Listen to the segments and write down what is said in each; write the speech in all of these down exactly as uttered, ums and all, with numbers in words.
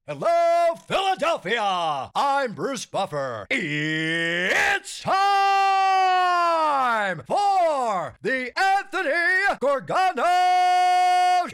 Hello, Philadelphia! I'm Bruce Buffer. It's time for the Anthony Gorgano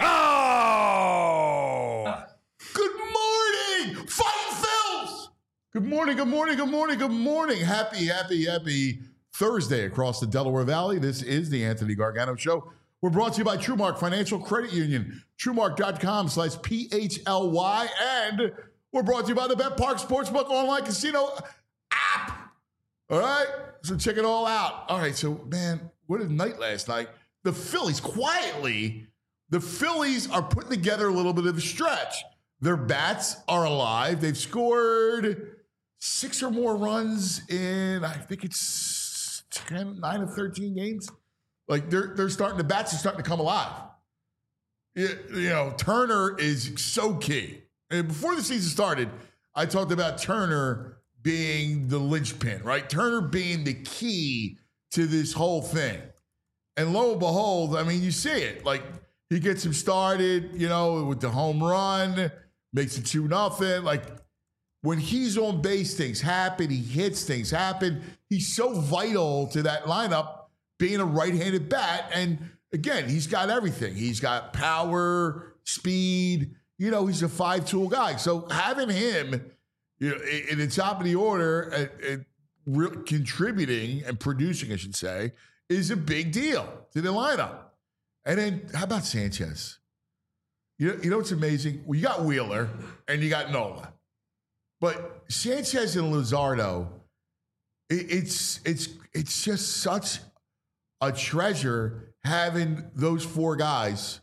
Show! Good morning, Fighting Phils! Good morning, good morning, good morning, good morning. Happy, happy, happy Thursday across the Delaware Valley. This is the Anthony Gargano Show. We're brought to you by TrueMark Financial Credit Union, TrueMark.com slash P H L Y, and we're brought to you by the Bet Park Sportsbook Online Casino app. All right? So check it all out. All right, so, man, what a night last night. The Phillies, quietly, the Phillies are putting together a little bit of a stretch. Their bats are alive. They've scored six or more runs in, I think it's ten, nine of thirteen games. Like, they're they're starting, the bats are starting to come alive. You, you know, Turner is so key. And before the season started, I talked about Turner being the linchpin, right? Turner being the key to this whole thing. And lo and behold, I mean, you see it. Like, he gets him started, you know, with the home run, makes it two nothing. Like, when he's on base, things happen. He hits, things happen. He's so vital to that lineup, being a right-handed bat. And again, he's got everything. He's got power, speed. You know, he's a five-tool guy. So having him, you know, in the top of the order and, and re- contributing and producing, I should say, is a big deal to the lineup. And then how about Sanchez? You know, you know what's amazing? Well, you got Wheeler and you got Nola. But Sanchez and Luzardo, it, it's it's it's just such a treasure having those four guys.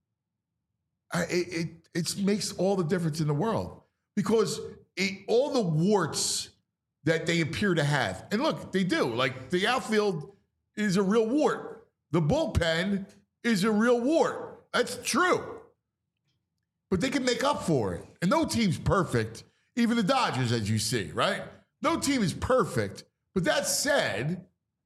It, it, it makes all the difference in the world because it, all the warts that they appear to have, and look, they do. Like, the outfield is a real wart. The bullpen is a real wart. That's true. But they can make up for it. And no team's perfect. Even the Dodgers, as you see, right? No team is perfect. But that said,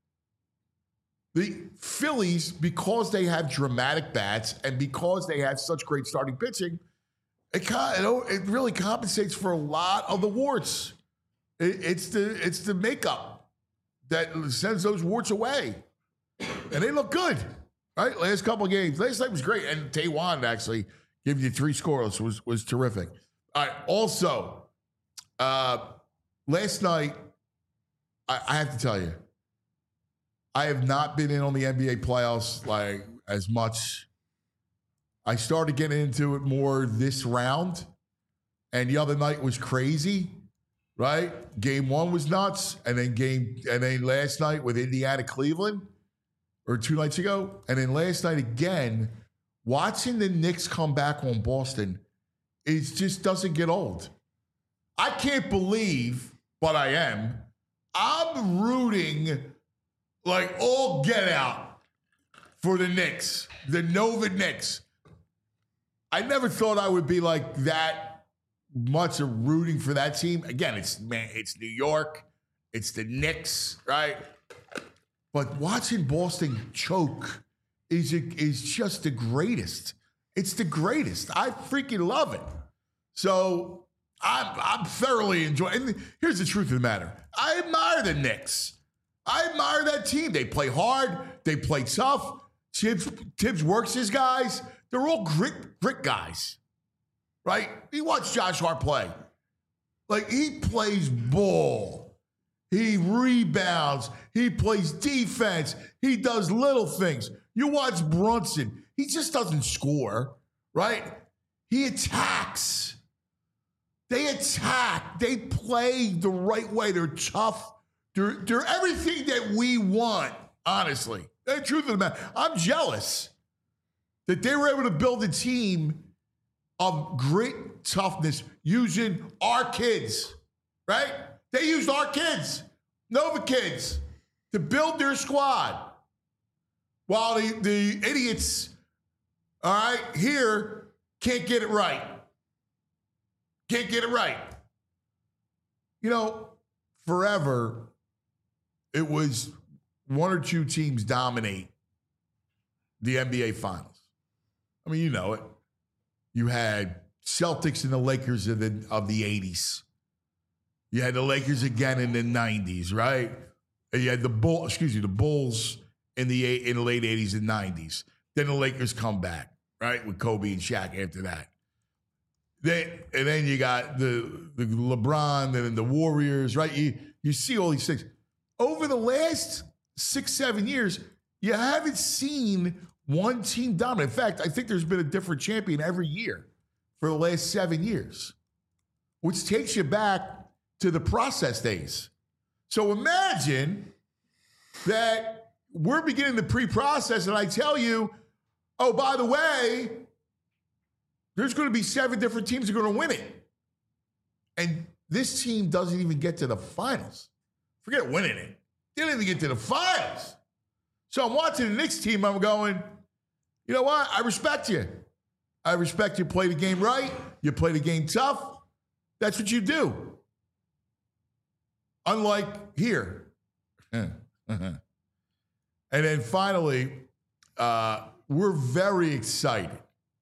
the Phillies, because they have dramatic bats and because they have such great starting pitching, it kind of, it really compensates for a lot of the warts. It, it's the it's the makeup that sends those warts away, and they look good, right? Last couple of games, last night was great, and Taiwan actually giving you three scoreless was was terrific. All right, also, uh, last night, I, I have to tell you, I have not been in on the N B A playoffs like as much. I started getting into it more this round, and the other night was crazy, right? Game one was nuts, and then game and then last night with Indiana Cleveland, or two nights ago, and then last night again, watching the Knicks come back on Boston, it just doesn't get old. I can't believe, but I am. I'm rooting like all get out for the Knicks, the Nova Knicks. I never thought I would be like that much of rooting for that team. Again, it's man, it's New York, it's the Knicks, right? But watching Boston choke is is just the greatest. It's the greatest. I freaking love it. So I'm I'm thoroughly enjoying. And here's the truth of the matter: I admire the Knicks. I admire that team. They play hard. They play tough. Tibbs, Tibbs works his guys. They're all grit, grit guys, right? You watch Josh Hart play. Like, he plays ball. He rebounds. He plays defense. He does little things. You watch Brunson. He just doesn't score, right? He attacks. They attack. They play the right way. They're tough. They're, they're everything that we want, honestly. The truth of the matter, I'm jealous that they were able to build a team of great toughness using our kids, right? They used our kids, Nova kids, to build their squad. While the, the idiots, all right, here can't get it right. Can't get it right. You know, forever, it was one or two teams dominate the N B A Finals. I mean, you know it. You had Celtics and the Lakers of the of the eighties. You had the Lakers again in the nineties, right? And you had the Bull, excuse me, the Bulls in the in the late eighties and nineties. Then the Lakers come back, right, with Kobe and Shaq after that. Then and then you got the the LeBron and the Warriors, right? You you see all these things over the last six seven years. You haven't seen one team dominate. In fact, I think there's been a different champion every year for the last seven years, which takes you back to the process days. So imagine that we're beginning the pre-process and I tell you, oh, by the way, there's going to be seven different teams that are going to win it. And this team doesn't even get to the finals. Forget winning it. They didn't even get to the finals. So I'm watching the Knicks team. I'm going, you know what? I respect you. I respect you play the game right. You play the game tough. That's what you do. Unlike here. And then finally, uh, we're very excited.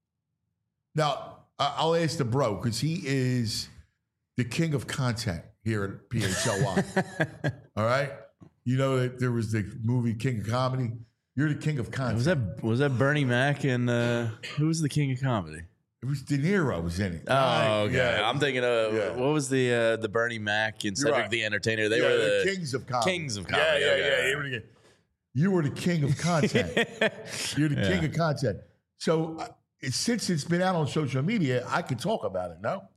Now, I'll ask the bro, because he is the king of content here at P H L Y. All right? You know that there was the movie King of Comedy? You're the king of content. Was that was that Bernie Mac and uh, who was the king of comedy? It was De Niro was in it. Oh, Right. okay. Yeah. I'm thinking of Yeah. what was the uh, the Bernie Mac and Cedric right. the Entertainer? They Yeah, were the the kings of comedy. Kings of comedy. Yeah, yeah, okay. yeah. You were the, you were the king of content. You're the Yeah. king of content. So uh, it, since it's been out on social media, I can talk about it, no?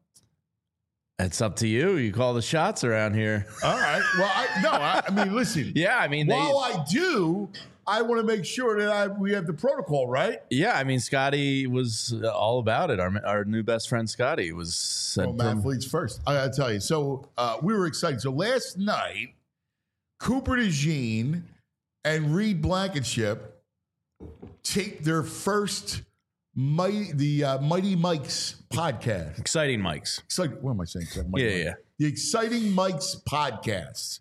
It's up to you. You call the shots around here. All right. Well, I, no, I, I mean, listen. Yeah, I mean, they, While I do, I want to make sure that I we have the protocol, right? yeah, I mean, Scotty was all about it. Our our new best friend Scotty was said Well, Matt from- Fleet's first. I got to tell you. So uh, we were excited. So last night, Cooper DeJean and Reed Blankenship taped their first Mighty, the uh, Mighty Mike's podcast. exciting mics. Exciting, what am I saying? Mighty Yeah, Mike. yeah. The Exciting Mike's podcast,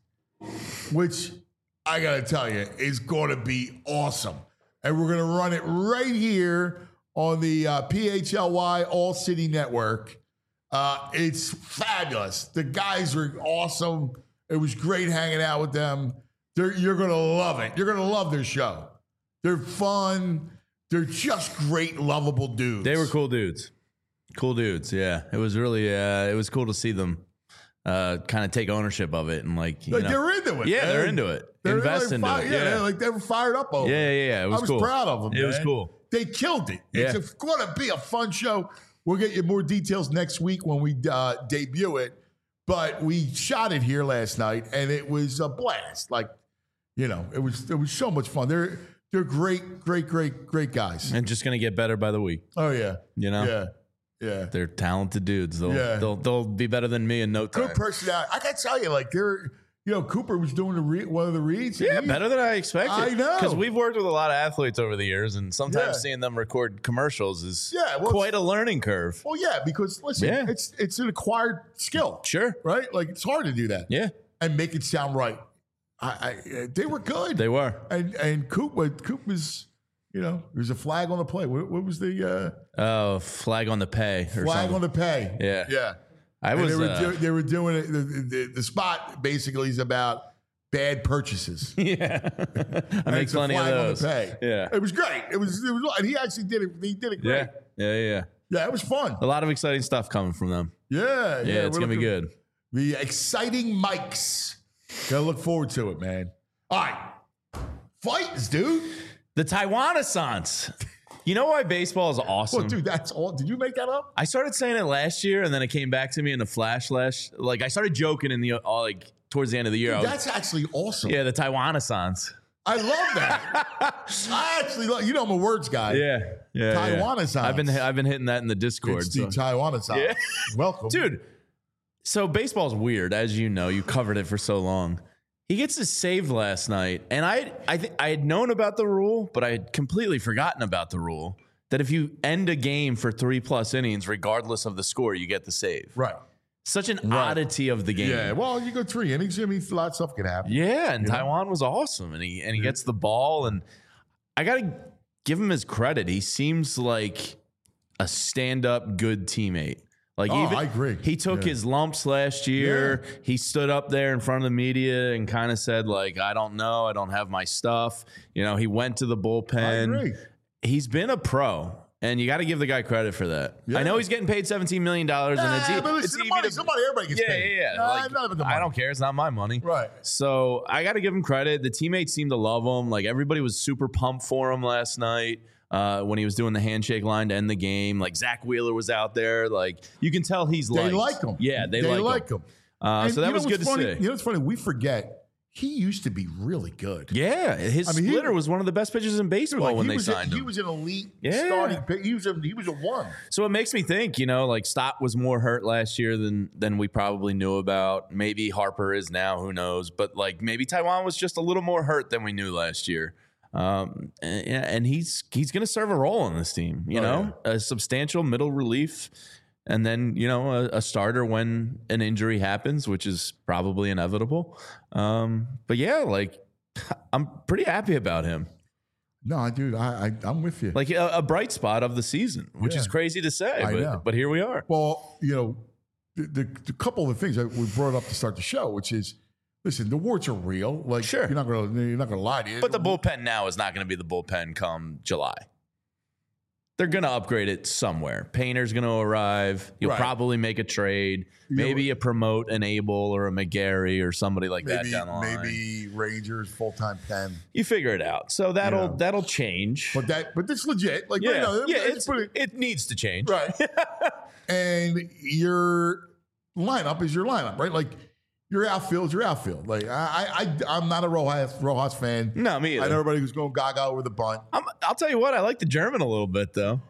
which I got to tell you is going to be awesome. And we're going to run it right here on the uh, P H L Y All City Network. Uh, it's fabulous. The guys are awesome. It was great hanging out with them. They're, you're going to love it. You're going to love their show. They're fun. They're just great, lovable dudes. They were cool dudes. Cool dudes. Yeah, it was really uh, it was cool to see them uh, kind of take ownership of it and like you Like, know, they're into it. yeah, man. they're into it. They're Invest like into fi- it. Yeah, Yeah, they're like they were fired up over. yeah, it. yeah, yeah. It was I was cool. proud of them. It was man. cool. They killed it. Yeah. It's going to be a fun show. We'll get you more details next week when we uh, debut it. But we shot it here last night, and it was a blast. Like, you know, it was it was so much fun. They're they're great, great, great, great guys. And just gonna get better by the week. Oh yeah, You know, yeah, yeah. they're talented dudes. They'll Yeah. they'll they'll be better than me in no time. Good personality. I got to tell you, like they're, you know, Cooper was doing the re- one of the reads. Yeah, He- better than I expected. I know. Because we've worked with a lot of athletes over the years, and sometimes Yeah. seeing them record commercials is Yeah, well, quite a learning curve. Well, yeah, because listen, Yeah. it's it's an acquired skill. Sure. Right? Like it's hard to do that. Yeah, And make it sound right. I, I they were good. they were. and and Coop, but Coop was, you know, there's a flag on the play. What, what was the uh, Oh, flag on the pay. Or flag something. on the pay? Yeah. yeah. I And was. they were uh, do, they were doing it. The, the, the spot basically is about bad purchases. yeah, I And make it's a plenty of flag those. on the pay. Yeah, It was great. It was it was, and he actually did it. He did it great. yeah, yeah, yeah. Yeah, it was fun. A lot of exciting stuff coming from them. Yeah, yeah. Yeah, it's we're gonna be looking- good. The Exciting Mikes. Gotta look forward to it, man. All right. Fights, dude. The Taiwan-assance. You know why baseball is awesome? Well, dude, that's all. Did you make that up? I started saying it last year, and then it came back to me in a flash. Lash, like I started joking in the all like towards the end of the year. I was- That's actually awesome. yeah, the Taiwan-assance. I love that. I actually love, you know, I'm a words guy. Yeah, yeah. Taiwan-assance. yeah. I've been I've been hitting that in the Discord, It's the so. Taiwan-assance. Yeah. Welcome. dude. So baseball's weird, as you know. You covered it for so long. He gets his saved last night, and I I th- I had known about the rule, but I had completely forgotten about the rule that if you end a game for three plus innings, regardless of the score, you get the save. Right. Such an Right. oddity of the game. Yeah. Well, you go three innings. I mean, a lot of stuff can happen. Yeah, and You know? Taiwan was awesome, and he and he gets the ball, and I gotta give him his credit. He seems like a stand-up good teammate. Like Oh, even, I agree. He took Yeah. his lumps last year. Yeah. He stood up there in front of the media and kind of said, like, I don't know. I don't have my stuff. You know, he went to the I bullpen. agree. He's been a pro, and you got to give the guy credit for that. Yeah. I know he's getting paid seventeen million dollars, and it's, Yeah, e- but listen, it's the easy money, to- the money, everybody gets yeah, paid. yeah, yeah. Nah, Like, it's not about the I money. don't care. It's not my money. Right. So I got to give him credit. The teammates seemed to love him. Like everybody was super pumped for him last night uh, when he was doing the handshake line to end the game. Like Zach Wheeler was out there. Like you can tell he's They liked. like him. Yeah, they, they like, like him. him. Uh, And so that you know was good to what's funny? see. You know what's funny? We forget he used to be really good. Yeah, his I mean, he- splitter was one of the best pitchers in baseball Like, when he they was a- signed he him. was an elite Yeah. starting pick. He was a he was a one. So it makes me think, you know, like Stott was more hurt last year than than we probably knew about. Maybe Harper is now, who knows? But like maybe Taiwan was just a little more hurt than we knew last year. Um, and, and he's he's going to serve a role on this team, you Oh, know, a substantial middle relief, and then you know a, a starter when an injury happens, which is probably inevitable. Um, but yeah, like I'm pretty happy about him. No, dude, I, I I'm with you. Like a, a bright spot of the season, which Yeah. is crazy to say, I but, know. but here we are. Well, you know, the, the, the couple of the things that we brought up to start the show, which is, listen, the warts are real. Like, Sure. you're not gonna you're not gonna lie to you. But the bullpen now is not going to be the bullpen come July. They're going to upgrade it somewhere. Painter's going to arrive. You'll Right. probably make a trade. You know- Maybe you promote an Abel or a McGarry or somebody like maybe that down the line. maybe Rangers full time pen. You figure it out. So that'll Yeah. that'll change. But that but this legit. Like yeah, you know, yeah, it's it's, pretty it needs to change. right. And your lineup is your lineup, right? Like your outfield is your outfield. Like I I, I I'm not a Rojas Rojas fan. No, me I either. know everybody who's going gaga over the bunt. I'm, I'll tell you what. I like the German a little bit though.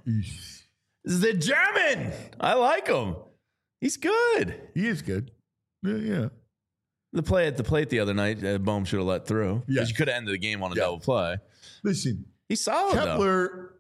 The German. I like him. He's good. He is good. Yeah, yeah. The play at the plate the other night, uh, Bohm should have let through. Yeah. Because you could have ended the game on a Yeah. double play. Listen, He's solid though. Kepler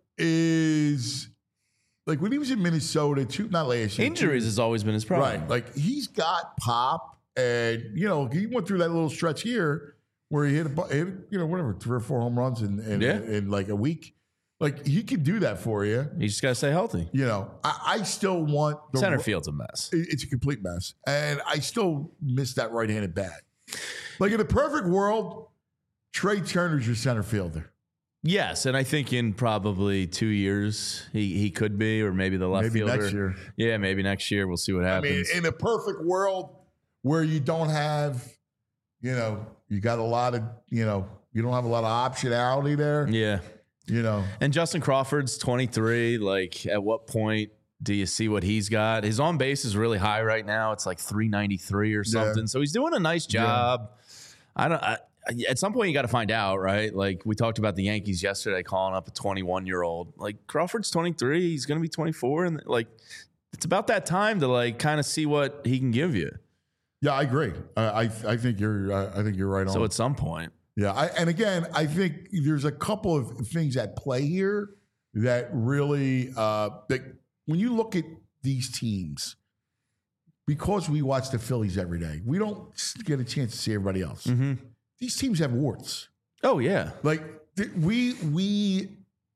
is like when he was in Minnesota, two, not last year. Injuries two- has always been his problem. right? Like he's got pop, and you know he went through that little stretch here where he hit, a, bu- hit you know whatever three or four home runs in in, Yeah. in like a week. Like he can do that for you. You just got to stay healthy. You know, I, I still want the Center field's a mess. it- It's a complete mess, and I still miss that right-handed bat. Like in a perfect world, Trey Turner's your center fielder. Yes, and I think in probably two years he, he could be, or maybe the left Maybe fielder. next year. Yeah, maybe next year. We'll see what I mean, happens. in a perfect world where you don't have, you know, you got a lot of, you know, you don't have a lot of optionality there. yeah. You know, And Justin Crawford's twenty-three. Like, at what point do you see what he's got? His on base is really high right now. It's like three ninety-three or something. So he's doing a nice job. I don't. I, at some point, you got to find out, right? Like we talked about the Yankees yesterday, calling up a twenty-one year old. Like Crawford's twenty-three. He's going to be twenty-four, and like it's about that time to like kind of see what he can give you. yeah, I agree. I I, I think you're I, I think you're right on. So at some point, Yeah, I, and again, I think there's a couple of things at play here that really, uh, that when you look at these teams, because we watch the Phillies every day, we don't get a chance to see everybody else. mm-hmm. These teams have warts. oh yeah, Like th- we we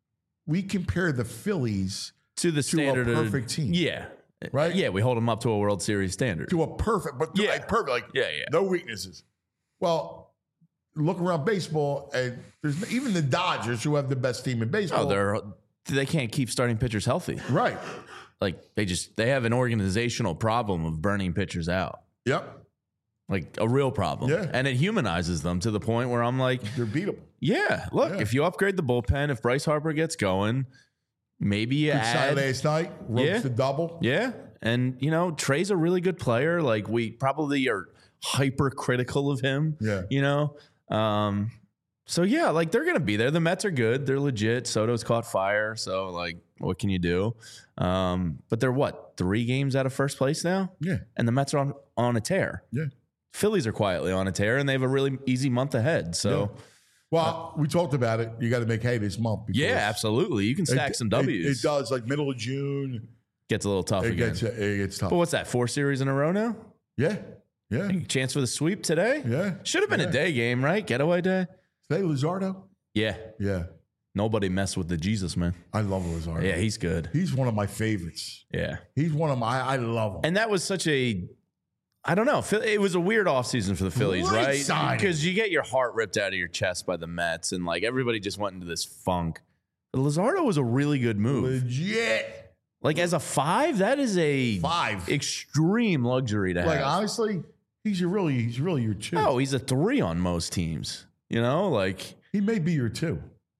we compare the Phillies to the standard of- perfect team. Yeah, Right? Yeah, we hold them up to a World Series standard. to a perfect, but to Yeah. a perfect, like Yeah, yeah. no weaknesses. Well, look around baseball, and there's even the Dodgers, who have the best team in baseball. Oh, they're they can't keep starting pitchers healthy. right. Like they just they have an organizational problem of burning pitchers out. Yep, Like a real problem. Yeah. And it humanizes them to the point where I'm like, they're beatable. yeah, look, Yeah. if you upgrade the bullpen, if Bryce Harper gets going, maybe you Good sign add last night. Ropes Yeah. the double. Yeah. And you know, Trey's a really good player. Like we probably are hypercritical of him. Yeah. You know? Um, so yeah, like they're gonna be there. The Mets are good. They're legit. Soto's caught fire. So like, what can you do? Um, but they're what, three games out of first place now? Yeah, And the Mets are on, on a tear. yeah. Phillies are quietly on a tear, and they have a really easy month ahead. So Well, we talked about it. You got to make hay this month. because yeah, absolutely. You can stack it- some it- W's. It, does. Like middle of June, Gets a little tough it again. gets it gets tough. But what's that? Four series in a row now? Yeah, yeah, Chance for the sweep today? yeah. Should have been Yeah. a day game, right? Getaway day? Say Luzardo. Yeah. Yeah, Nobody messed with the Jesus man. I love Luzardo. Yeah, he's good. He's one of my favorites. Yeah. He's one of my, I love him. And that was such a, I don't know. It was a weird offseason for the Phillies, Great right? signing. Because you get your heart ripped out of your chest by the Mets, and like everybody just went into this funk. But Luzardo was a really good move. Legit. Like as a five, that is a Five. extreme luxury to Like, have. honestly, he's your really, he's really your two. Oh, he's a three on most teams. You know, like He may be your two.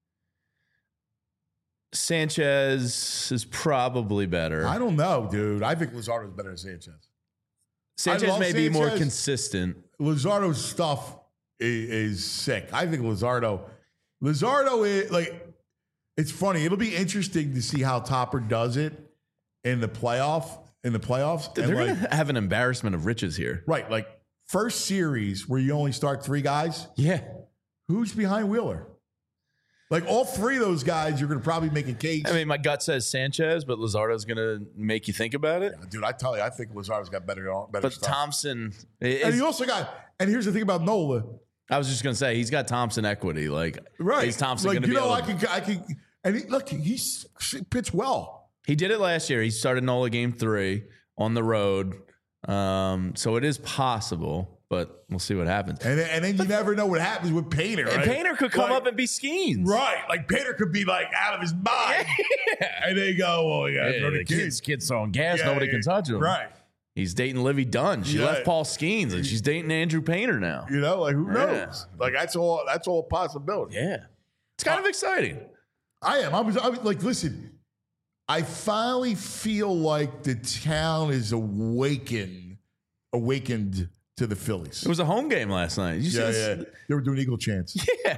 Sanchez is probably better. I don't know, dude. I think Luzardo's better than Sanchez. Sanchez love may be more Sanchez. consistent. Luzardo's stuff is, is sick. I think Luzardo, Luzardo is like, it's funny. It'll be interesting to see how Topper does it in the playoff, in the playoffs. They're And going like, to have an embarrassment of riches here. right, like first series where you only start three guys. Yeah. Who's behind Wheeler? Like all three of those guys, you're going to probably make a case. I mean, my gut says Sanchez, but Luzardo's going to make you think about it. Dude, I tell you, I think Luzardo's got better, better But stuff. Thompson, and is, he also got. And here's the thing about Nola. I was just going to say, he's got Thompson equity. Like, Right, is Thompson like going to you be know, able I to? can, I can, and he, look, he's he pitched well. He did it last year. He started Nola game three on the road. Um, so it is possible, but we'll see what happens. And then, and then you never know what happens with Painter. And Right? Painter could come Like, up and be Skeens. right. Like Painter could be like out of his mind, and they go, "Well, yeah, Yeah, throw the the kids." kid's, kid's throwing gas. Yeah, Nobody yeah, can touch him. Right. He's dating Livy Dunn. She Yeah. left Paul Skeens, and she's dating Andrew Painter now. You know, like who Yeah. knows? Like that's all. That's all a possibility. Yeah. It's kind of exciting. I am. I was, I was like, listen, I finally feel like the town is awakened, awakened to the Phillies. It was a home game last night. Did you yeah, see yeah. this? They were doing Eagle chants. Yeah.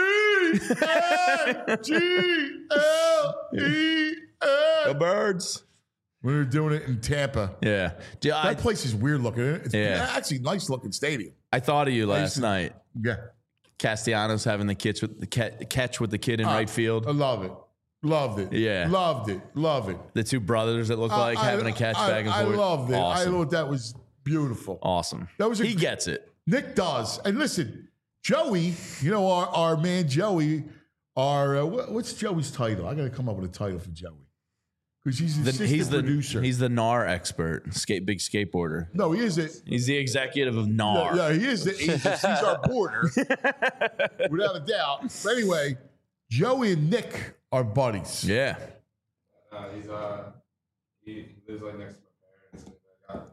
E N G L E The N. birds. When they were doing it in Tampa. Yeah. Dude, I, That place is weird looking. It's Yeah. actually a nice looking stadium. I thought of you last to- night. Yeah. Castellanos having the catch with the ca- catch with the kid in right field. I love it. Loved it. Yeah. Loved it. Love it. The two brothers that look like I- having a catch I, back and I forth. loved it. Awesome. I thought that was beautiful. awesome. That was a- he gets it. Nick does. And listen, Joey, you know, our, our man Joey, our, uh, what, what's Joey's title? I got to come up with a title for Joey. Because he's the The- assistant he's the producer. he's the N A R expert, skate big skateboarder. no, he is it. He's the executive of N A R. Yeah, he is. The, he's, he's our boarder, without a doubt. But anyway, Joey and Nick are buddies. Yeah. Uh, he's uh, he, he lives like next to my parents. And I got him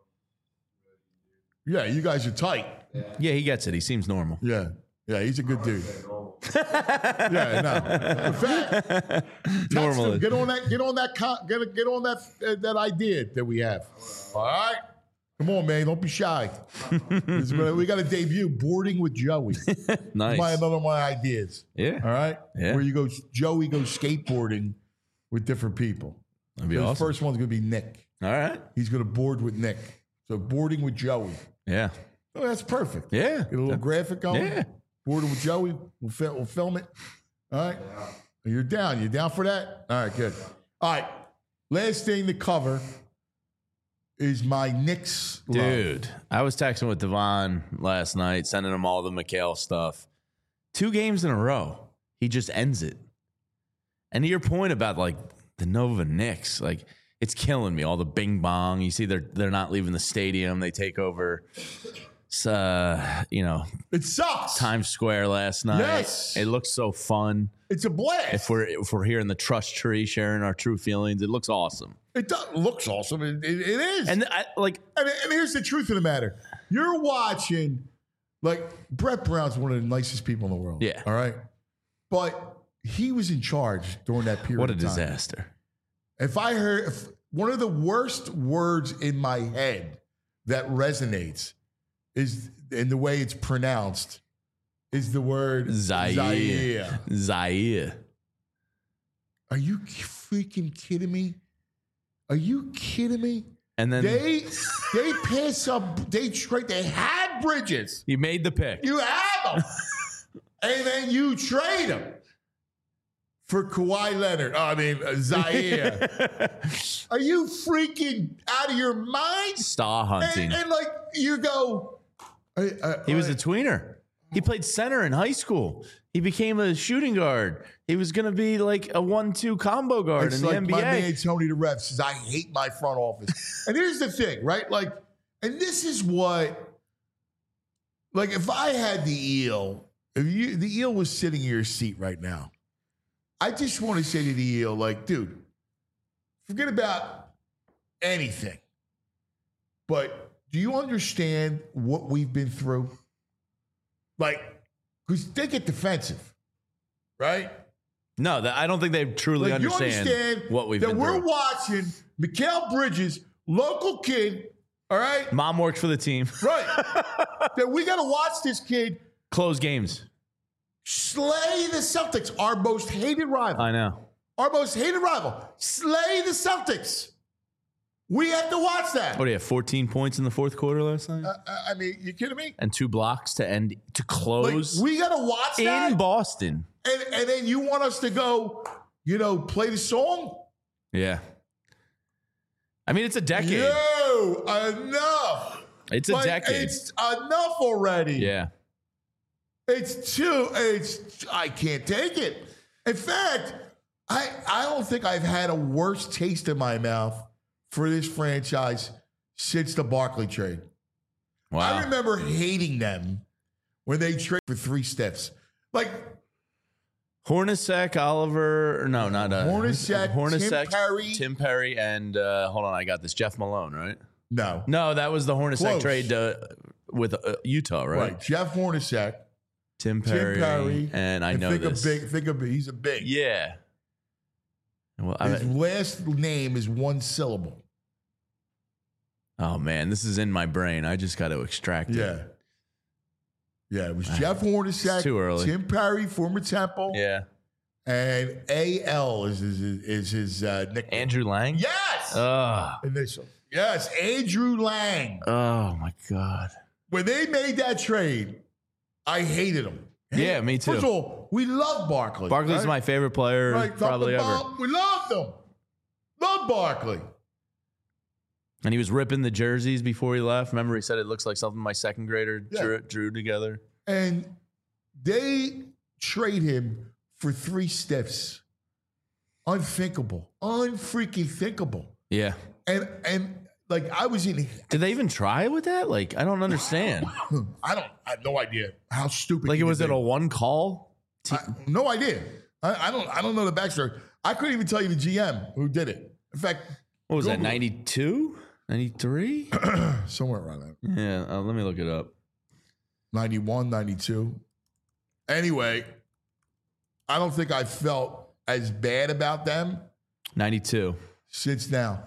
to know. Yeah, you guys are tight. Yeah, he gets it. He seems normal. Yeah, yeah, he's a good dude. Normal. Yeah, no. In fact, text Normally. him. Get on that. Get on that. Con, get get on that. Uh, that idea that we have. All right. Come on, man. Don't be shy. This is gonna- we got to debut boarding with Joey. Nice. My another one of my ideas. Yeah. All right. Yeah. Where you go, Joey goes skateboarding with different people. That'd be The awesome. first one's gonna be Nick. All right. He's gonna board with Nick. So boarding with Joey. Yeah. Oh, that's perfect. Yeah. Get a little graphic going. Yeah. Boarding with Joey. We'll, fi- we'll film it. All right. You're down. You're down for that? All right, good. All right. Last thing to cover is my Knicks love. Dude, I was texting with Devon last night, sending him all the McHale stuff. Two games in a row, he just ends it. And to your point about like the Nova Knicks, like it's killing me. All the bing bong. You see, they're they're not leaving the stadium. They take over, uh, you know, It sucks. Times Square last night. Yes. It looks so fun. It's a blast. If we're if we're here in the trust tree, sharing our true feelings, it looks awesome. it does, looks awesome. It, it, it is. And I, like, And, and here's the truth of the matter. You're watching, like, Brett Brown's one of the nicest people in the world. Yeah. All right. But he was in charge during that period what a of time. disaster. If I heard if one of the worst words in my head that resonates is in the way it's pronounced is the word Zaire. Zaire. Zaire. Are you freaking kidding me? Are you kidding me? And then They they pass up. They trade. They had Bridges. you made the pick. You have them, and then you trade them for Kawhi Leonard. Oh, I mean uh, Zaire. Are you freaking out of your mind? Star hunting. And, and like you go. Uh, uh, he was uh, a tweener. He played center in high school. He became a shooting guard. He was going to be like a one two combo guard It's in the like N B A. my man Tony the Ref says, I hate my front office. And here's the thing, right? Like, and this is what, like, if I had the eel, if you the eel was sitting in your seat right now, I just want to say to the eel, like, dude, forget about anything. But do you understand what we've been through? Like, because they get defensive, right? No, that, I don't think they truly Like, you understand, understand what we've that been we're through. watching Mikal Bridges, local kid, all right? Mom works for the team. Right. That we got to watch this kid Close games. slay the Celtics, our most hated rival. I know. Our most hated rival. Slay the Celtics. We have to watch that. What do you have? fourteen points in the fourth quarter last night? Uh, I mean, you kidding me? And two blocks to end to Like, close we got to watch in that. Boston. And, and then you want us to go, you know, play the song? Yeah. I mean, it's a decade. Yo, enough. It's a Like, decade. It's enough already. Yeah. It's too, it's, I can't take it. In fact, I, I don't think I've had a worse taste in my mouth for this franchise since the Barkley trade. Wow. I remember hating them when they traded for three stiffs. Like, Hornacek, Oliver, or no, not uh, Hornacek, Tim Perry. Tim Perry, and uh, hold on, I got this. Jeff Malone, right? no. No, that was the Hornacek Close. trade uh, with uh, Utah, right? Right. Jeff Hornacek, Tim Perry, Tim Perry. and I know think this. Of big, think of he's a big. Yeah. Well, I His mean, last name is one syllable. oh man, this is in my brain. I just got to extract it. Yeah. Yeah, it was Jeff Hornacek, It's too early. Tim Perry, former Temple, Yeah. and A L is his, is his uh, nickname. Andrew Lang. Yes! Oh, Initial. Yes, Andrew Lang. oh my God. When they made that trade, I hated him. Yeah, me too. First of all, we love Barkley. Barkley's right? my favorite player right, top probably to ever. bottom, we loved him. Love Barkley. And he was ripping the jerseys before he left. Remember, he said it looks like something my second grader Yeah. drew, drew together. And they trade him for three stiffs. Unthinkable. Unfreaking thinkable. Yeah. And and like I was in Did they even try with that? Like, I don't understand. I don't I have no idea how stupid Like, he it was could it a be. one call? I- no idea. I, I don't I don't know the backstory. I couldn't even tell you the G M who did it. In fact, What was that, Google it. ninety-two? ninety-three? somewhere around that. Yeah, uh, let me look it up. ninety-one, ninety-two. Anyway, I don't think I felt as bad about them ninety-two. since now.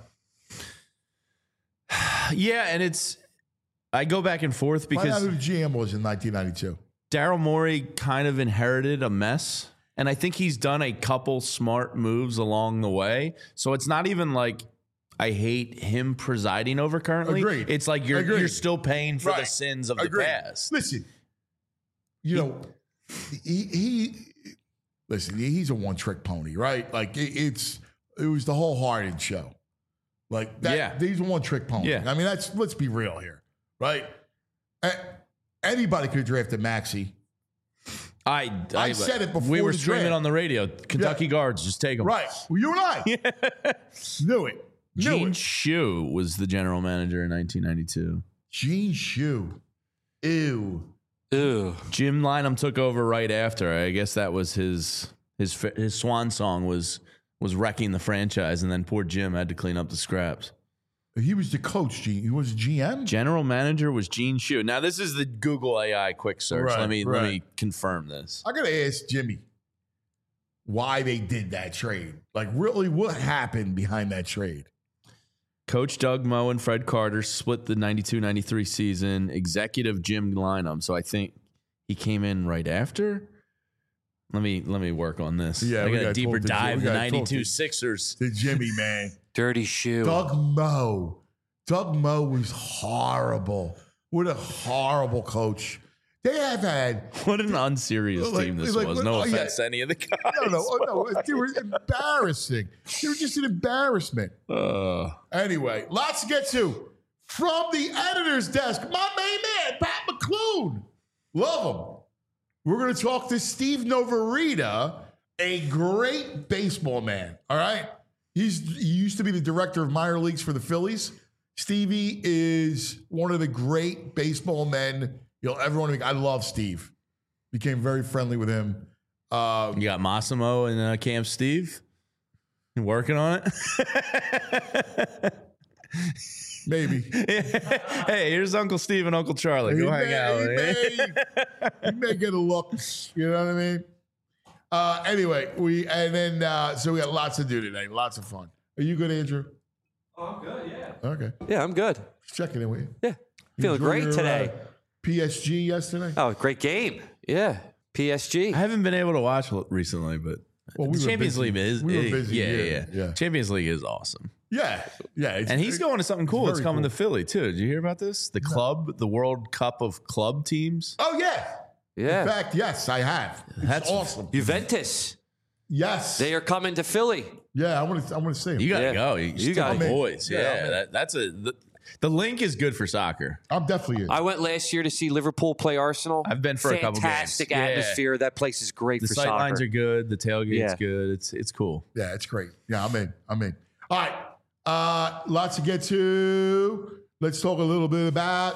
Yeah, and it's, I go back and forth Find out because who the G M was in nineteen ninety-two. Daryl Morey kind of inherited a mess. And I think he's done a couple smart moves along the way. So it's not even like I hate him presiding over currently. Agreed. It's like you're Agreed. you're still paying for the Right. sins of Agreed. the past. Listen, you know, he, he listen, he's a one-trick pony, right? Like it, it's it was the whole Harden show. Like that, Yeah. he's a one-trick pony. Yeah. I mean, that's let's be real here, right? A- Anybody could have drafted Maxey. I, I, I said it before We were the screaming draft. on the radio. Kentucky Yeah. guards, just take them. Right. Well, you and I knew it. Knew Gene it. Shue was the general manager in nineteen ninety-two. Gene Shue. Ew. Ew. Jim Lynam took over right after. I guess that was his his his swan song was was wrecking the franchise, and then poor Jim had to clean up the scraps. He was the coach, Gene. He was a G M? General manager was Gene Shue. Now this is the Google A I quick search. Right, let me let right. me confirm this. I gotta ask Jimmy why they did that trade. Like, really, what happened behind that trade? Coach Doug Moe and Fred Carter split the ninety-two ninety-three season. Executive Jim Lynam. So I think he came in right after. Let me let me work on this. Yeah, I we got a gotta deeper talk to Jim. dive. We The gotta talk ninety-two to- Sixers. The Jimmy, man. Dirty shoe. Doug Moe. Doug Moe was horrible. What a horrible coach. They have had, What an unserious Like- team this like, was. what- No oh, yeah. offense to any of the guys. no, no, oh, no, they were embarrassing. They were just an embarrassment. Uh, Anyway, lots to get to. From the editor's desk, my main man, Pat McClune. Love him. we're going to talk to Steve Novarita, a great baseball man. All right. He's he used to be the director of minor leagues for the Phillies. Stevie is one of the great baseball men you'll ever want to meet. I love Steve. Became very friendly with him. Um, You got Massimo and uh, Camp Steve. You working on it? maybe. Hey, here's Uncle Steve and Uncle Charlie. He Go hang may, out. he with may, he may get a look. You know what I mean? Uh, anyway, we and then uh, so we got lots to do today. Lots of fun. Are you good, Andrew? Oh, I'm good, yeah. Okay. Yeah, I'm good. Just checking in with you. Yeah, You feeling enjoy great your, today. uh, P S G yesterday. Oh, great game. Yeah, P S G. I haven't been able to watch l- recently, but Well, we the were Champions busy. League is We were it- busy yeah, here. yeah, yeah, Yeah. Champions League is awesome, Yeah, yeah. It's, and he's going to something cool. It's very coming cool. to Philly too. Did you hear about this? The club, the World Cup of club teams. Oh yeah. Yeah, In fact, yes, I have. It's That's- awesome. Juventus. Yes. They are coming to Philly. Yeah, I want to. I want to see him. You got to Yeah. go. You, You you gotta got go. boys. Yeah, Yeah, I'm in. that, that's a the, the link is good for soccer. I'm definitely in. I went last year to see Liverpool play Arsenal. I've been for a couple games. Fantastic Yeah. atmosphere. That place is great The for sight soccer. lines are good. The tailgate's Yeah. good. It's it's cool. Yeah, it's great. Yeah, I'm in. I'm in. All right. Uh, lots to get to. Let's talk a little bit about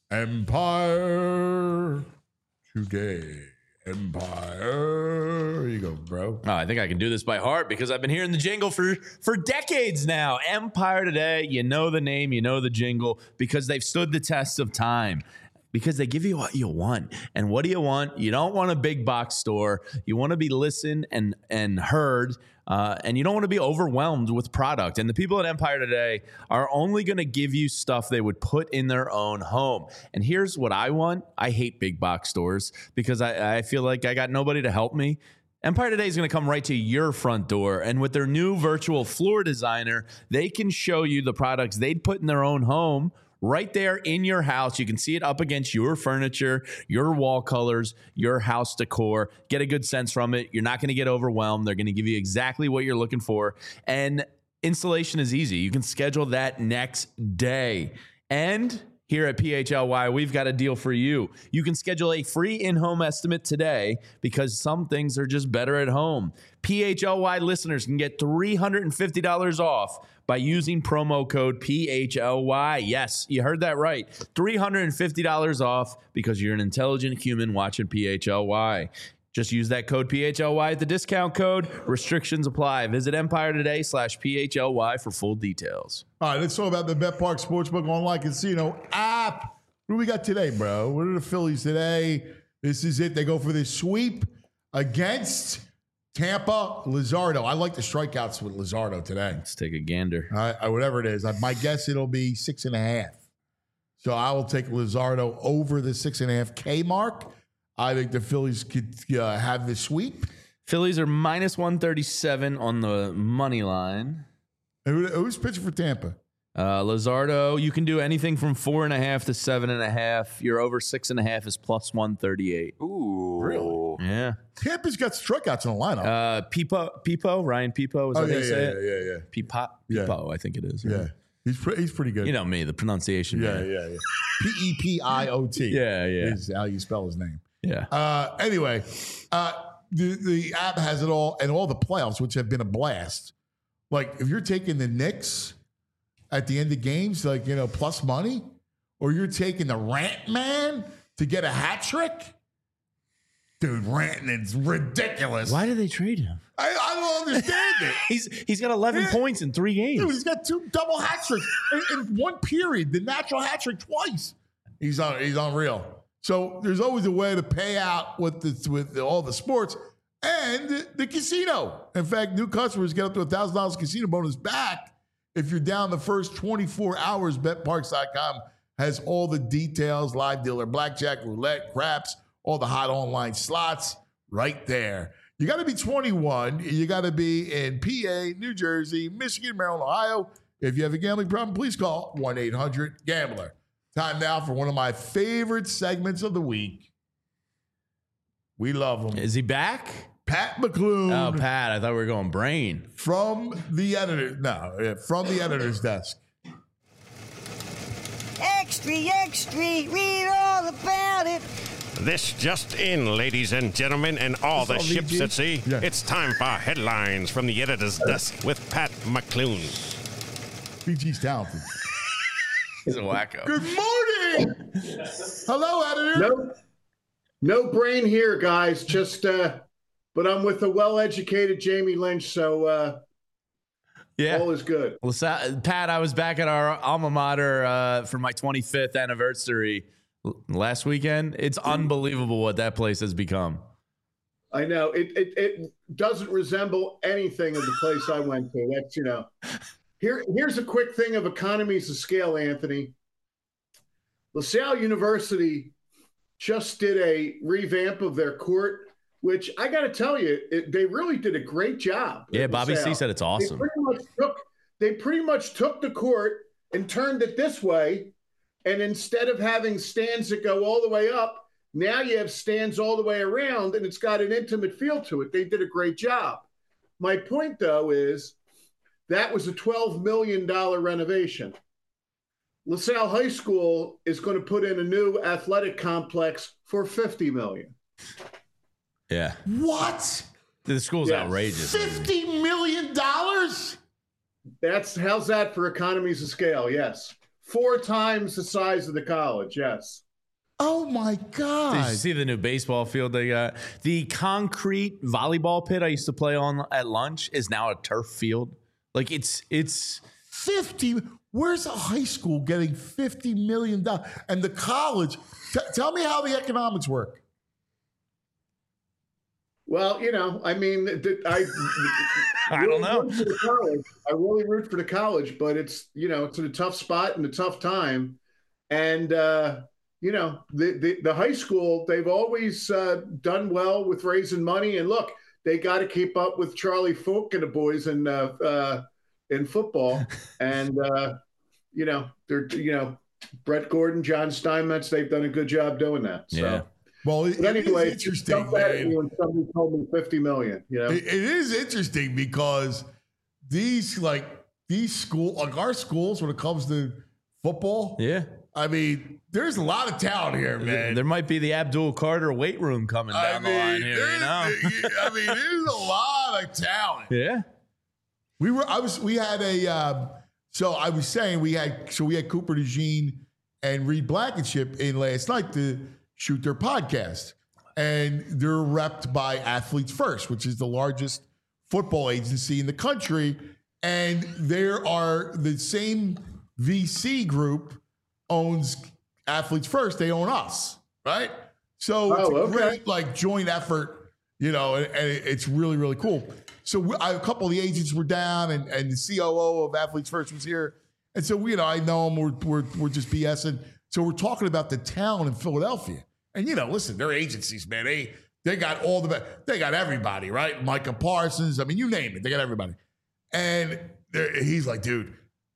Empire today. Empire. Here you go, bro. Oh, I think I can do this by heart because I've been hearing the jingle for for decades now. Empire Today, you know the name, you know the jingle because they've stood the test of time. Because they give you what you want. And what do you want? You don't want a big box store. You want to be listened and and heard. Uh, and you don't want to be overwhelmed with product. And the people at Empire Today are only going to give you stuff they would put in their own home. And here's what I want. I hate big box stores because I, I feel like I got nobody to help me. Empire Today is going to come right to your front door. And with their new virtual floor designer, they can show you the products they'd put in their own home right there in your house. You can see it up against your furniture, your wall colors, your house decor. Get a good sense from it. You're not going to get overwhelmed. They're going to give you exactly what you're looking for. And installation is easy. You can schedule that next day. And here at P H L Y, we've got a deal for you. You can schedule a free in-home estimate today because some things are just better at home. P H L Y listeners can get three hundred fifty dollars off by using promo code P H L Y. Yes, you heard that right. three hundred fifty dollars off because you're an intelligent human watching P H L Y. Just use that code P H L Y at the discount code. Restrictions apply. Visit Empire Today slash P H L Y for full details. All right, let's talk about the Bet Park Sportsbook Online Casino app. What do we got today, bro? What are the Phillies today? This is it. They go for this sweep against Tampa. Luzardo. I like the strikeouts with Luzardo today. Let's take a gander. All right, whatever it is. My guess it'll be six and a half. So I will take Luzardo over the six and a half K mark. I think the Phillies could uh, have the sweep. Phillies are minus one thirty-seven on the money line. Who, who's pitching for Tampa? Uh, Luzardo, you can do anything from four and a half to seven and a half. Your over six and a half is plus one thirty-eight. Ooh. Really? Yeah. Tampa's got strikeouts in the lineup. Uh, Pipo, Pipo, Ryan Pipo, is oh, that yeah, how you say yeah, it? yeah, yeah, yeah. Pipo, Yeah. Pipo, I think it is. Yeah. right? He's, pre- he's pretty good. You know me, the pronunciation. yeah, man. yeah, yeah. P E P I O T. Yeah, yeah. Is how you spell his name. Yeah. Uh, anyway, uh, the, the app has it all and all the playoffs, which have been a blast. Like, if you're taking the Knicks at the end of games, like, you know, plus money, or you're taking the Rant Man to get a hat trick, dude, Ranton is ridiculous. Why did they trade him? I, I don't understand it. He's he's got eleven Yeah. points in three games. Dude, he's got two double hat tricks in, in one period. The natural hat trick twice. He's on. He's unreal. So there's always a way to pay out with the, with all the sports and the casino. In fact, new customers get up to a thousand dollars casino bonus back if you're down the first twenty-four hours. Bet Parks dot com has all the details: live dealer, blackjack, roulette, craps, all the hot online slots right there. You got to be twenty-one. You got to be in P A, New Jersey, Michigan, Maryland, Ohio. If you have a gambling problem, please call one eight hundred gambler. Time now for one of my favorite segments of the week. We love him. Is he back? Pat McClune Oh, Pat, I thought we were going brain. from the editor. No, yeah, from the editor's desk. Extra, extra, read all about it. This just in, ladies and gentlemen, and all the all ships V G? at sea. Yeah. It's time for headlines from the editor's desk with Pat McClune. B G's talented. He's a wacko. Good morning. Hello, editor. No, no brain here, guys. Just, uh, but I'm with a well-educated Jamie Lynch, so uh, Yeah. all is good. Well, Sa- Pat, I was back at our alma mater uh, for my twenty-fifth anniversary l- last weekend. It's unbelievable what that place has become. I know it, it. It doesn't resemble anything of the place I went to. That's you know. Here, here's a quick thing of economies of scale, Anthony. LaSalle University just did a revamp of their court, which I got to tell you, it, they really did a great job. Yeah, at Bobby LaSalle. C said it's They awesome. pretty much took they pretty much took the court and turned it this way, and instead of having stands that go all the way up, now you have stands all the way around, and it's got an intimate feel to it. They did a great job. My point, though, is that was a twelve million dollars renovation. LaSalle High School is going to put in a new athletic complex for fifty million dollars. Yeah. What? The school's Yeah. outrageous. Fifty million dollars? That's how's that for economies of scale? Yes, four times the size of the college. Yes. Oh my Did God! you see the new baseball field they got? The concrete volleyball pit I used to play on at lunch is now a turf field. Like it's it's Fifty. Where's a high school getting fifty million dollars? And the college. T- tell me how the economics work. Well, you know, I mean, th- I I don't know. root for the college. I really root for the college, but it's you know, it's in a tough spot and a tough time, and uh, you know, the, the the high school they've always uh, done well with raising money, and look, they got to keep up with Charlie Falk and the boys in uh, uh, in football, and uh, you know, they're you know, Brett Gordon, John Steinmetz, they've done a good job doing that. So. Yeah. Well, it, But it anyway, is interesting, jump at man. me when somebody told me fifty million. You know, It, it is interesting because these like these school like our schools when it comes to football. yeah. I mean, there's a lot of talent here, man. There might be the Abdul Carter weight room coming down the line here, you there's- know? I mean, there's a lot of talent. Yeah. We were, I was, we had a, um, so I was saying we had, so we had Cooper DeJean and Reed Blankenship in last night to shoot their podcast. And they're repped by Athletes First, which is the largest football agency in the country. And there are the same V C group owns Athletes First. They own us, right? So it's Oh, a okay. great like joint effort, you know, and, and it's really, really cool. So we, I, a couple of the agents were down, and, and the C O O of Athletes First was here, and so we, you know, I know them. We're we're, we're just BSing. So we're talking about the talent in Philadelphia, and you know, listen, they're agencies, man. They they got all the they got everybody, right? Micah Parsons. I mean, you name it, they got everybody. And they're- he's like, dude,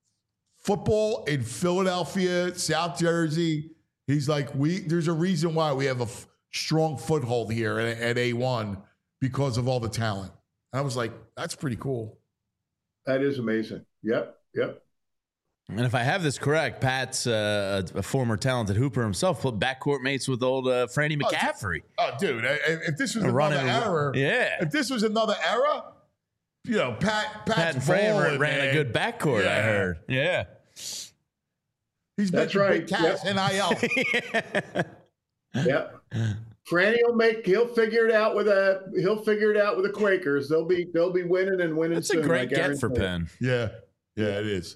football in Philadelphia, South Jersey. He's like, we. There's a reason why we have a f- strong foothold here at, at A one because of all the talent. I was like, that's pretty cool. that is amazing. Yep, yep. And if I have this correct, Pat's uh, a former talented hooper himself, put backcourt mates with old uh, Franny Oh, McCaffrey. Oh, dude, I- I- if this was A another running- era, yeah. If this was another era, you know, Pat, Pat's Pat and Fran balling, ran man. a good backcourt, I Yeah. heard. Yeah. He's That's making right. big cash, Yep. N I L. Yep. Franny will make. He'll figure it out with a. He'll figure it out with the Quakers. They'll be. They'll be winning and winning. That's soon, a great I get for guarantee it. Penn. Yeah, yeah, it is.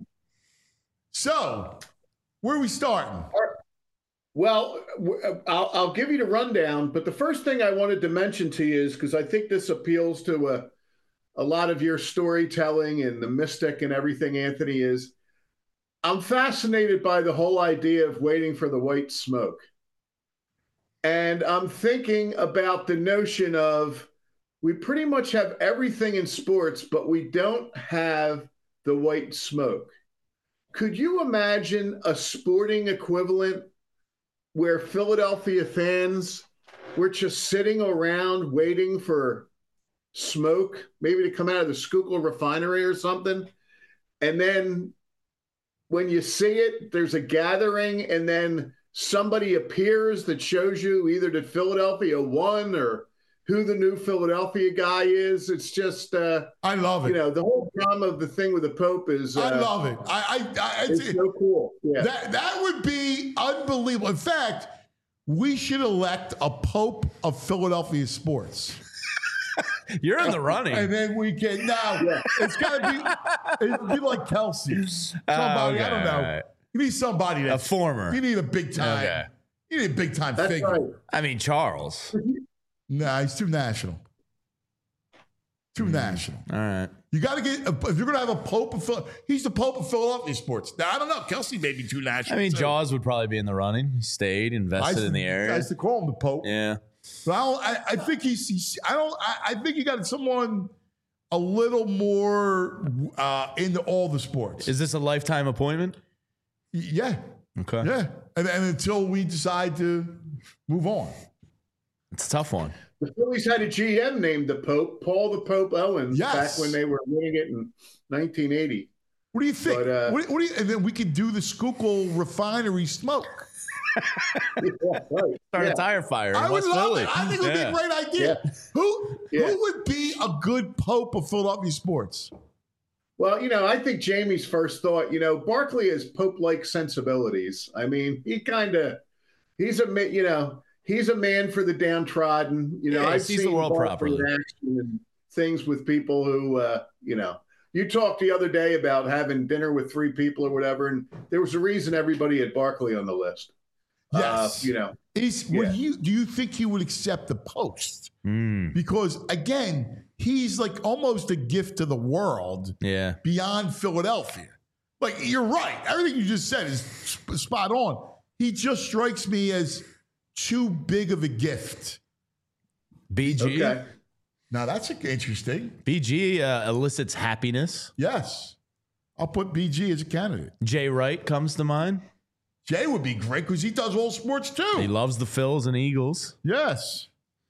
So, where are we starting? Well, w- I'll, I'll give you the rundown, but the first thing I wanted to mention to you is because I think this appeals to a, a lot of your storytelling and the mystic and everything, Anthony, is I'm fascinated by the whole idea of waiting for the white smoke. And I'm thinking about the notion of we pretty much have everything in sports, but we don't have the white smoke. Could you imagine a sporting equivalent where Philadelphia fans were just sitting around waiting for smoke, maybe to come out of the Schuylkill refinery or something, and then when you see it, there's a gathering, and then somebody appears that shows you either that Philadelphia won or who the new Philadelphia guy is. It's just, uh, I love it. You know, the whole drama of the thing with the Pope is. Uh, I love it. I, I, I it's so cool. Yeah. That that would be unbelievable. In fact, we should elect a Pope of Philadelphia sports. You're in the running. And then we can now. Yeah. It's got to be. It'd be like Kelsey. Somebody. Oh, okay, I don't know. right. You need somebody A that's former. You need a big time. Okay. You need a big time That's figure. right. I mean, Charles. Nah, he's too national. Too mm. national. All right. You got to get, if you're going to have a Pope of Phil, he's the Pope of Philadelphia sports. Now, I don't know. Kelsey may be too national. I mean, too. Jaws would probably be in the running. He stayed, invested to, in the area. I used to call him the Pope. Yeah. But I, don't, I, I think he's, he's I don't, I, I think you got someone a little more uh, into all the sports. Is this a lifetime appointment? Yeah. Okay. Yeah. And, and until we decide to move on. It's a tough one. The Phillies had a G M named the Pope, Paul the Pope Owens, Yes. back when they were winning it in nineteen eighty. What do you think? But, uh, what, what do you, and then we could do the Schuylkill refinery smoke. Yeah, right. Start Yeah. a tire fire in I would West love Philly. it. I think it would Yeah. be a great idea. Yeah. Who Yeah. who would be a good Pope of Philadelphia sports? Well, you know, I think Jamie's first thought, you know, Barkley has Pope-like sensibilities. I mean, he kind of, he's a, ma- you know, he's a man for the downtrodden. You know, Yeah, he I've sees the seen world Barkley in properly. action and things with people who, uh, you know, you talked the other day about having dinner with three people or whatever, and there was a reason everybody had Barkley on the list. Yes. Uh, you know, Is Yeah. would you do you think he would accept the post? Mm, Because again, he's like almost a gift to the world yeah. beyond Philadelphia. Like you're right. Everything you just said is sp- spot on. He just strikes me as too big of a gift. B G. okay. Now that's interesting. B G uh, elicits happiness. Yes. I'll put B G as a candidate. Jay Wright comes to mind. Jay would be great because he does all sports too. He loves the Phils and Eagles. Yes.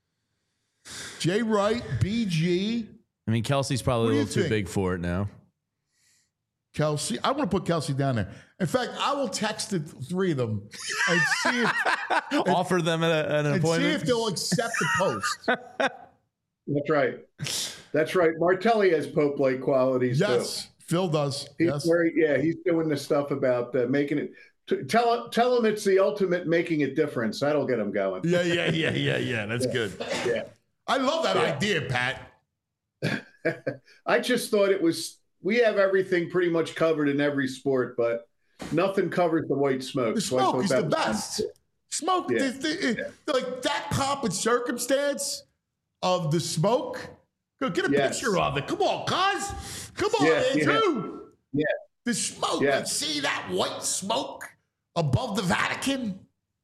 Jay Wright, B G, I mean, Kelsey's probably What a do you little too think? big for it now. Kelsey. I want to put Kelsey down there. In fact, I will text the three of them and see if, Offer them an, an and see appointment. if they'll accept the post. That's right. That's right. Martelli has Pope-like qualities too. Yes. Phil does. He's Yes. very, yeah, he's doing the stuff about uh, making it. T- tell tell him it's the ultimate making a difference. That'll get him going. Yeah, yeah, yeah, yeah, yeah. That's good. Yeah. I love that Yeah. idea, Pat. I just thought it was. We have everything pretty much covered in every sport, but nothing covers the white smoke. The So I smoke thought is that the was fun. best. Smoke, Yeah. the- the- the- like that pomp and circumstance of the smoke. Go get a Yes. picture of it. Come on, cuz. Come on, Yeah, yeah. Andrew. Yeah. The smoke. Yeah. Like, see that white smoke above the Vatican?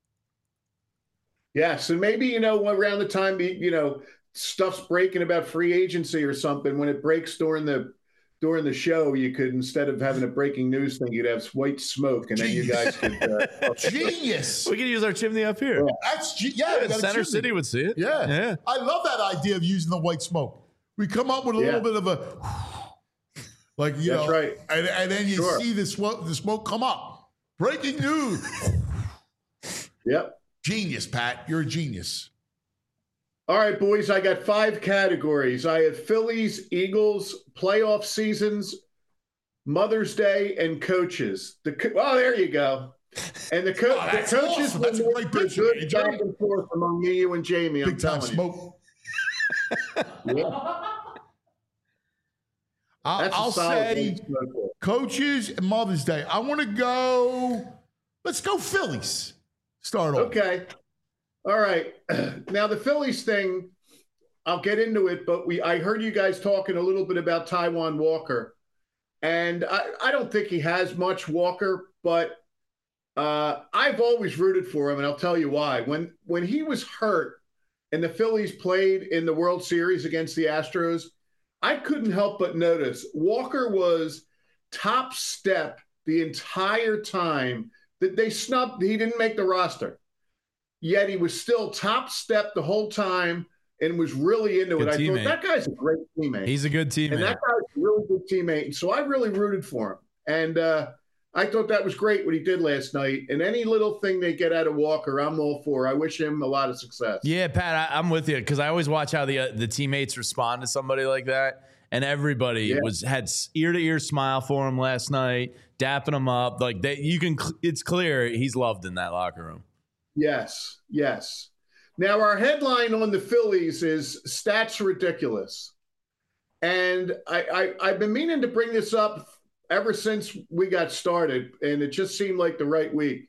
Yes, and maybe you know around the time you know stuff's breaking about free agency or something. When it breaks during the during the show, you could instead of having a breaking news thing, you'd have white smoke, and then you guys could. Uh, Genius. We could use our chimney up here. That's ge- yeah. we Yeah, got a Center chimney. City would see it. Yeah. Yeah. I love that idea of using the white smoke. We come up with a Yeah. little bit of a, like, you That's know, right. and, and then you Sure. see the smoke, the smoke come up. Breaking news. Yep. Genius, Pat. You're a genius. All right, boys. I got five categories. I have Phillies, Eagles, playoff seasons, Mother's Day, and coaches. The co- oh, there you go. And the, co- Oh, the that's coaches awesome. will That's a make great for picture, good A J. back and forth among me, you, and Jamie. I'm Big time telling smoke. you. Yeah. I'll, That's a I'll solid say one, smoke. coaches and Mother's Day. I want to go. Let's go Phillies. Start off. Okay. All right. Now the Phillies thing, I'll get into it, but we I heard you guys talking a little bit about Taijuan Walker. And I, I don't think he has much Walker, but uh, I've always rooted for him, and I'll tell you why. When when he was hurt and the Phillies played in the World Series against the Astros, I couldn't help but notice Walker was top step the entire time that they snubbed. He didn't make the roster. Yet he was still top step the whole time and was really into Good it. I teammate. thought that guy's a great teammate. He's a good teammate. And that guy's a really good teammate. And so I really rooted for him. And uh, I thought that was great what he did last night. And any little thing they get out of Walker, I'm all for. I wish him a lot of success. Yeah, Pat, I, I'm with you because I always watch how the uh, the teammates respond to somebody like that, and everybody Yeah. was had ear to ear smile for him last night, dapping him up. Like that, you can. It's clear he's loved in that locker room. Yes, yes. Now, our headline on the Phillies is Stats Ridiculous. And I, I, I've been meaning to bring this up ever since we got started, and it just seemed like the right week.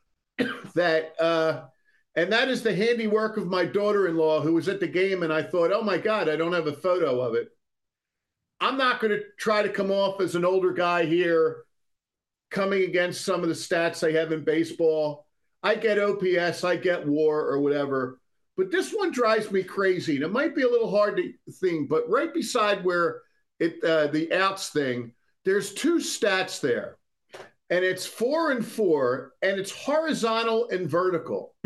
that uh, And that is the handiwork of my daughter-in-law who was at the game, and I thought, oh, my God, I don't have a photo of it. I'm not going to try to come off as an older guy here coming against some of the stats they have in baseball. I get O P S, I get WAR or whatever, but this one drives me crazy. And it might be a little hard to think, but right beside where it uh, the outs thing, there's two stats there, and it's four and four, and it's horizontal and vertical.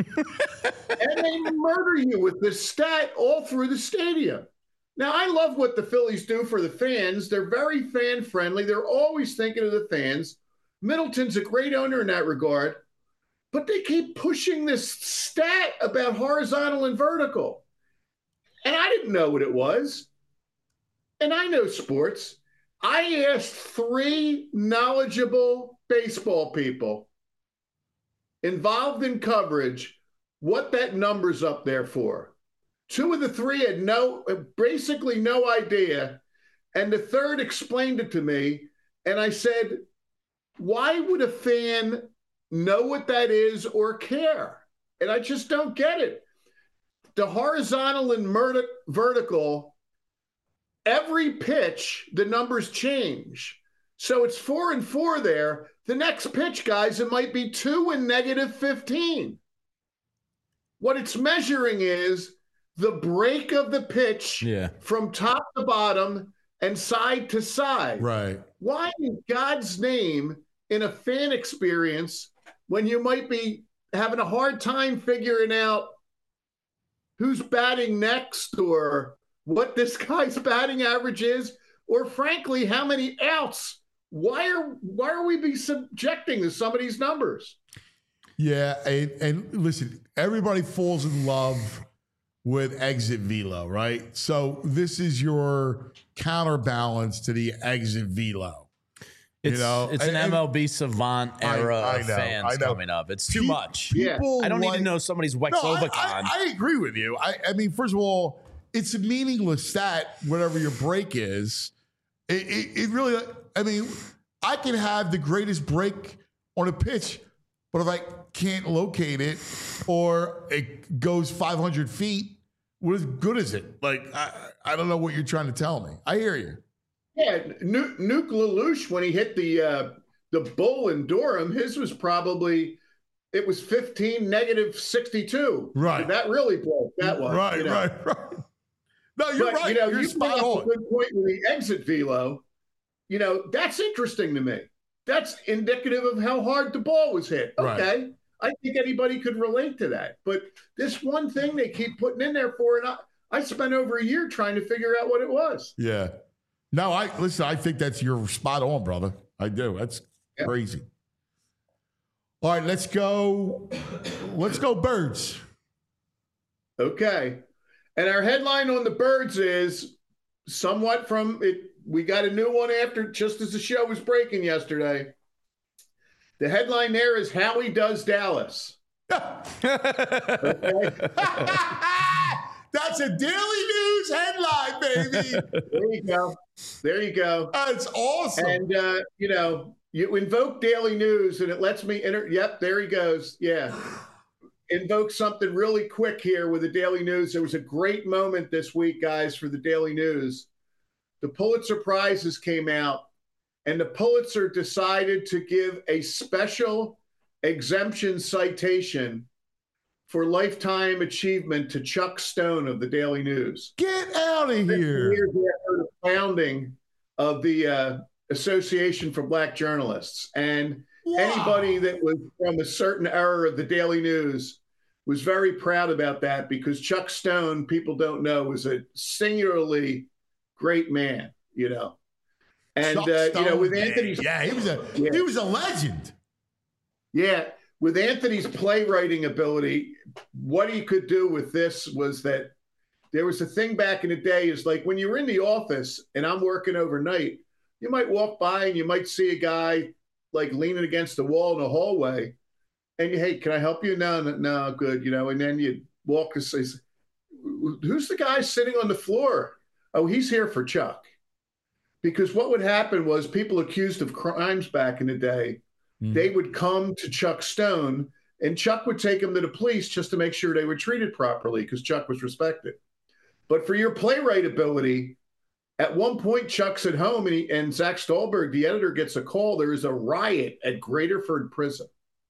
And they murder you with this stat all through the stadium. Now, I love what the Phillies do for the fans. They're very fan-friendly. They're always thinking of the fans. Middleton's a great owner in that regard. But they keep pushing this stat about horizontal and vertical. And I didn't know what it was. And I know sports. I asked three knowledgeable baseball people involved in coverage what that number's up there for. Two of the three had no, basically no idea. And the third explained it to me. And I said, why would a fan know what that is or care? And I just don't get it. The horizontal and murder, vertical, every pitch, the numbers change. So it's four and four there. The next pitch, guys, it might be two and negative fifteen. What it's measuring is the break of the pitch Yeah. from top to bottom and side to side. Right. Why in God's name, in a fan experience, when you might be having a hard time figuring out who's batting next or what this guy's batting average is, or frankly, how many outs, why are why are we be subjecting to some of these numbers? Yeah, and, and listen, everybody falls in love with exit velo, right? So this is your counterbalance to the exit velo. It's, You know, it's an and- M L B savant I- era I of know, fans I know. coming up. It's too Pe- much. Yeah. People I don't need like- to know somebody's No, I, Wexovacon. I, I agree with you. I, I mean, first of all, it's a meaningless stat, whatever your break is. It, it, it really, I mean, I can have the greatest break on a pitch, but if I can't locate it or it goes five hundred feet, what good is it? Like, I, I don't know what you're trying to tell me. I hear you. Yeah, Nuke, Nuke Lelouch, when he hit the uh, the bull in Durham, his was probably, it was fifteen, negative sixty-two. Right. That really broke that one. Right, you know. right, right. No, you're But, right. you know, you're you spot bring up on. a good point with the exit velo. You know, that's interesting to me. That's indicative of how hard the ball was hit. Right. Okay. I think anybody could relate to that. But this one thing they keep putting in there for, and I, I spent over a year trying to figure out what it was. Yeah. No, I listen, I think that's you're spot on, brother. I do. That's Yeah. crazy. All right, let's go. Let's go birds. Okay. And our headline on the birds is somewhat from it. We got a new one after just as the show was breaking yesterday. The headline there is Howie Does Dallas. That's a Daily News headline, baby. There you go. There you go. That's awesome. And, uh, you know, you invoke Daily News and it lets me enter. Yep, there he goes. Yeah. Invoke something really quick here with the Daily News. There was a great moment this week, guys, for the Daily News. The Pulitzer Prizes came out, and the Pulitzer decided to give a special exemption citation for lifetime achievement to Chuck Stone of the Daily News. Get out of here. Years after the founding of the uh, Association for Black Journalists. And Wow. anybody that was from a certain era of the Daily News was very proud about that, because Chuck Stone, people don't know, was a singularly great man, you know. And Chuck uh, you know, Stone, with man. Anthony's yeah, he was a Yeah. he was a legend. Yeah, with Anthony's playwriting ability, what he could do with this was that there was a thing back in the day is like when you're in the office and I'm working overnight, you might walk by and you might see a guy like leaning against the wall in the hallway and you, hey, can I help you? No, no, no, good, you know, and then you walk and say, who's the guy sitting on the floor? Oh, he's here for Chuck. Because what would happen was people accused of crimes back in the day, mm. they would come to Chuck Stone and Chuck would take them to the police just to make sure they were treated properly because Chuck was respected. But for your playwright ability, at one point, Chuck's at home and, he, and Zach Stolberg, the editor, gets a call. There is a riot at Graterford Prison.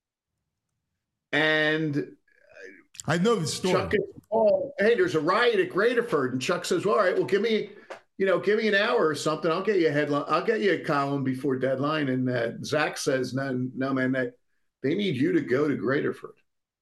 And I know the story. Chuck gets a call, hey, there's a riot at Graterford. And Chuck says, well, all right, well, give me, you know, give me an hour or something. I'll get you a headline. I'll get you a column before deadline. And uh, Zach says, no, no, man, they, they need you to go to Graterford.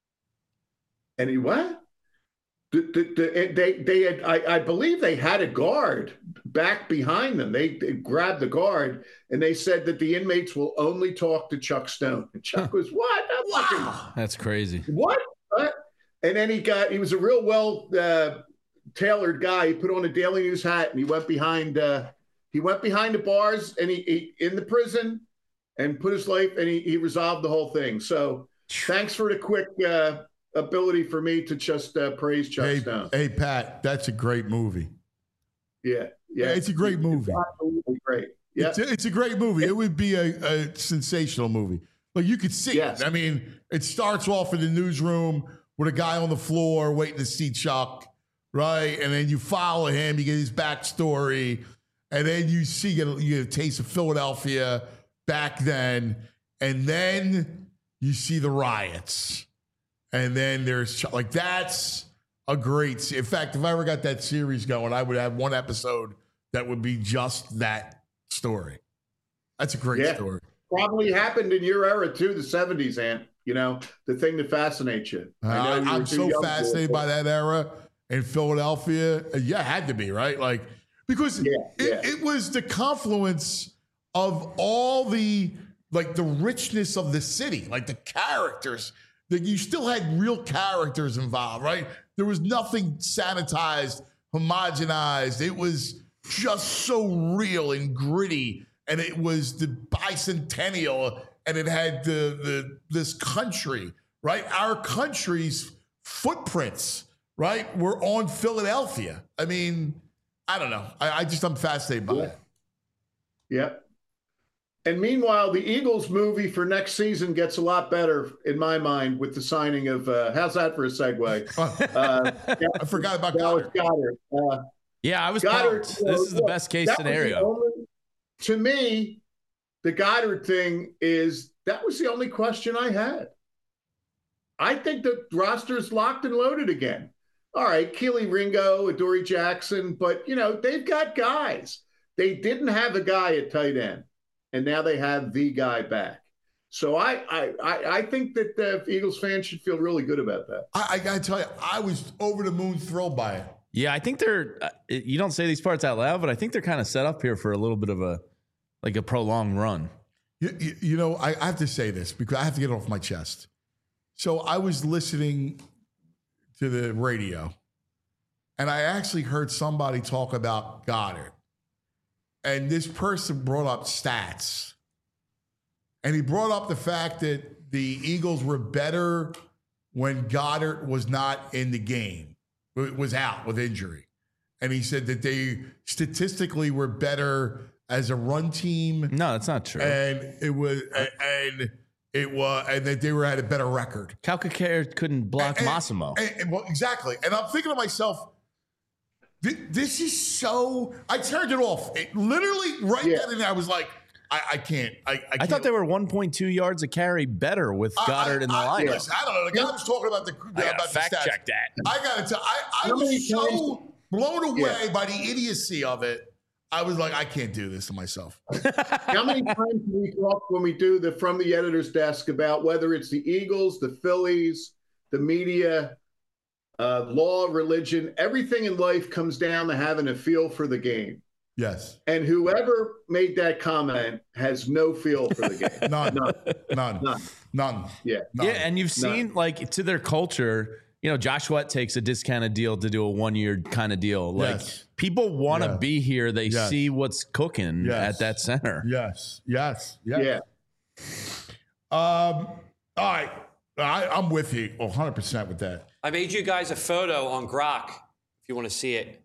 And he, what? The, the, the, they they had I, I believe they had a guard back behind them. They, they grabbed the guard and they said that the inmates will only talk to Chuck Stone. And Chuck was what? Wow, that's crazy. What? what? And then he got he was a real well uh, tailored guy. He put on a Daily News hat and he went behind uh, he went behind the bars and he, he in the prison and put his life and he, he resolved the whole thing. So thanks for the quick. Uh, ability for me to just uh, praise Chuck hey, Stone. Hey, Pat, that's a great movie. Yeah, yeah. yeah it's a great movie. It's absolutely great. Yeah. It's a, it's a great movie. It would be a, a sensational movie. Like you could see yes. it. I mean, it starts off in the newsroom with a guy on the floor waiting to see Chuck, right? And then you follow him, you get his backstory, and then you see you get a taste of Philadelphia back then, and then you see the riots. And then there's like that's a great. In fact, if I ever got that series going, I would have one episode that would be just that story. That's a great yeah. story. Probably happened in your era too, the seventies, Ant. You know, the thing that fascinates you. Uh, I know you I'm so fascinated by that era in Philadelphia. Yeah, it had to be right, like because yeah, it, yeah. it was the confluence of all the like the richness of the city, like the characters. That you still had real characters involved, right? There was nothing sanitized, homogenized. It was just so real and gritty. And it was the bicentennial, and it had the the this country, right? Our country's footprints, right, were on Philadelphia. I mean, I don't know. I, I just I'm fascinated by yeah. it. Yep. And meanwhile, the Eagles movie for next season gets a lot better in my mind with the signing of, uh, how's that for a segue? Uh, I forgot about Dallas Goddard. Goddard. Uh, yeah, I was Goddard, pumped. This is the best case scenario. Only, to me, the Goddard thing is, that was the only question I had. I think the roster's locked and loaded again. All right, Keely Ringo, Adoree Jackson, but, you know, they've got guys. They didn't have a guy at tight end. And now they have the guy back. So I I, I think that the Eagles fans should feel really good about that. I, I got to tell you, I was over the moon thrilled by it. Yeah, I think they're – you don't say these parts out loud, but I think they're kind of set up here for a little bit of a – like a prolonged run. You, you, you know, I, I have to say this because I have to get it off my chest. So I was listening to the radio, and I actually heard somebody talk about Goddard. And this person brought up stats. And he brought up the fact that the Eagles were better when Goddard was not in the game, was out with injury. And he said that they statistically were better as a run team. No, that's not true. And it was, and it was, and that they were at a better record. Calcaterra couldn't block and, Massimo. And, and, well, exactly. And I'm thinking to myself, this is so. I turned it off. It literally right yeah. then and there, I was like, I, I can't. I, I, can't. I thought they were one point two yards a carry better with Goddard I, in the I, lineup. Listen, I don't know. The guy was talking about the I about gotta fact the stats. check that. I got to tell. I, I was so blown away yeah. by the idiocy of it. I was like, I can't do this to myself. How many times do we talk when we do the From the Editor's Desk about whether it's the Eagles, the Phillies, the media, uh, law, religion, everything in life comes down to having a feel for the game. Yes. And whoever made that comment has no feel for the game. None. None. None. None. None. Yeah. None. Yeah, and you've seen like to their culture, you know, Josh Sweat takes a discounted deal to do a one year kind of deal. Like Yes. people want to Yeah. be here. They Yes. see what's cooking Yes. at that center. Yes. Yes. Yes. Yeah. Um, all right. I, I'm with you one hundred percent with that. I made you guys a photo on Grok if you want to see it.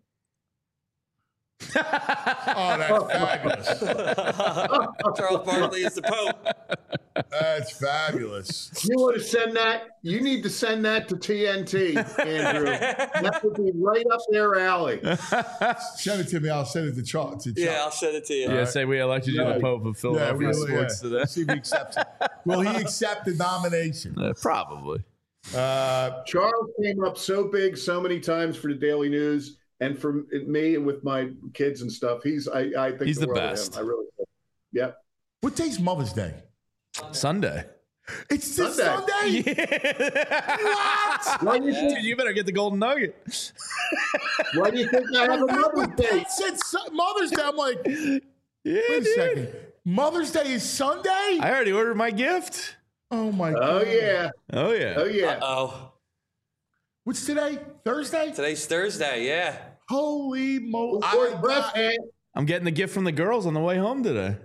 Oh, that's fabulous. Charles Barkley is the Pope. That's fabulous. You want to send that? You need to send that to T N T, Andrew. That would be right up their alley. Send it to me. I'll send it to Charles. To Yeah, I'll Charles. send it to you. Yeah, say we elected you the Pope of Philadelphia we- sports yeah. today. See if he accepts it. Will he accept the nomination? Uh, probably. Uh, Charles came up so big so many times for the Daily News and for me and with my kids and stuff. He's I, I think He's the world of best. him. I really do. Yep. what day's Mother's Day? Sunday. It's this Sunday. Sunday. What? Why do you think? Dude, you better get the golden nugget. Why do you think I have a Mother's Day? Pat said Su- Mother's Day. I'm like, Yeah, wait a dude. second. Mother's Day is Sunday? I already ordered my gift. Oh my god. Oh yeah. Oh yeah. Oh yeah. Oh, What's today? Thursday? today's Thursday. Yeah. Holy moly. Short breath, man. I'm getting the gift from the girls on the way home today.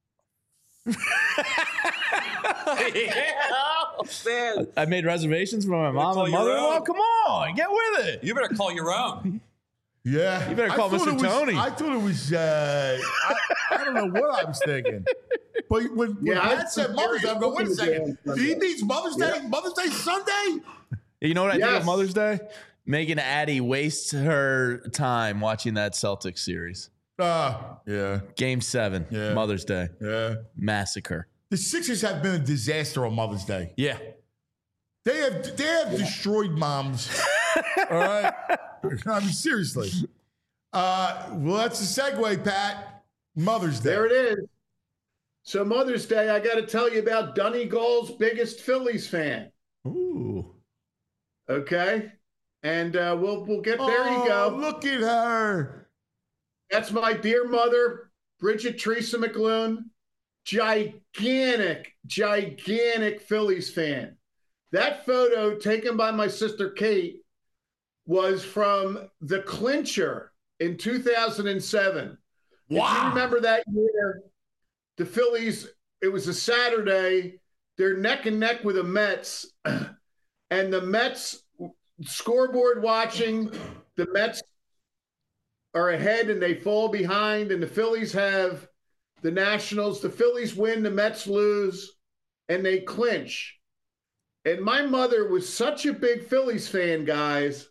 yeah. Oh, man. I made reservations for my mom call and your mother-in-law. own. Come on, get with it. You better call your own. Yeah. You better call I thought Mister it was- Tony. I thought it was, uh, I, I don't know what I was thinking. But when, when Yeah, I- Pat said Mother's Day, I'm going, wait a second. He means Mother's Day? Mother's Day Sunday? You know what I think Yes. of Mother's Day? Megan Addy wastes her time watching that Celtics series. Uh, yeah. Game seven, Yeah. Mother's Day, Yeah. massacre. The Sixers have been a disaster on Mother's Day. Yeah. They have they have destroyed moms. All right. I mean, seriously. Uh, well, that's a segue, Pat. Mother's Day. There it is. So Mother's Day, I got to tell you about Donegal's biggest Phillies fan. Ooh. Okay, and uh, we'll we'll get there. You Oh, go. look at her. That's my dear mother, Bridget Teresa McLoone, gigantic, gigantic Phillies fan. That photo taken by my sister Kate was from the clincher in two thousand seven. If you remember that year, the Phillies, it was a Saturday, they're neck and neck with the Mets, and the Mets scoreboard watching, the Mets are ahead and they fall behind, and the Phillies have the Nationals. The Phillies win, the Mets lose, and they clinch. And my mother was such a big Phillies fan, guys,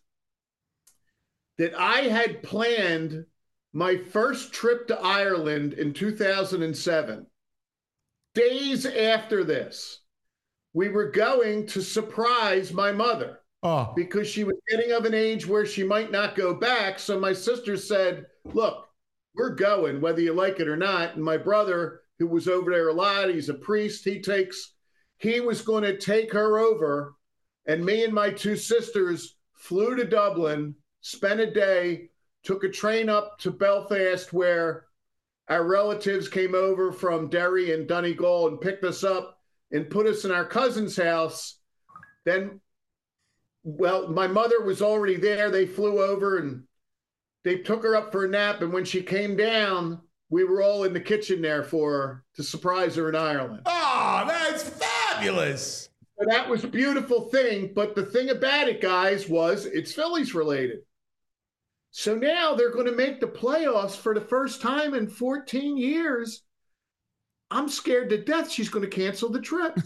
that I had planned my first trip to Ireland in two thousand seven. Days after this, we were going to surprise my mother Oh, because she was getting of an age where she might not go back. So my sister said, look, we're going whether you like it or not. And my brother, who was over there a lot, he's a priest, he takes, he was going to take her over. And me and my two sisters flew to Dublin, spent a day, took a train up to Belfast where our relatives came over from Derry and Donegal and picked us up and put us in our cousin's house. Then, well, my mother was already there. They flew over and they took her up for a nap. And when she came down, we were all in the kitchen there for her to surprise her in Ireland. oh, that's fabulous. So that was a beautiful thing. But the thing about it, guys, was it's Phillies related. So now they're going to make the playoffs for the first time in fourteen years. I'm scared to death she's going to cancel the trip.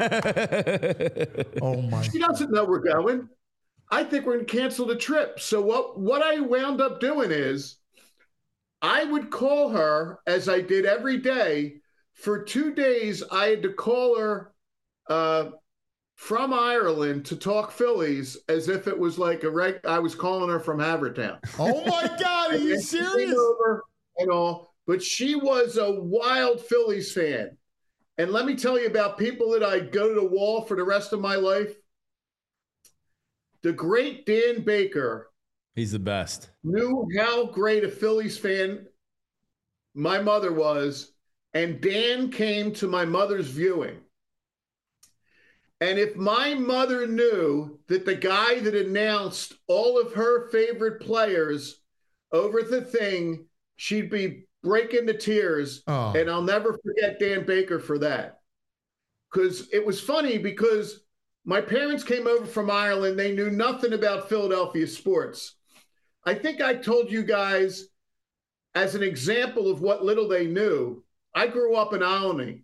Oh, my. She doesn't know we're going. I think we're going to cancel the trip. So what, what I wound up doing is I would call her as I did every day. For two days, I had to call her uh, from Ireland to talk Phillies as if it was like a reg. I was calling her from Havertown. Oh, my God. Are you And she came serious? over and all, but she was a wild Phillies fan. And let me tell you about people that I go to the wall for the rest of my life. The great Dan Baker He's the best. knew how great a Phillies fan my mother was, and Dan came to my mother's viewing. And if my mother knew that the guy that announced all of her favorite players over the thing, she'd be breaking to tears. Oh. And I'll never forget Dan Baker for that. Because it was funny because my parents came over from Ireland. They knew nothing about Philadelphia sports. I think I told you guys, as an example of what little they knew, I grew up in Albany.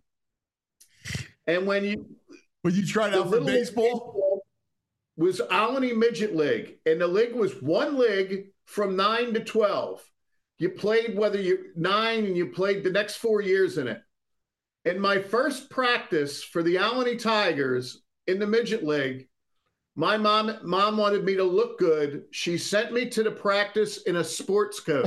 And when you... When you tried out for baseball? baseball? Was Albany Midget League. And the league was one league from nine to twelve. You played whether you're nine and you played the next four years in it. In my first practice for the Albany Tigers in the Midget League, my mom mom wanted me to look good. She sent me to the practice in a sports coat.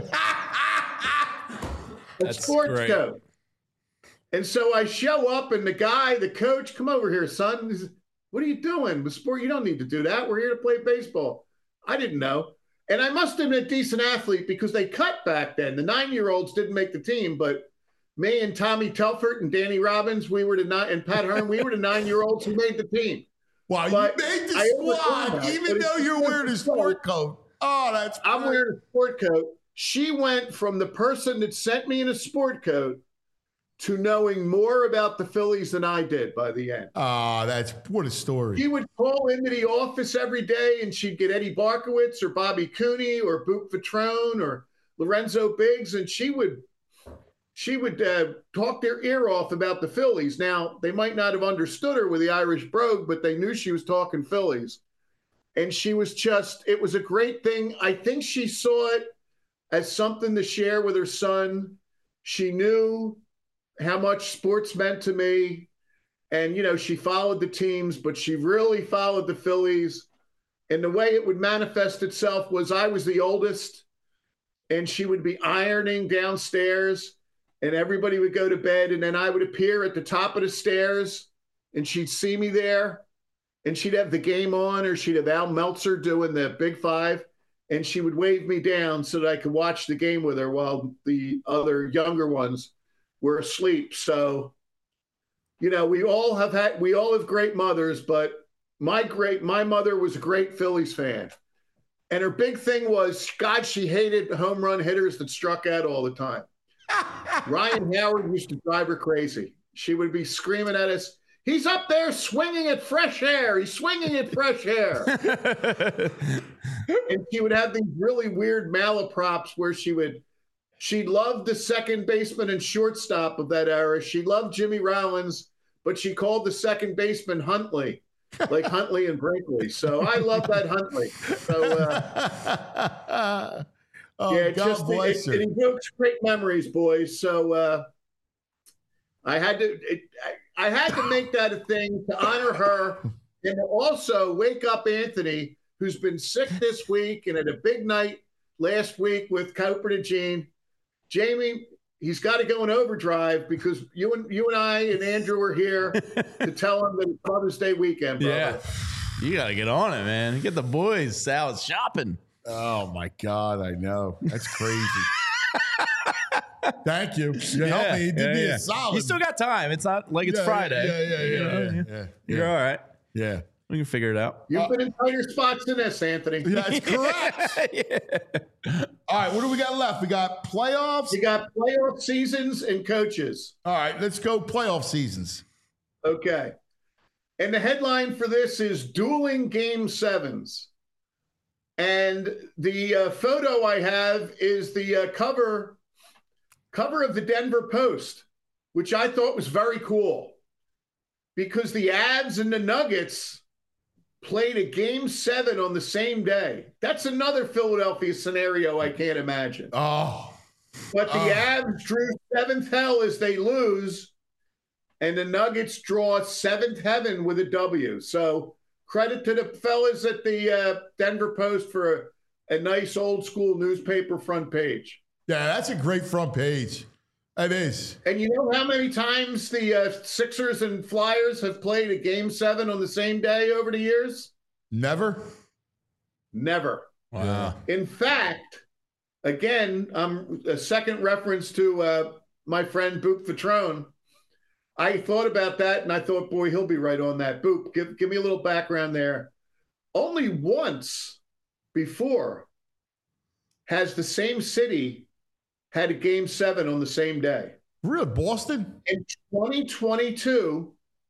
a That's sports great. coat. And so I show up and the guy, the coach, come over here, son. He says, what are you doing? The sport, you don't need to do that. We're here to play baseball. I didn't know. And I must have been a decent athlete because they cut back then. The nine-year-olds didn't make the team, but me and Tommy Telford and Danny Robbins, we were the nine, and Pat Hearn, we were the nine-year-olds who made the team. Wow, But you made the I squad overcame that. even But though it's you're just wearing a a sport coat. Oh, that's I'm great. wearing a sport coat. She went from the person that sent me in a sport coat to knowing more about the Phillies than I did by the end. Ah, that's what a story. She would call into the office every day and she'd get Eddie Barkowitz or Bobby Cooney or Boop Vitrone or Lorenzo Biggs, and she would she would uh, talk their ear off about the Phillies. Now, they might not have understood her with the Irish brogue, but they knew she was talking Phillies. And she was just, it was a great thing. I think she saw it as something to share with her son. She knew how much sports meant to me. And, you know, she followed the teams, but she really followed the Phillies. And the way it would manifest itself was I was the oldest, and she would be ironing downstairs, and everybody would go to bed. And then I would appear at the top of the stairs, and she'd see me there, and she'd have the game on, or she'd have Al Meltzer doing the Big Five, and she would wave me down so that I could watch the game with her while the other younger ones were asleep. So, you know, we all have had, we all have great mothers, but my great, my mother was a great Phillies fan. And her big thing was, God, she hated home run hitters that struck out all the time. Ryan Howard used to drive her crazy. She would be screaming at us, he's up there swinging at fresh air. He's swinging at fresh air. And she would have these really weird malaprops where she would, she loved the second baseman and shortstop of that era. She loved Jimmy Rollins, but she called the second baseman Huntley, like Huntley and Brinkley. So I love that Huntley. So, uh, oh, yeah, God just bless it, her. it evokes great memories, boys. So uh, I had to, it, I, I had to make that a thing to honor her and to also wake up Anthony, who's been sick this week and had a big night last week with Cooper and Gene. Jamie, he's got to go in overdrive because you and you and I and Andrew are here to tell him that it's Mother's Day weekend, brother. Yeah. You got to get on it, man. Get the boys out shopping. Oh, my God, I know. That's crazy. Thank you. You Yeah, helped me. You did yeah, me yeah. a solid. You still got time. It's not like it's Yeah, Friday. Yeah, yeah, yeah, yeah, yeah, yeah. You're all right. Yeah. We can figure it out. You've Uh, been in tighter spots than this, Anthony. That's correct. Yeah. All right, what do we got left? We got playoffs. You got playoff seasons and coaches. All right, let's go playoff seasons. Okay. And the headline for this is Dueling Game Sevens. And the uh, photo I have is the uh, cover cover of the Denver Post, which I thought was very cool because the Avs and the Nuggets played a game seven on the same day. That's another Philadelphia scenario I can't imagine. Oh, But the Oh. Avs drew seventh hell as they lose, and the Nuggets draw seventh heaven with a W. So credit to the fellas at the uh, Denver Post for a, a nice old school newspaper front page. yeah, that's a great front page. It is. And you know how many times the uh, Sixers and Flyers have played a game seven on the same day over the years? Never. Never. Wow. In fact, again, um, a second reference to uh, my friend Boop Vitrone. I thought about that, and I thought, boy, he'll be right on that. Boop, give, give me a little background there. Only once before has the same city had a game seven on the same day. Really? Boston? In twenty twenty-two,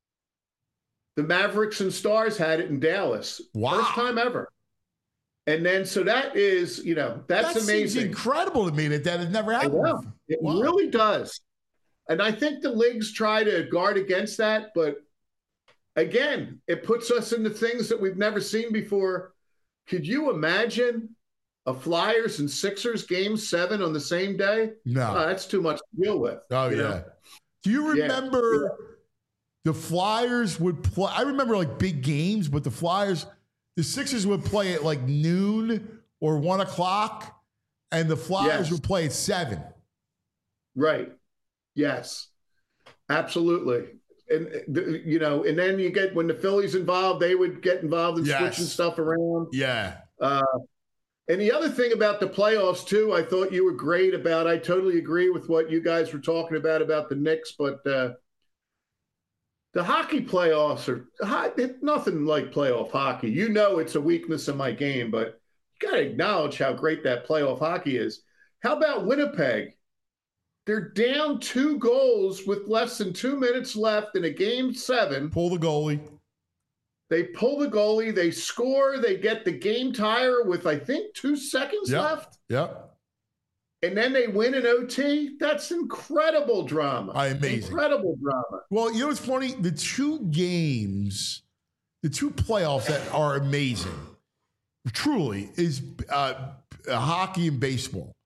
the Mavericks and Stars had it in Dallas. Wow. First time ever. And then, so that is, you know, that's that amazing. Seems incredible to me that that has never happened. Wow. It wow. really does. And I think the leagues try to guard against that. But again, it puts us into things that we've never seen before. Could you imagine a Flyers and Sixers game seven on the same day? No. Oh, that's too much to deal with. Oh, yeah. Know? Do you remember yeah. the Flyers would play? I remember like big games, but the Flyers, the Sixers would play at like noon or one o'clock, and the Flyers yes. would play at seven. Right. Yes, absolutely. And, you know, and then you get, when the Phillies involved, they would get involved in yes. switching stuff around. Yeah. Uh, and the other thing about the playoffs, too, I thought you were great about. I totally agree with what you guys were talking about, about the Knicks. But uh, the hockey playoffs are nothing like playoff hockey. You know it's a weakness in my game, but you got to acknowledge how great that playoff hockey is. How about Winnipeg? They're down two goals with less than two minutes left in a game seven. Pull the goalie. They pull the goalie. They score. They get the game tire with, I think, two seconds yep. left. Yep. And then they win in O T. That's incredible drama. Amazing. Incredible drama. Well, you know what's funny? The two games, the two playoffs that are amazing, truly, is uh, hockey and baseball.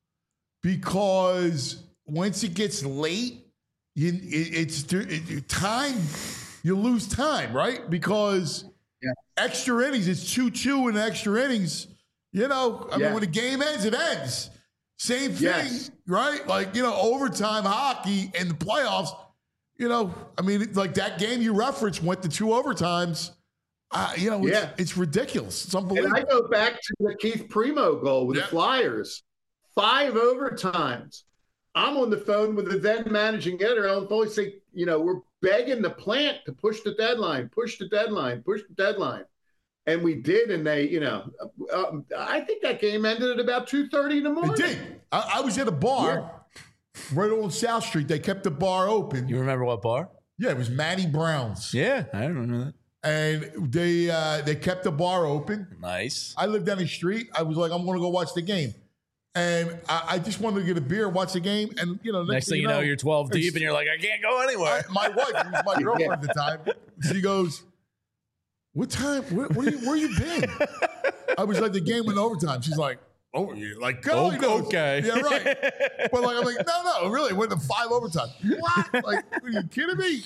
Because once it gets late, you, it, it's it, time, you lose time, right? Because yeah. extra innings, it's two two in extra innings. You know, I yeah. mean, when the game ends, it ends. Same thing, yes. right? Like, you know, overtime hockey and the playoffs, you know, I mean, like that game you referenced went to two overtimes. Uh, you know, it's, yeah. it's ridiculous. It's unbelievable. And I go back to the Keith Primo goal with yeah. the Flyers. Five overtimes. I'm on the phone with the then managing editor, Alan Foley, say, you know, we're begging the plant to push the deadline, push the deadline, push the deadline. And we did, and they, you know, uh, I think that game ended at about two thirty in the morning. It did. I, I was at a bar yeah. right on South Street. They kept the bar open. You remember what bar? Yeah, it was Matty Brown's. Yeah, I remember that. And they uh, they kept the bar open. Nice. I lived down the street. I was like, I'm going to go watch the game. And I, I just wanted to get a beer, watch the game, and you know, next, next thing you know, know, you're twelve deep, and you're like, I can't go anywhere. I, my wife, who was my girlfriend at the time, she goes, "What time? Where, where, you, where you been?" I was like, "The game went overtime." She's like, "Oh, you like go?" Oh, okay, yeah, right." But like, I'm like, "No, no, really, it went to five overtime." What? Like, are you kidding me?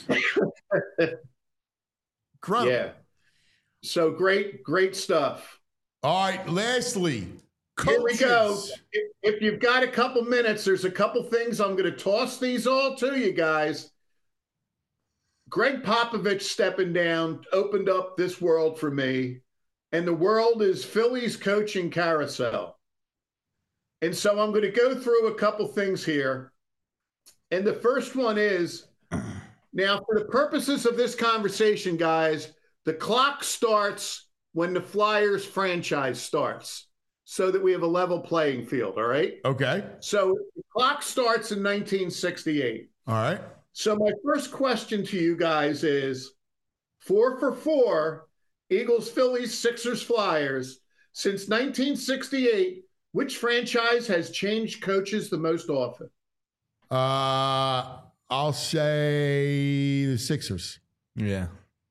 Incredible. Yeah. So great, great stuff. All right. Lastly. Coaches. Here we go. If, if you've got a couple minutes, there's a couple things. I'm going to toss these all to you guys. Greg Popovich stepping down opened up this world for me, and the world is Phillies coaching carousel. And so I'm going to go through a couple things here. And the first one is, now for the purposes of this conversation, guys, the clock starts when the Flyers franchise starts, so that we have a level playing field, all right? Okay. So the clock starts in nineteen sixty-eight. All right. So my first question to you guys is, four for four, Eagles, Phillies, Sixers, Flyers. Since nineteen sixty-eight, which franchise has changed coaches the most often? Uh, I'll say the Sixers. Yeah.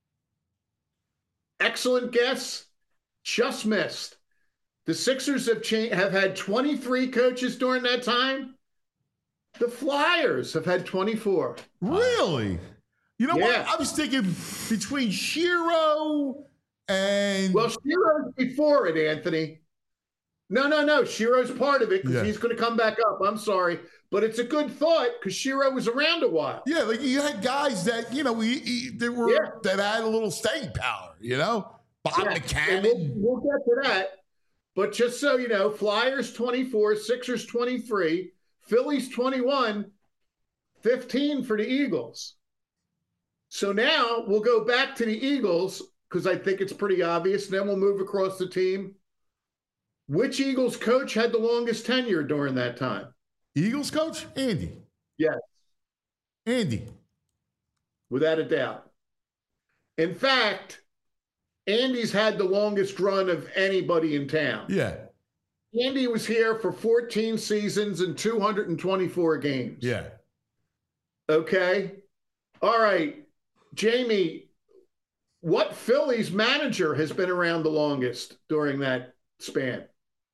Excellent guess. Just missed. The Sixers have cha- have had twenty-three coaches during that time. The Flyers have had twenty-four. Really? You know yeah. what? I was thinking between Shiro and... Well, Shiro's before it, Anthony. No, no, no. Shiro's part of it because yeah. he's going to come back up. I'm sorry. But it's a good thought because Shiro was around a while. Yeah, like you had guys that, you know, we, we, that, were, yeah. that had a little staying power, you know? Bob yeah. McCannon. We'll, we'll get to that. But just so you know, Flyers twenty-four, Sixers twenty-three, Phillies twenty-one, fifteen for the Eagles. So now we'll go back to the Eagles because I think it's pretty obvious. Then we'll move across the team. Which Eagles coach had the longest tenure during that time? Eagles coach? Andy. Yes. Andy. Without a doubt. In fact, Andy's had the longest run of anybody in town. Yeah. Andy was here for fourteen seasons and two hundred twenty-four games. Yeah. Okay. All right. Jamie, what Phillies manager has been around the longest during that span?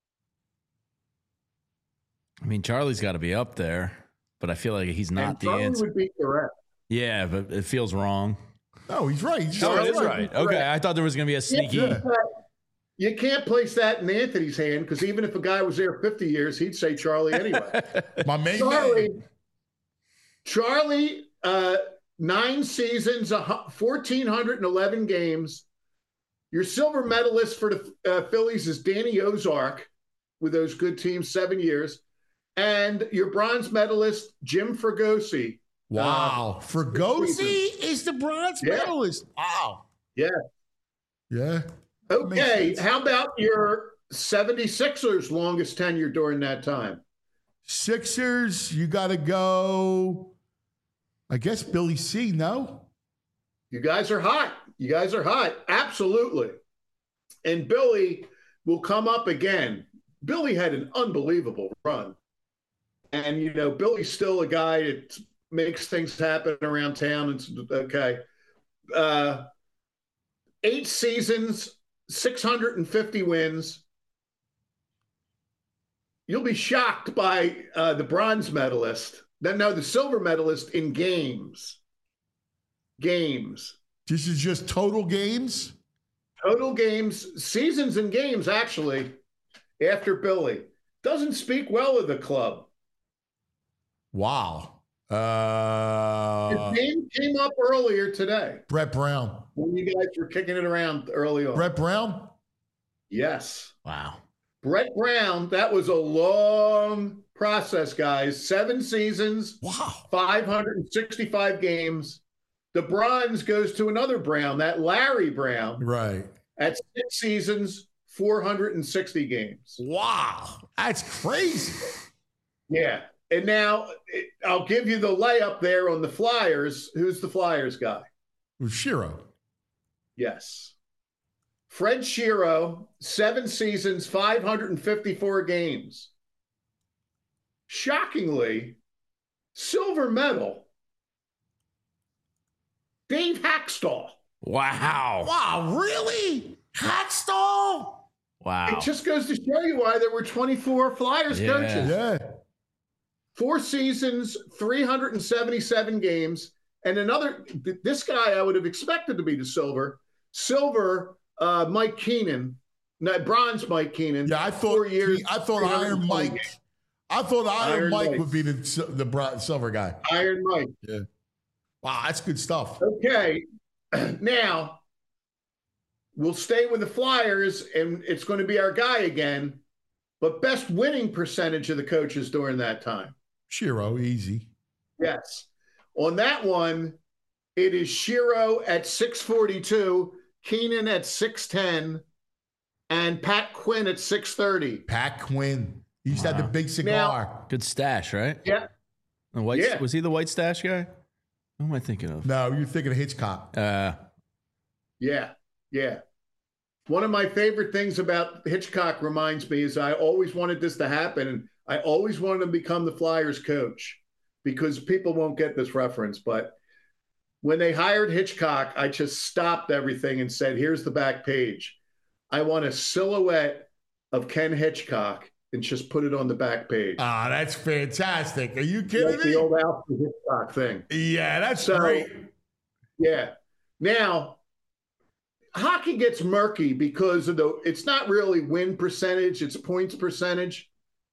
I mean, Charlie's got to be up there, but I feel like he's not and the Charlie answer. would be correct. Yeah, but it feels wrong. No, he's right. He's Oh, right. it is right. Okay, I thought there was going to be a sneaky. Yeah. You can't place that in Anthony's hand because even if a guy was there fifty years, he'd say Charlie anyway. My main Charlie, man. Charlie, uh, nine seasons, one thousand four hundred eleven games. Your silver medalist for the uh, Phillies is Danny Ozark with those good teams, seven years. And your bronze medalist, Jim Fregosi. Wow. Uh, Fregosi is the bronze Yeah. medalist. Wow. Yeah. Yeah. Okay. sense. How about your seventy-sixers longest tenure during that time? Sixers, you got to go, I guess, Billy C, no? You guys are hot. You guys are hot. Absolutely. And Billy will come up again. Billy had an unbelievable run. And, you know, Billy's still a guy that makes things happen around town. It's okay. Uh, eight seasons, six hundred fifty wins. You'll be shocked by uh, the bronze medalist. No, the silver medalist in games. Games. This is just total games? Total games, seasons and games, actually, after Billy. Doesn't speak well of the club. Wow. Uh, His name came up earlier today Brett Brown. when you guys were kicking it around early on. Brett Brown? Yes. Wow. Brett Brown, that was a long process, guys. Seven seasons, Wow. five hundred sixty-five games. The bronze goes to another Brown, that Larry Brown, Right. at six seasons, four hundred sixty games. Wow. That's crazy. Yeah. And now it- I'll give you the layup there on the Flyers. Who's the Flyers guy? It was Shiro. Yes. Fred Shiro, seven seasons, five hundred fifty-four games. Shockingly, silver medal, Dave Hackstall. Wow. Wow, really? Hackstall? Wow. It just goes to show you why there were twenty-four Flyers Yeah. coaches. Yeah. Four seasons, three hundred seventy-seven games. And another, this guy I would have expected to be the silver. Silver, uh, Mike Keenan. No, bronze Mike Keenan. Yeah, I thought Four years, I thought Iron three hundred twenty Mike. games. I thought Iron, Iron Mike, Mike. would be the sil- the bron- silver guy. Iron Mike. Yeah. Wow, that's good stuff. Okay. Now, we'll stay with the Flyers, and it's going to be our guy again. But best winning percentage of the coaches during that time. Shiro, easy. Yes. On that one, it is Shiro at six forty-two, Keenan at six ten, and Pat Quinn at six thirty. Pat Quinn. He used to have the big cigar. Good stash, right? Yeah. The white, Yeah. Was he the white stash guy? Who am I thinking of? no, you're thinking of Hitchcock. Uh, Yeah. Yeah. One of my favorite things about Hitchcock reminds me is I always wanted this to happen, and I always wanted to become the Flyers coach because people won't get this reference. But when they hired Hitchcock, I just stopped everything and said, here's the back page. I want a silhouette of Ken Hitchcock and just put it on the back page. Ah, that's fantastic. Are you kidding Like me? the old Alfred Hitchcock thing. Yeah, that's So, great. yeah. Now, hockey gets murky because of the, it's not really win percentage, it's points percentage.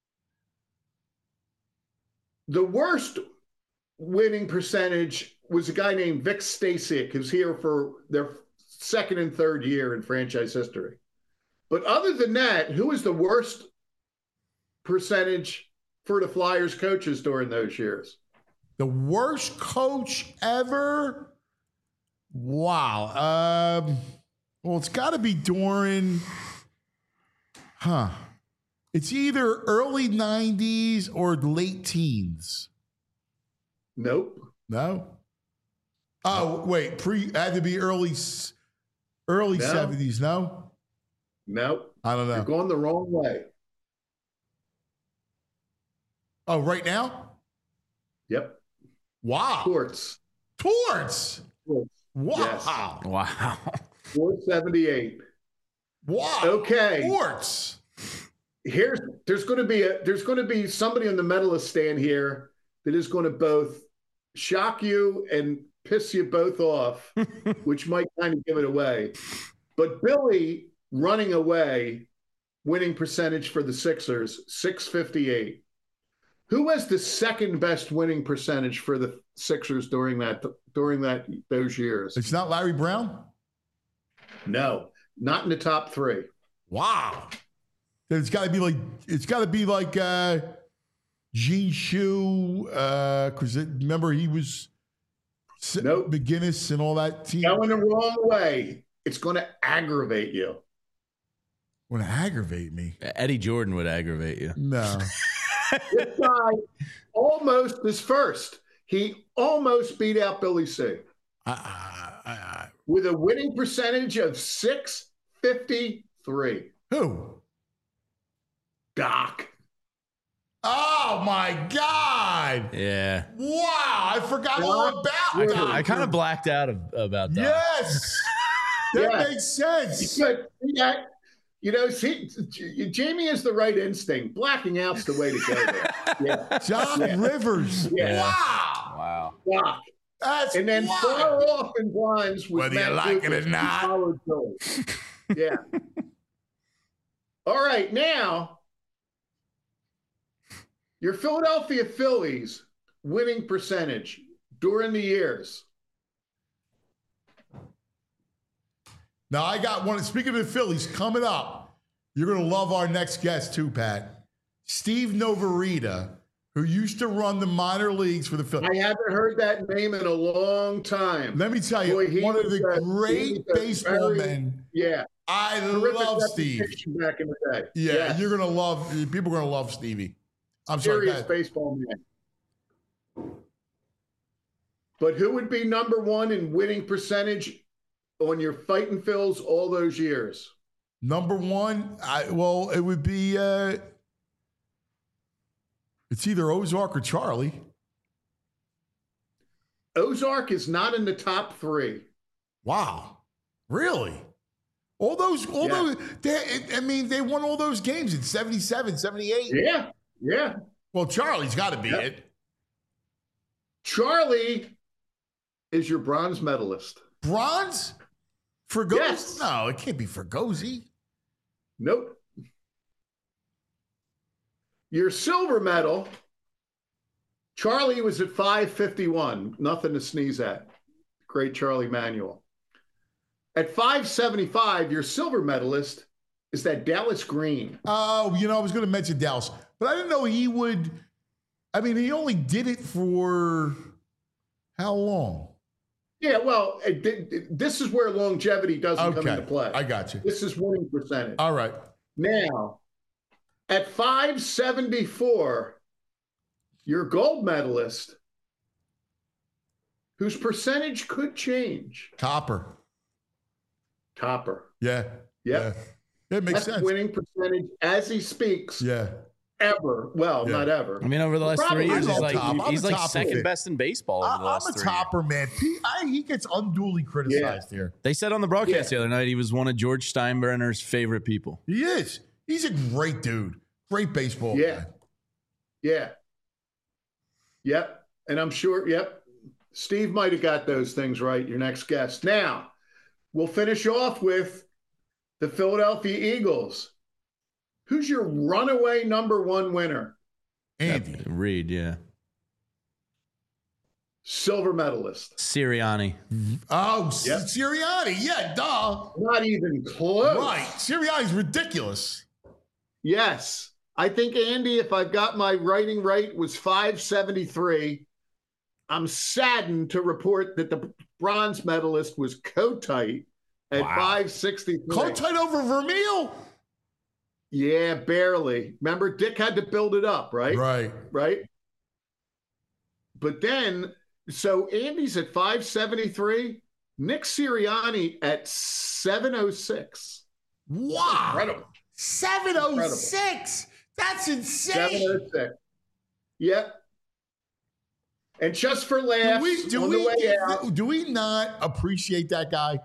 The worst winning percentage was a guy named Vic Stasiak, who's here for their second and third year in franchise history. But other than that, who was the worst percentage for the Flyers coaches during those years? The worst coach ever? Wow. Um, well, it's got to be during, huh? It's either early nineties or late teens. Nope. No? Oh, wait. Pre had to be early early No. seventies, no? Nope. I don't know. You're going the wrong way. Oh, right now? Yep. Wow. Torts. Torts. Torts. Wow. Yes. Wow. four seventy-eight. Wow. Okay. Torts. Here's there's going to be a there's going to be somebody on the medalist stand here that is going to both shock you and piss you both off, which might kind of give it away. But Billy running away, winning percentage for the Sixers, six fifty-eight. Who has the second best winning percentage for the Sixers during that during that those years? It's not Larry Brown? No, not in the top three. Wow. It's got to be like it's got to be like uh, Gene Shue, because uh, remember he was Nope. McGinnis and all that team. Going the wrong way. It's going to aggravate you. Would aggravate me. Eddie Jordan would aggravate you. No. This guy almost is first. He almost beat out Billy C. I, I, I, with a winning percentage of six fifty-three. Who? Doc. Oh my God! Yeah. Wow, I forgot Doc all about Rivers. Doc. I kind of blacked out of, about that. Yes, that Yeah. makes sense. But yeah, you know, see, Jamie has the right instinct. Blacking out's the way to go there. Yeah. John Yeah. Rivers. Yeah. Wow, Wow. Doc. that's And then wild. far off in blinds with Whether you Matt like it or Lucas, who not. followed Billy. Yeah. All right, now your Philadelphia Phillies winning percentage during the years. Now I got one. Speaking of the Phillies, coming up, you're going to love our next guest too, Pat. Steve Novarita, who used to run the minor leagues for the Phillies. I haven't heard that name in a long time. Let me tell you, Boy, he one of was the a- he great was a baseball very- men. Yeah. I Terrific love Steve. reputation back in the day. Yeah, Yes. you're gonna love. People are gonna love Stevie. I'm sorry. Serious Pat. baseball man. But who would be number one in winning percentage on your Fightin' Phils all those years? Number one, I well, it would be. Uh, it's either Ozark or Charlie. Ozark is not in the top three. Wow, really? All those, all Yeah. those. They, I mean, they won all those games in seventy-seven, seventy-eight. Yeah, yeah. Well, Charlie's got to be Yeah. it. Charlie is your bronze medalist. Bronze? Fergosi? Yes. No, it can't be Fergosi. Nope. Your silver medal, Charlie was at five fifty-one. Nothing to sneeze at. Great Charlie Manuel. At five seventy-five, your silver medalist is that Dallas Green. Oh, you know, I was going to mention Dallas, but I didn't know he would. I mean, he only did it for how long? Yeah, well, it, it, this is where longevity doesn't come Okay, into play. I got you. This is winning percentage. All right. Now, at five seventy-four, your gold medalist, whose percentage could change, Topper. Topper. Yeah. Yep. Yeah. It makes Best sense. winning percentage as he speaks Yeah. ever. Well, Yeah. not ever. I mean, over the last Probably three years, I he's love like, Top. I'm he's a like Top second fan. best in baseball over I, the I'm last a three topper, man. He, I, he gets unduly criticized here. They said on the broadcast Yeah. the other night he was one of George Steinbrenner's favorite people. He is. He's a great dude. Great baseball. Yeah. guy. Yeah. Yep. And I'm sure, yep. Steve might have got those things right, your next guest. Now, we'll finish off with the Philadelphia Eagles. Who's your runaway number one winner? Andy. Reed, yeah. silver medalist. Sirianni. Oh, Yep. Sirianni. Yeah, duh. Not even close. Right. Sirianni's ridiculous. Yes. I think, Andy, if I've got my writing right, was five seventy-three. I'm saddened to report that the bronze medalist was Kotite at Wow. five sixty-three. Kotite over Vermeil? Yeah, barely. Remember, Dick had to build it up, right? Right. Right. But then, so Andy's at five seventy-three, Nick Sirianni at seven oh six. Wow. Incredible. seven oh six. That's insane. seven oh six. Yep. And just for laughs, Do we, do, on the we, way out, do we not appreciate that guy?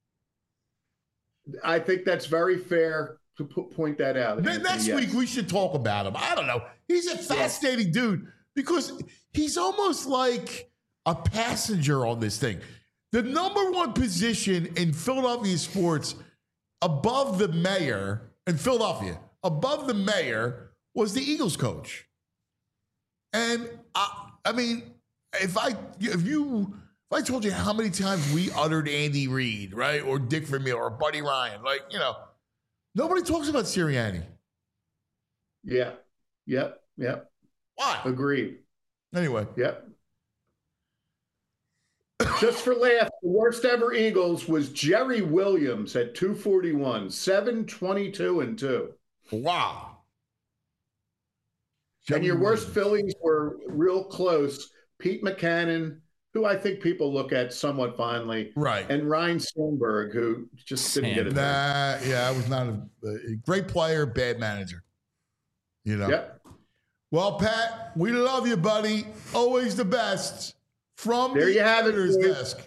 I think that's very fair to p- point that out. Ne- Anthony, Next yes. week, we should talk about him. I don't know. He's a fascinating dude because he's almost like a passenger on this thing. The number one position in Philadelphia sports above the mayor in Philadelphia, above the mayor, was the Eagles coach. And I, I mean, if I if you if I told you how many times we uttered Andy Reid, right, or Dick Vermeil or Buddy Ryan, like, you know, nobody talks about Sirianni. Yeah. Yep. Yep. Why? Agreed. Anyway. Yep. Just for laughs, the worst ever Eagles was Jerry Williams at two forty-one, seven twenty-two and two. Wow. And your worst Phillies were real close. Pete Mackanin, who I think people look at somewhat fondly, Right. and Ryan Sandberg, who just didn't get it done. Nah, yeah, I was not a, a great player, bad manager. You know. Yep. Well, Pat, we love you, buddy. Always the best. From There the you have it, editor's boys. desk.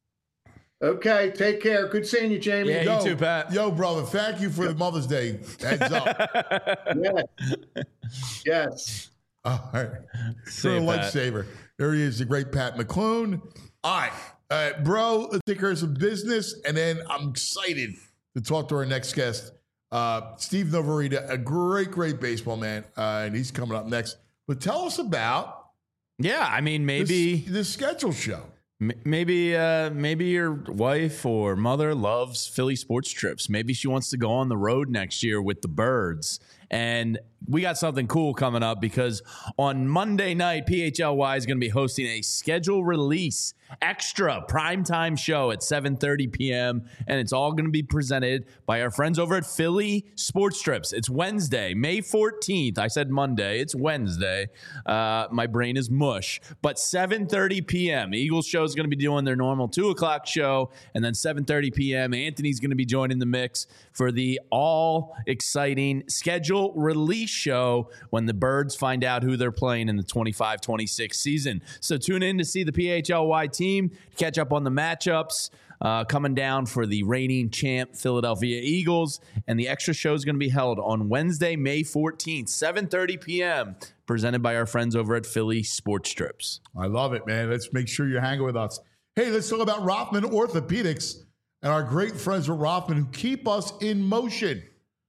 Okay, take care. Good seeing you, Jamie. Yeah, Yo, you too, Pat. Yo, brother, thank you for the Mother's Day heads up. Yes. Yes. All right. See For a you, Pat. lifesaver. There he is, the great Pat McClune. All right. Uh, bro, let's take care of some business, and then I'm excited to talk to our next guest, uh, Steve Novarita, a great, great baseball man, uh, and he's coming up next. But tell us about Yeah, I mean, maybe this, this schedule show. M- Maybe, uh, maybe your wife or mother loves Philly sports trips. Maybe she wants to go on the road next year with the Birds. And we got something cool coming up because on Monday night, P H L Y is going to be hosting a schedule release extra primetime show at seven thirty p.m. And it's all going to be presented by our friends over at Philly Sports Trips. It's Wednesday, May fourteenth. I said Monday. It's Wednesday. Uh, my brain is mush. But seven thirty p.m. Eagles show is going to be doing their normal two o'clock show. And then seven thirty p.m. Anthony's going to be joining the mix for the all exciting schedule release show when the Birds find out who they're playing in the twenty-five twenty-six season. So tune in to see the P H L Y team, catch up on the matchups uh, coming down for the reigning champ Philadelphia Eagles. And the extra show is going to be held on Wednesday, May fourteenth, seven thirty p.m., presented by our friends over at Philly Sports Trips. I love it, man. Let's make sure you're hanging with us. Hey, let's talk about Rothman Orthopedics and our great friends at Rothman who keep us in motion.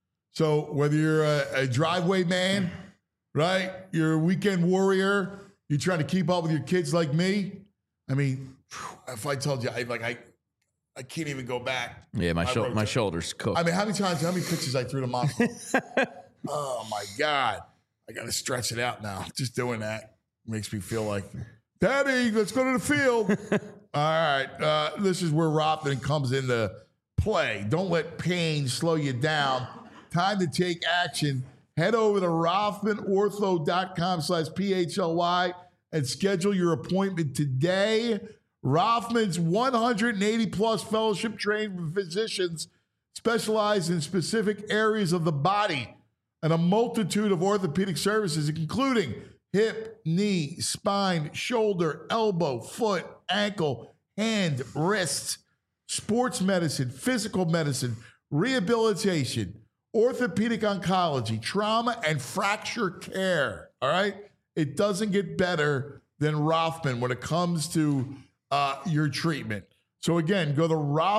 So whether you're a, a driveway man, right? You're a weekend warrior, you're trying to keep up with your kids like me. I mean, if I told you, I like I I can't even go back. Yeah, my, I shou- wrote my that. shoulders cooked. I mean, how many times, how many pictures I threw to mom? Oh my God. I got to stretch it out now. Just doing that makes me feel like, Daddy, let's go to the field. All right. Uh, this is where Rothman comes into play. Don't let pain slow you down. Time to take action. Head over to rothmanortho.com slash P-H-L-Y and schedule your appointment today. Rothman's one hundred eighty plus fellowship trained physicians specialize in specific areas of the body and a multitude of orthopedic services, including hip, knee, spine, shoulder, elbow, foot, ankle, hand, wrist, sports medicine, physical medicine, rehabilitation, orthopedic oncology, trauma, and fracture care. All right? It doesn't get better than Rothman when it comes to uh, your treatment. So again, go to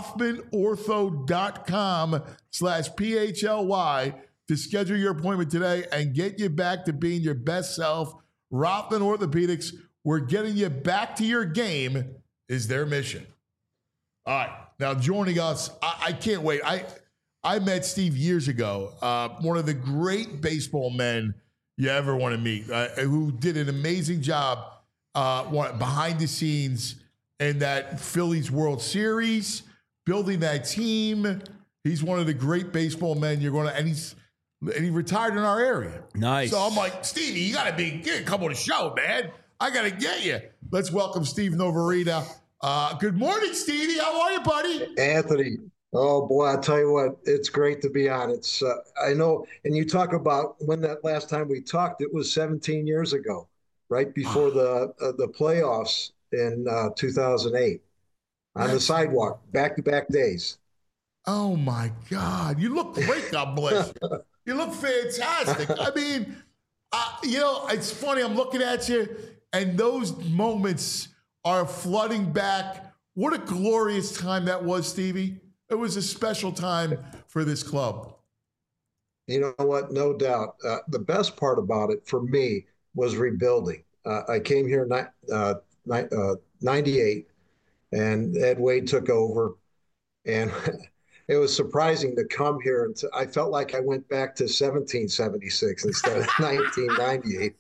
rothmanortho.com slash P-H-L-Y to schedule your appointment today and get you back to being your best self. Rothman Orthopedics, where getting you back to your game is their mission. All right. Now, joining us, I, I can't wait. I I met Steve years ago, uh, one of the great baseball men you ever want to meet, uh, who did an amazing job uh, behind the scenes in that Phillies World Series, building that team. He's one of the great baseball men you're going to, and he's and he retired in our area. Nice. So I'm like, Stevie, you got to be, you come on the show, man. I got to get you. Let's welcome Steve Novarina. Uh, good morning, Stevie. How are you, buddy? Anthony. Oh boy, I tell you what, it's great to be on. It's uh, I know, and you talk about when that last time we talked, it was seventeen years ago, right before the uh, the playoffs in uh, two thousand eight on the sidewalk, back-to-back days. Oh my God, you look great. God bless you. You look fantastic. I mean, uh, you know, it's funny. I'm looking at you, and those moments are flooding back. What a glorious time that was, Stevie. It was a special time for this club. You know what? No doubt. Uh, the best part about it for me was rebuilding. Uh, I came here in uh, uh, ninety-eight, and Ed Wade took over. And it was surprising to come here. And to, I felt like I went back to seventeen seventy-six instead of nineteen ninety-eight.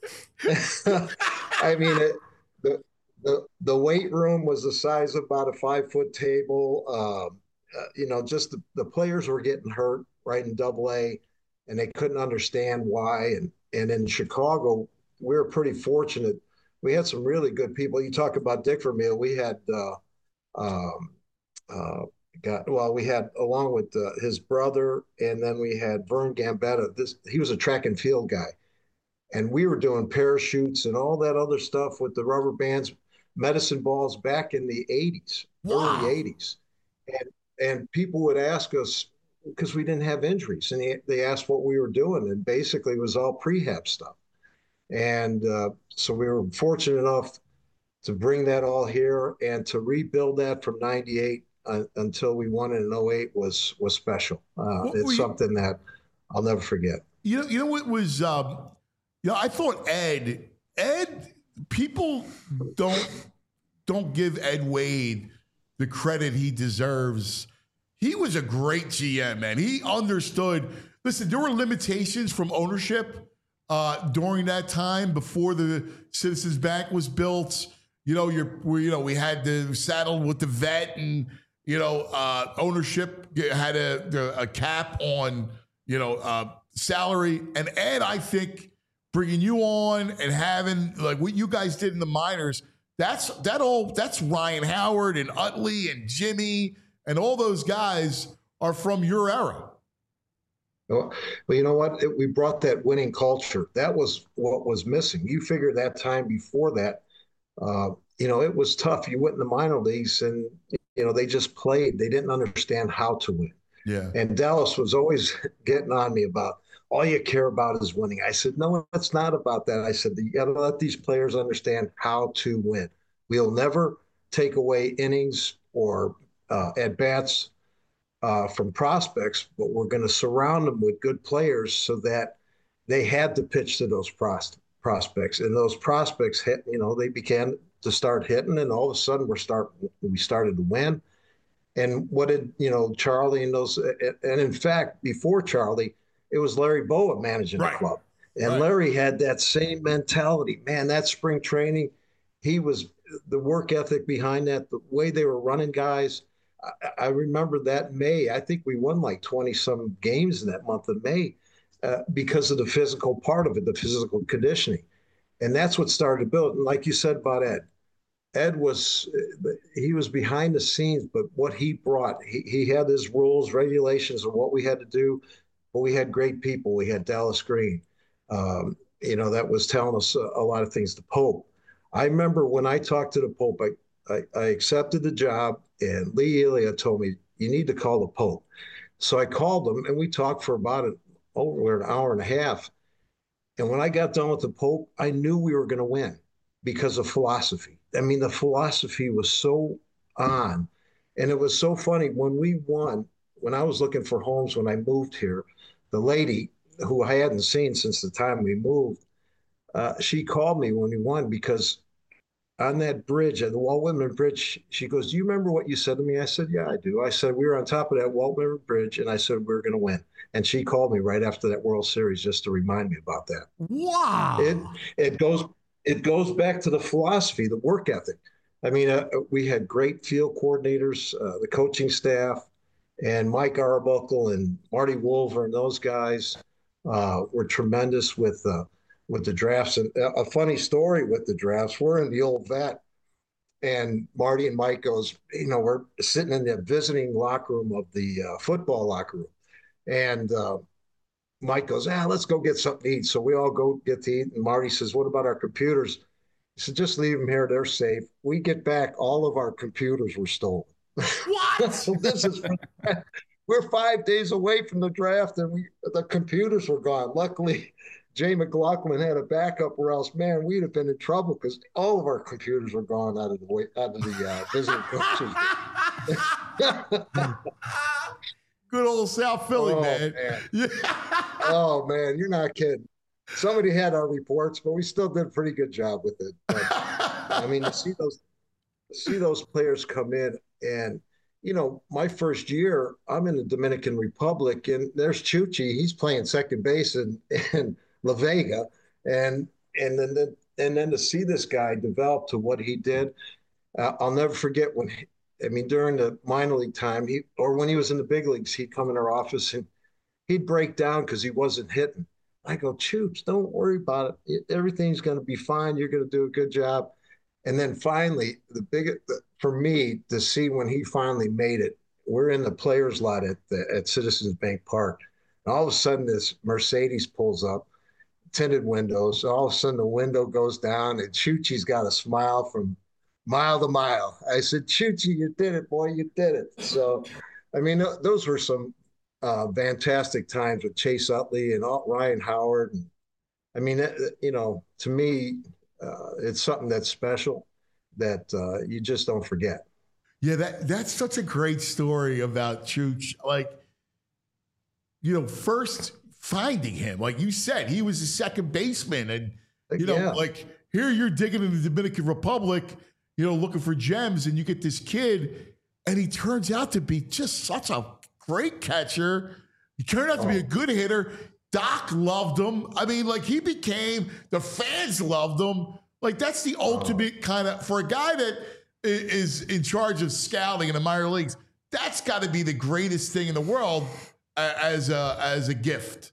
I mean, it, the, the, the weight room was the size of about a five-foot table. Um, Uh, you know, just the, the players were getting hurt right in Double A, and they couldn't understand why. And and in Chicago, we were pretty fortunate. We had some really good people. You talk about Dick Vermeil. We had, uh, um, uh, got well, we had along with uh, his brother, and then we had Vern Gambetta. This he was a track and field guy, and we were doing parachutes and all that other stuff with the rubber bands, medicine balls back in the eighties, wow. early eighties, and. And people would ask us, because we didn't have injuries, and they, they asked what we were doing, and basically it was all prehab stuff. And uh, so we were fortunate enough to bring that all here, and to rebuild that from ninety-eight uh, until we won it in oh eight was was special. Uh, it's something you, that I'll never forget. You know, you know what was, um, you know, I thought Ed, Ed, people don't don't give Ed Wade the credit he deserves. He was a great G M, man. He understood. Listen, there were limitations from ownership uh, during that time before the Citizens Bank was built. You know, you're, we, you know, we had the saddle with the vet, and you know, uh, ownership had a a cap on you know uh, salary. And Ed, I think, bringing you on and having like what you guys did in the minors. That's that all. That's Ryan Howard and Utley and Jimmy and all those guys are from your era. Well, you know what? It, we brought that winning culture. That was what was missing. You figure that time before that, uh, you know, it was tough. You went in the minor leagues, and you know they just played. They didn't understand how to win. Yeah. And Dallas was always getting on me about, all you care about is winning. I said, no, it's not about that. I said, you got to let these players understand how to win. We'll never take away innings or uh, at-bats uh, from prospects, but we're going to surround them with good players so that they had to pitch to those pros- prospects. And those prospects, hit, you know, they began to start hitting, and all of a sudden we're start, we started to win. And what did, you know, Charlie and those, and in fact, before Charlie, it was Larry Bowa managing right. the club. And right. Larry had that same mentality. Man, that spring training, he was the work ethic behind that, the way they were running guys. I, I remember that May, I think we won like twenty some games in that month of May uh, because of the physical part of it, the physical conditioning. And that's what started to build. And like you said about Ed, Ed was, he was behind the scenes, but what he brought, he, he had his rules, regulations of what we had to do. But we had great people. We had Dallas Green, um, you know, that was telling us a, a lot of things. The Pope. I remember when I talked to the Pope, I, I, I accepted the job, and Lee Elia told me, you need to call the Pope. So I called him, and we talked for about an, over an hour and a half. And when I got done with the Pope, I knew we were going to win because of philosophy. I mean, the philosophy was so on. And it was so funny. When we won, when I was looking for homes when I moved here, the lady who I hadn't seen since the time we moved, uh, she called me when we won because on that bridge, at the Walt Whitman Bridge, she goes, do you remember what you said to me? I said, yeah, I do. I said, we were on top of that Walt Whitman Bridge, and I said, we were going to win. And she called me right after that World Series just to remind me about that. Wow. It, it goes it goes back to the philosophy, the work ethic. I mean, uh, we had great field coordinators, uh, the coaching staff, and Mike Arbuckle and Marty Wolver and those guys uh, were tremendous with uh, with the drafts. And a funny story with the drafts, we're in the old vet, and Marty and Mike goes, you know, we're sitting in the visiting locker room of the uh, football locker room. And uh, Mike goes, ah, let's go get something to eat. So we all go get to eat. And Marty says, what about our computers? He said, just leave them here. They're safe. We get back, all of our computers were stolen. What? So this is, we're five days away from the draft, and we the computers were gone. Luckily, Jay McLaughlin had a backup, or else, man, we'd have been in trouble because all of our computers were gone out of the way, out of the uh, visiting coaches. Good old South Philly, oh, man. man. Yeah. Oh, man, you're not kidding. Somebody had our reports, but we still did a pretty good job with it. But, I mean, to see those, to see those players come in, and, you know, my first year, I'm in the Dominican Republic, and there's Chuchi. He's playing second base in, in La Vega. And, and, then, the, and then to see this guy develop to what he did, uh, I'll never forget when he, I mean, during the minor league time, he or when he was in the big leagues, he'd come in our office and he'd break down because he wasn't hitting. I go, Choops, don't worry about it. Everything's going to be fine. You're going to do a good job. And then finally, the big for me to see when he finally made it, we're in the players' lot at the, at Citizens Bank Park, and all of a sudden this Mercedes pulls up, tinted windows. All of a sudden the window goes down, and Chuchi's got a smile from mile to mile. I said, Chuchi, you did it, boy, you did it. So, I mean, th- those were some uh, fantastic times with Chase Utley and all, Ryan Howard. And, I mean, uh, you know, to me, uh, it's something that's special that uh, you just don't forget. Yeah, that that's such a great story about Chooch. Like, you know, first finding him, like you said, he was a second baseman. And, you know, Yeah. like here you're digging in the Dominican Republic, you know, looking for gems, and you get this kid, and he turns out to be just such a great catcher. He turned out to Oh. be a good hitter. Doc loved him. I mean, like he became, the fans loved him. Like that's the ultimate kind of, for a guy that i- is in charge of scouting in the minor leagues, that's got to be the greatest thing in the world uh, as a, as a gift.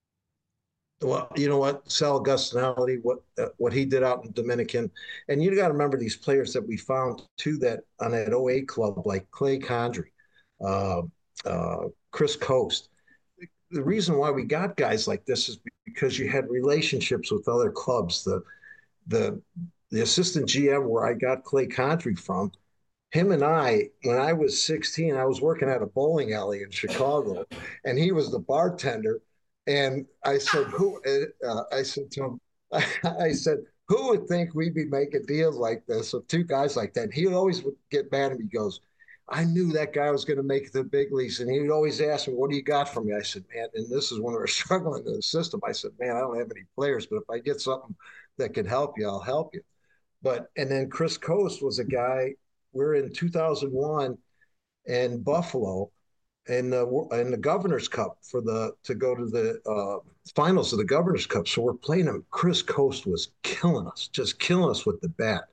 Well, you know what, Sal Augustinelli, what uh, what he did out in Dominican, and you got to remember these players that we found too that on that oh eight club, like Clay Condry, uh, uh, Chris Coast. The reason why we got guys like this is because you had relationships with other clubs. The the the assistant G M where I got Clay Condry from, him and I, when I was sixteen, I was working at a bowling alley in Chicago, and he was the bartender. And I said, "Who?" Uh, I said to him, "I said, who would think we'd be making deals like this with two guys like that?" And he always would get mad at me. He goes, "I knew that guy was going to make the big leagues," and he would always ask me, "What do you got for me?" I said, "Man," and this is when we were struggling in the system. I said, "Man, I don't have any players, but if I get something that can help you, I'll help you." But and then Chris Coast was a guy. We're in two thousand one in Buffalo, in the in the Governor's Cup for the to go to the uh, finals of the Governor's Cup. So we're playing him. Chris Coast was killing us, just killing us with the bat.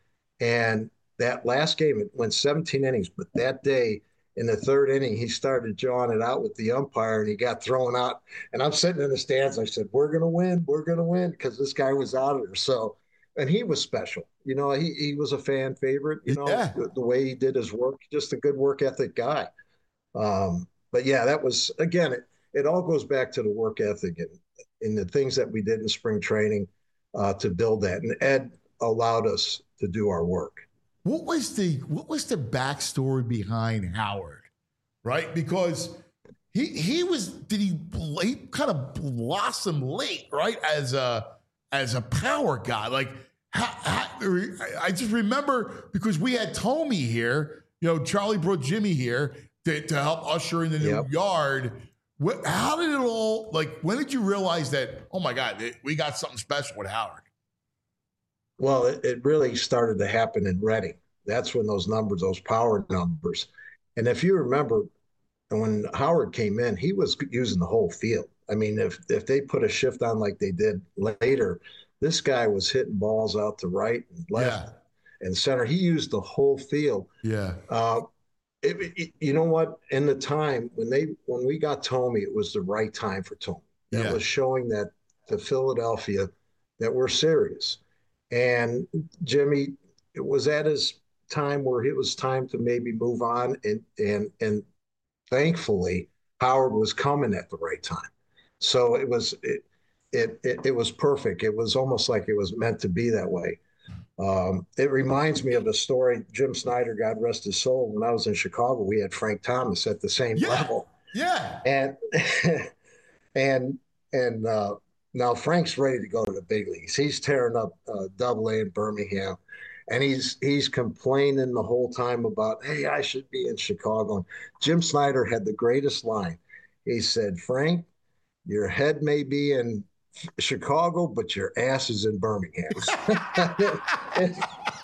And that last game, it went seventeen innings. But that day, in the third inning, he started jawing it out with the umpire, and he got thrown out. And I'm sitting in the stands. I said, "We're gonna win. We're gonna win," because this guy was out of there. So, and he was special. You know, he he was a fan favorite. You know, Yeah. the, the way he did his work, just a good work ethic guy. Um, but yeah, that was, again, it, it all goes back to the work ethic and, and the things that we did in spring training uh, to build that. And Ed allowed us to do our work. What was the what was the backstory behind Howard, right? Because he he was did he, he kind of blossom late, right? As a as a power guy, like how, how, I just remember because we had Tommy here, you know, Charlie brought Jimmy here to, to help usher in the new Yep. yard. What, how did it all like? When did you realize that? Oh my God, we got something special with Howard. Well, it, it really started to happen in Reading. That's when those numbers, those power numbers. And if you remember, when Howard came in, he was using the whole field. I mean, if if they put a shift on like they did later, this guy was hitting balls out to right and left yeah. and center. He used the whole field. Yeah. Uh, it, it, you know what? In the time when they when we got Tomey, it was the right time for Tomey. That yeah. was showing that to Philadelphia that we're serious. And Jimmy, it was at his time where it was time to maybe move on, and and and thankfully Howard was coming at the right time. So it was it it it, it was perfect. It was almost like it was meant to be that way. Um, it reminds me of a story. Jim Snyder, God rest his soul. When I was in Chicago, we had Frank Thomas at the same yeah. level. Yeah. And and and uh, now Frank's ready to go to the big leagues. He's tearing up uh, Double A in Birmingham, and he's he's complaining the whole time about, hey, I should be in Chicago. And Jim Snyder had the greatest line. He said, Frank, your head may be in Chicago, but your ass is in Birmingham. it, it,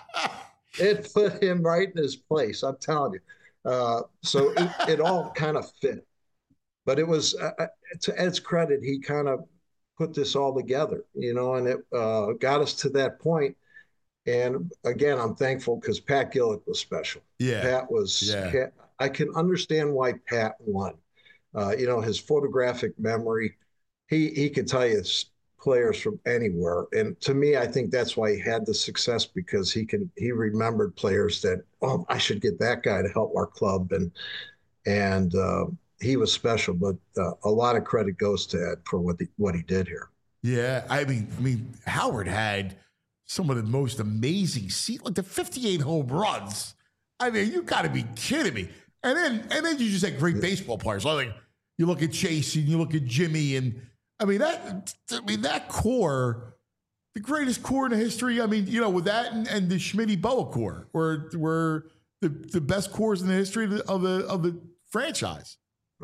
it put him right in his place, I'm telling you. Uh, so it, it all kind of fit. But it was, uh, to Ed's credit, he kind of put this all together, you know, and it uh, got us to that point. And again, I'm thankful because Pat Gillick was special. Yeah. Pat was, yeah. Pat, I can understand why Pat won. Uh, you know, his photographic memory, he he could tell you players from anywhere. And to me, I think that's why he had the success, because he can he remembered players that, oh, I should get that guy to help our club. And and uh, he was special, but uh, a lot of credit goes to Ed for what, the, what he did here. Yeah, I mean, I mean, Howard had some of the most amazing seat, like the fifty-eight home runs. I mean, you got to be kidding me. And then and then you just had great baseball players. Like you look at Chase and you look at Jimmy, and I mean that. I mean that core, the greatest core in the history. I mean, you know, with that and, and the Schmitty Boa core were were the, the best cores in the history of the of the, of the franchise.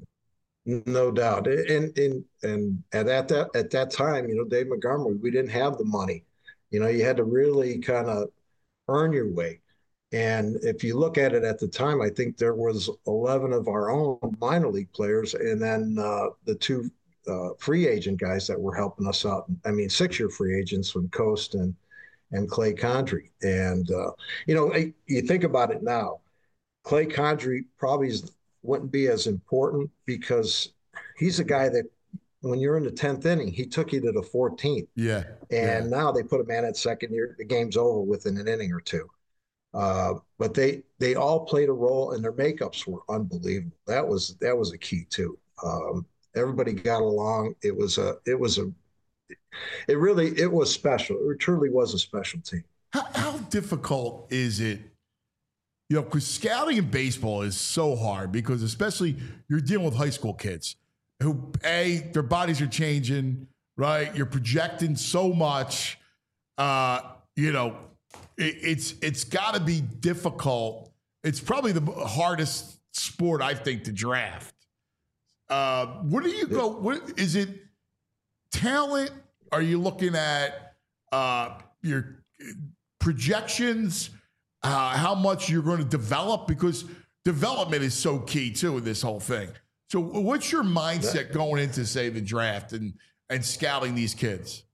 No doubt. And and and at that at that time, you know, Dave Montgomery, we didn't have the money. You know, you had to really kind of earn your way. And if you look at it at the time, I think there was eleven of our own minor league players, and then uh, the two uh, free agent guys that were helping us out. I mean, six-year free agents from Coast and and Clay Condrey. And uh, you know, you think about it now, Clay Condrey probably wouldn't be as important because he's a guy that when you're in the tenth inning, he took you to the fourteenth. Yeah. And yeah. now they put a man at second, year, the game's over within an inning or two. Uh, but they they all played a role, and their makeups were unbelievable. That was that was a key too. Um, everybody got along. It was a it was a it really it was special. It truly was a special team. How, how difficult is it? You know, because scouting in baseball is so hard, because especially you're dealing with high school kids who, A, their bodies are changing, right? You're projecting so much. Uh, you know, it, it's it's got to be difficult. It's probably the hardest sport, I think, to draft. Uh, what do you go? What is it? Talent? Are you looking at uh, your projections? Uh, how much you're going to develop? Because development is so key too in this whole thing. So what's your mindset going into, say, the draft and, and scouting these kids?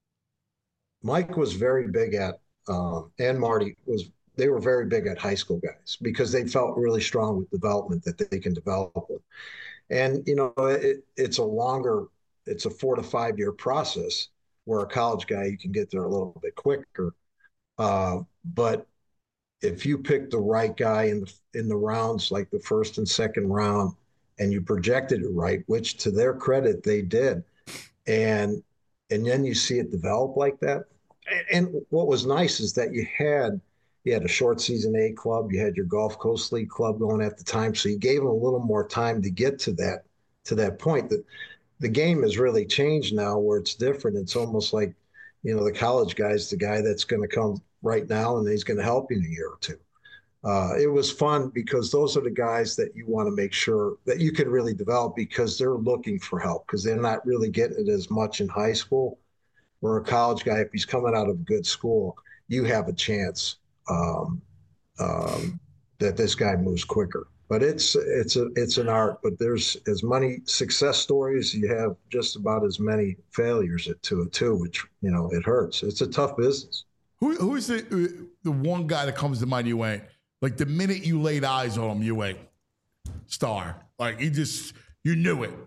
Mike was very big at, um, and Marty was, they were very big at high school guys because they felt really strong with development that they can develop with. And, you know, it, it's a longer, it's a four to five year process, where a college guy, you can get there a little bit quicker. Uh, but if you pick the right guy in the, in the rounds, like the first and second round, and you projected it right, which to their credit, they did. And, and then you see it develop like that. And, and what was nice is that you had, you had a short season A club, you had your Gulf Coast League club going at the time. So you gave them a little more time to get to that, to that point. That the game has really changed now, where it's different. It's almost like, you know, the college guy's the guy that's going to come right now and he's going to help you in a year or two. Uh, it was fun because those are the guys that you want to make sure that you can really develop, because they're looking for help, because they're not really getting it as much in high school. Or a college guy, if he's coming out of a good school, you have a chance um, um, that this guy moves quicker. But it's it's a it's an art. But there's as many success stories, you have just about as many failures to it too, which you know it hurts. It's a tough business. Who who is the the one guy that comes to mind? You went like the minute you laid eyes on him, you went star. Like you just you knew it.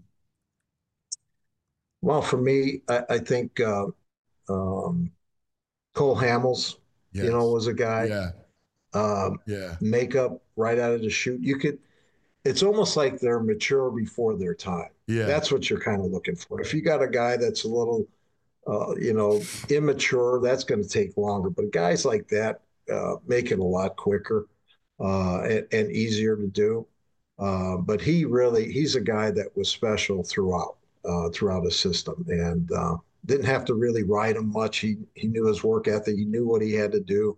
Well, for me, I, I think uh, um, Cole Hamels, yes. you know, was a guy. Yeah. Um, yeah. Makeup right out of the chute. You could. It's almost like they're mature before their time. Yeah. That's what you're kind of looking for. If you got a guy that's a little, uh, you know, immature, that's going to take longer. But guys like that uh, make it a lot quicker uh, and, and easier to do. Uh, but he really, he's a guy that was special throughout. Uh, throughout his system, and uh, didn't have to really ride him much. He he knew his work ethic. He knew what he had to do,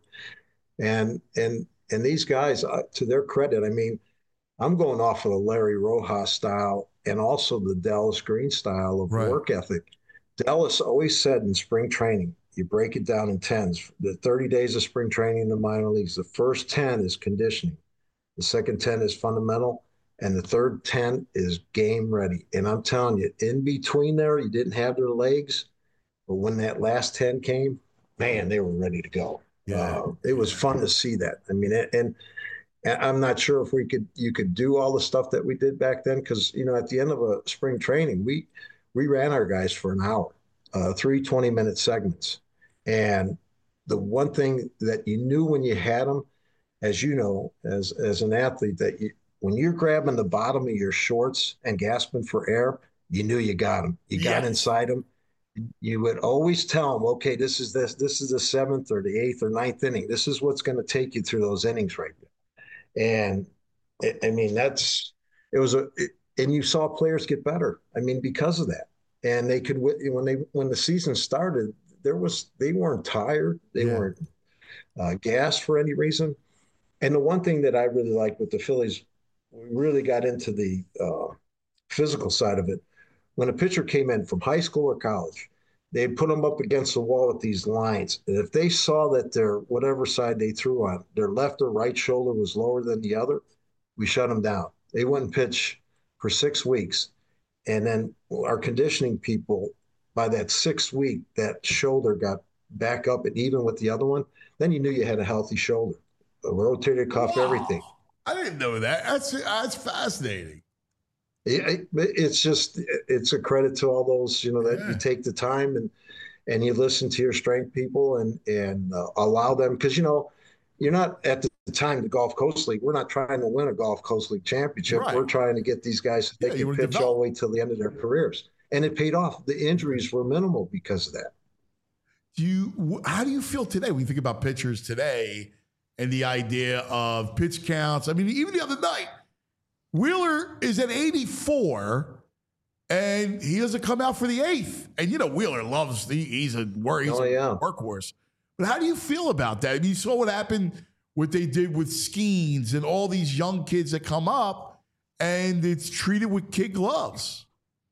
and and and these guys, uh, to their credit, I mean, I'm going off of the Larry Rojas style and also the Dallas Green style of right. work ethic. Dallas always said in spring training, you break it down in tens. The thirty days of spring training in the minor leagues, the first ten is conditioning, the second ten is fundamental. And the third ten is game ready. And I'm telling you, in between there, you didn't have their legs. But when that last ten came, man, they were ready to go. Yeah. Uh, it was fun to see that. I mean, and, and I'm not sure if we could, you could do all the stuff that we did back then. Cause you know, at the end of a spring training, we, we ran our guys for an hour, uh, three twenty minute segments. And the one thing that you knew when you had them, as you know, as, as an athlete, that you, when you're grabbing the bottom of your shorts and gasping for air, you knew you got them. You got yes. inside them. You would always tell them, okay, this is this, this is the seventh or the eighth or ninth inning. This is what's going to take you through those innings right now. And it, I mean, that's, it was a, it, and you saw players get better. I mean, because of that. And they could, when they, when the season started, there was, they weren't tired. They yeah. weren't uh, gassed for any reason. And the one thing that I really liked with the Phillies, we really got into the uh, physical side of it. When a pitcher came in from high school or college, they'd put them up against the wall with these lines. And if they saw that their, whatever side they threw on, their left or right shoulder was lower than the other, we shut them down. They wouldn't pitch for six weeks. And then our conditioning people, by that sixth week, that shoulder got back up and even with the other one. Then you knew you had a healthy shoulder, a rotator cuff, wow. everything. I didn't know that. That's that's fascinating. It, it's just it's a credit to all those, you know, that yeah. you take the time and and you listen to your strength people and and uh, allow them, because you know you're not at the time the Gulf Coast League. We're not trying to win a Gulf Coast League championship. Right. We're trying to get these guys so they yeah, can pitch all the way till the end of their careers, and it paid off. The injuries were minimal because of that. Do you? How do you feel today when you think about pitchers today? And the idea of pitch counts. I mean, even the other night, Wheeler is at eighty-four, and he doesn't come out for the eighth. And, you know, Wheeler loves, he, he's a worry, he's oh, yeah. a workhorse. But how do you feel about that? I mean, you saw what happened, what they did with Skeens and all these young kids that come up, and it's treated with kid gloves.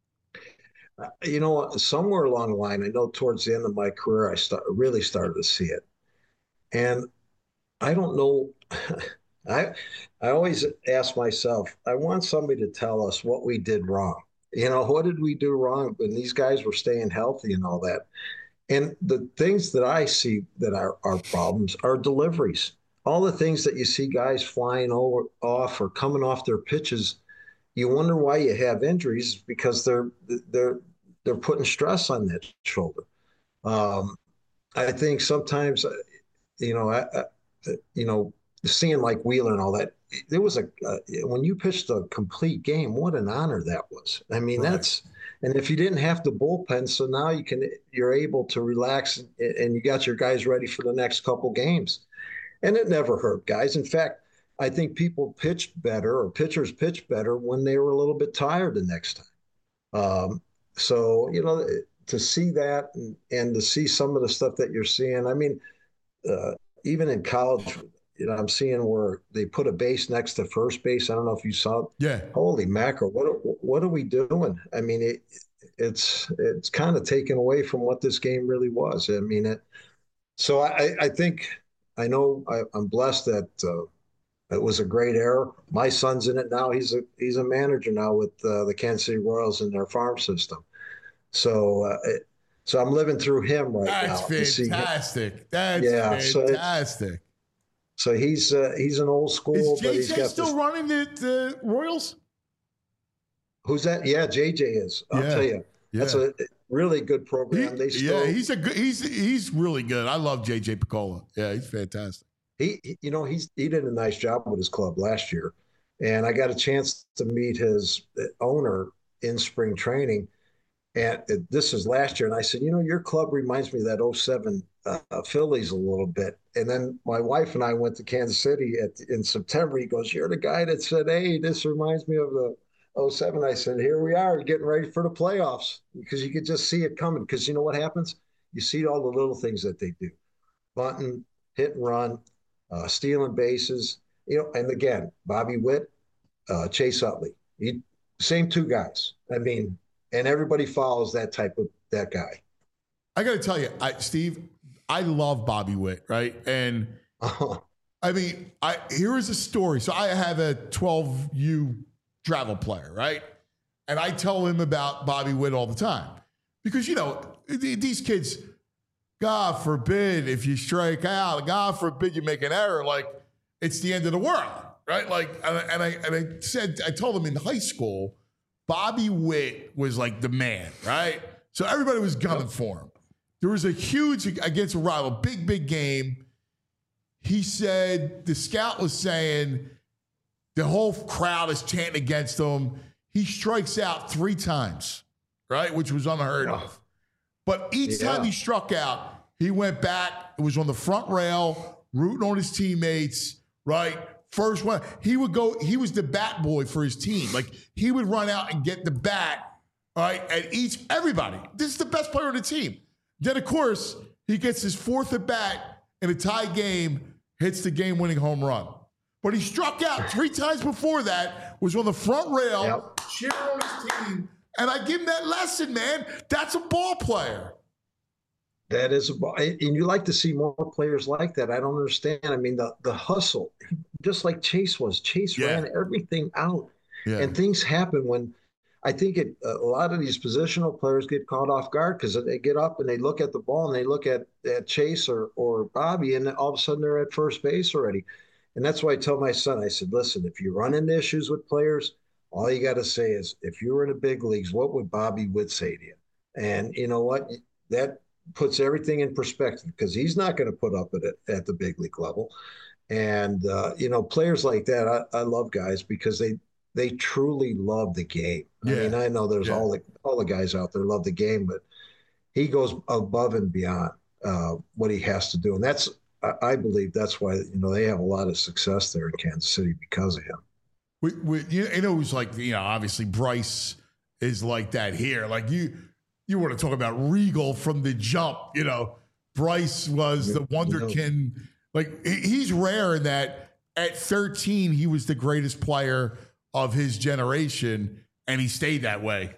You know, somewhere along the line, I know towards the end of my career, I start, really started to see it. And I don't know. I I always ask myself, I want somebody to tell us what we did wrong. You know, what did we do wrong when these guys were staying healthy and all that? And the things that I see that are, are problems are deliveries. All the things that you see guys flying over, off or coming off their pitches, you wonder why you have injuries, because they're they're they're putting stress on that shoulder. Um, I think sometimes, you know, I, I you know, seeing like Wheeler and all that, there was a, uh, when you pitched a complete game, what an honor that was. I mean, right. that's, and if you didn't have the bullpen, so now you can, you're able to relax and, and you got your guys ready for the next couple games. And it never hurt guys. In fact, I think people pitched better or pitchers pitched better when they were a little bit tired the next time. Um, so, you know, to see that and, and to see some of the stuff that you're seeing, I mean, uh, even in college, you know, I'm seeing where they put a base next to first base. I don't know if you saw it. Yeah. Holy mackerel. What, what are we doing? I mean, it, it's, it's kind of taken away from what this game really was. I mean, it, So I, I think I know I, I'm blessed that uh, it was a great era. My son's in it now. He's a he's a manager now with uh, the Kansas City Royals in their farm system. So uh, it, so I'm living through him right That's now. fantastic. That's yeah, fantastic. So, so he's uh, he's an old school. Is but he's J J got still this, running the, the Royals? Who's that? Yeah, J J is. I'll Yeah. tell you. Yeah. That's a really good program. He- they still, yeah, he's a good. He's he's really good. I love J J Picola. Yeah, he's fantastic. he, he- you know, he's he did a nice job with his club last year, and I got a chance to meet his owner in spring training, and this is last year. And I said, you know, your club reminds me of that oh seven uh, Phillies a little bit. And then my wife and I went to Kansas City at, in September. He goes, you're the guy that said, hey, this reminds me of the oh seven. I said, here we are getting ready for the playoffs, because you could just see it coming. Because you know what happens? You see all the little things that they do, bunting, hit and run, uh, stealing bases, you know, and again, Bobby Witt, uh, Chase Utley, he, same two guys. I mean, and everybody follows that type of that guy. I got to tell you, I, Steve, I love Bobby Witt, right? And Uh-huh. I mean, I here is a story. So I have a twelve U travel player, right? And I tell him about Bobby Witt all the time because, you know, th- these kids, God forbid if you strike out, God forbid you make an error, like it's the end of the world, right? Like, and I, and I, and I said, I told him in high school, Bobby Witt was like the man, right? So everybody was gunning for him. There was a huge, against a rival, big, big game. He said, the scout was saying, the whole crowd is chanting against him. He strikes out three times, right? Which was unheard of. But each Yeah. time he struck out, he went back. It was on the front rail, rooting on his teammates, right? First one. He would go, he was the bat boy for his team. Like, he would run out and get the bat, all right, at each, everybody. This is the best player on the team. Then, of course, he gets his fourth at bat in a tie game, hits the game-winning home run. But he struck out three times before that, was on the front rail, Yep. cheering on his team. And I give him that lesson, man. That's a ball player. That is, a, and you like to see more players like that. I don't understand. I mean, the the hustle, just like Chase was. Chase Yeah. ran everything out, Yeah. and things happen when. I think it, a lot of these positional players get caught off guard because they get up and they look at the ball and they look at, at Chase or or Bobby, and all of a sudden they're at first base already. And that's why I tell my son, I said, listen, if you run into issues with players, all you got to say is, if you were in the big leagues, what would Bobby Witt say to you? And you know what? That puts everything in perspective, because he's not going to put up at it at the big league level. And, uh, you know, players like that, I, I love guys because they they truly love the game. I Yeah. mean, I know there's Yeah. all the all the guys out there love the game, but he goes above and beyond uh, what he has to do. And that's, I, I believe that's why, you know, they have a lot of success there in Kansas City because of him. We, we, you know, it was like, you know, obviously Bryce is like that here. Like you, you want to talk about regal from the jump, you know, Bryce was the wonderkin. Like he- he's rare in that at thirteen, he was the greatest player of his generation, and he stayed that way.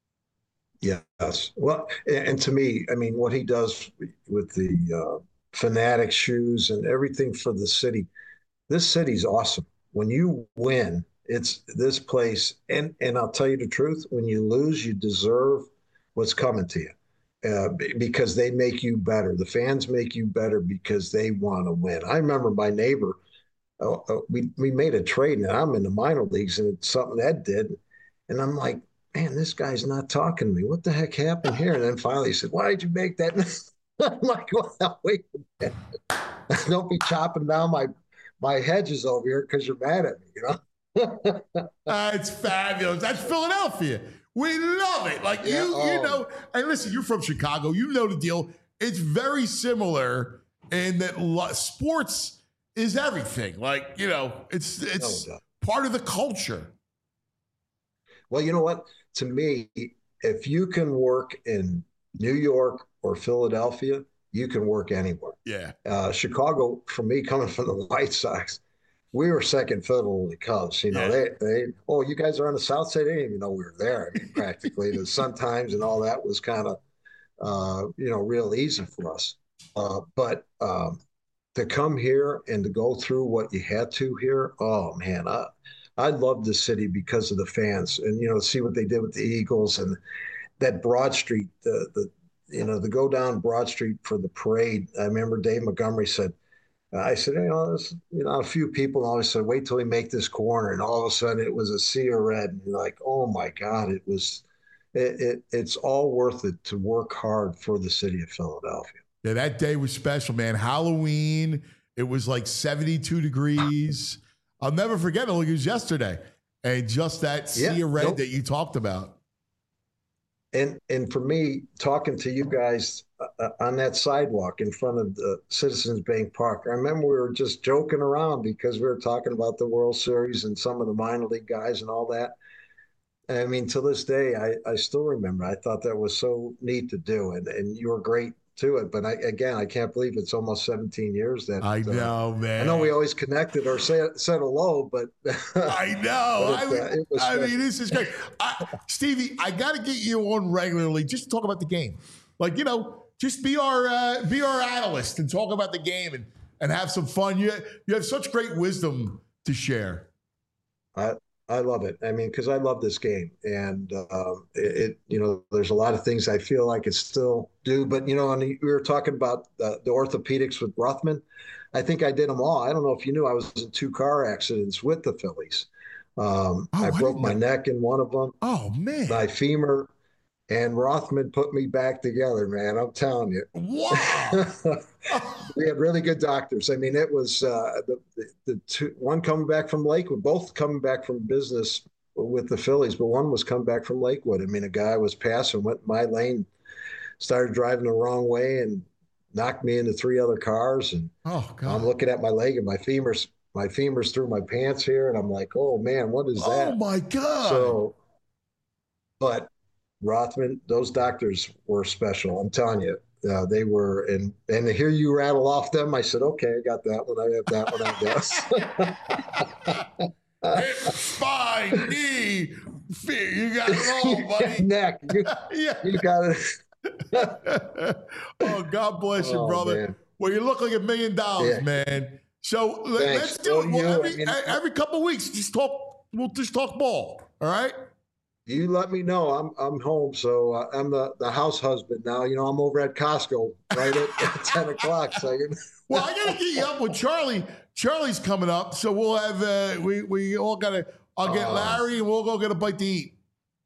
Yes. Well, and, and to me, I mean, what he does with the uh, Fanatic shoes and everything for the city, this city's awesome. When you win, it's this place. And, and I'll tell you the truth, when you lose, you deserve what's coming to you uh, b- because they make you better. The fans make you better because they want to win. I remember my neighbor, uh, uh, we, we made a trade, and I'm in the minor leagues, and it's something Ed did. And I'm like, man, this guy's not talking to me. What the heck happened here? And then finally he said, why did you make that? I'm like, well, wait a minute. Don't be chopping down my my hedges over here because you're mad at me, you know? That's fabulous. That's Philadelphia. We love it. Like Yeah, you, oh. you know, and listen, you're from Chicago. You know the deal. It's very similar in that lo- sports is everything. Like, you know, it's it's doubt. part of the culture. Well, you know what? To me, if you can work in New York or Philadelphia, you can work anywhere. Yeah. Uh, Chicago, for me, coming from the White Sox, we were second fiddle to the Cubs. You know, Yeah. they, they, oh, you guys are on the South Side. They didn't even know we were there. I mean, practically, the Sun Times and all that was kind of, uh, you know, real easy for us. uh, but um, to come here and to go through what you had to here, oh man, I I love the city because of the fans, and you know, see what they did with the Eagles and that Broad Street, the the you know, to go down Broad Street for the parade. I remember Dave Montgomery said, I said, you know, there's, you know, a few people always said, wait till we make this corner. And all of a sudden it was a sea of red. And you're like, oh my God, it was, it, it it's all worth it to work hard for the city of Philadelphia. Yeah, that day was special, man. Halloween, it was like seventy-two degrees. I'll never forget it. Like it was yesterday. And just that sea Yeah, of red nope. that you talked about. And and for me, talking to you guys uh, on that sidewalk in front of the Citizens Bank Park, I remember we were just joking around because we were talking about the World Series and some of the minor league guys and all that. And I mean, to this day, I, I still remember. I thought that was so neat to do, and, and you were great to it. But I, again, I can't believe it's almost seventeen years that I know, uh, man. I know we always connected or said said hello, but I know. But I, it, mean, uh, it was I special. mean, this is great. I, Stevie, I got to get you on regularly just to talk about the game. Like, you know, just be our uh, be our analyst and talk about the game and, and have some fun. You, you have such great wisdom to share. I I love it. I mean, because I love this game, and um, it, it, you know, there's a lot of things I feel like it still do. But you know, and we were talking about uh, the orthopedics with Rothman. I think I did them all. I don't know if you knew I was in two car accidents with the Phillies. Um, Oh, I I broke didn't my know. neck in one of them, Oh, man. my femur, and Rothman put me back together. Man, I'm telling you. Wow. We had really good doctors. I mean, it was uh, the, the the two, one coming back from Lakewood, both coming back from business with the Phillies, but one was coming back from Lakewood. I mean, a guy was passing, went my lane, started driving the wrong way, and knocked me into three other cars. And Oh, God. I'm looking at my leg, and my femurs, my femurs through my pants here, and I'm like, oh man, what is that? Oh, my God. So, but Rothman, those doctors were special. I'm telling you, uh, they were. And and to hear you rattle off them, I said, okay, I got that one. I have that one. I guess. Hip, spine, knee, feet. You got it all, buddy. Neck. You, Yeah. you got it. Oh, God bless you, Oh, brother. man. Well, you look like a million dollars, Yeah. man. So let, Thanks. let's do it. Well, Well, you, every, I mean- every couple of weeks, just talk. We'll just talk ball. All right. You let me know. I'm I'm home, so uh, I'm the, the house husband now. You know, I'm over at Costco right at, at ten o'clock. So you Well, I gotta get you up with Charlie. Charlie's coming up, so we'll have uh, we we all gotta. I'll get Uh, Larry, and we'll go get a bite to eat.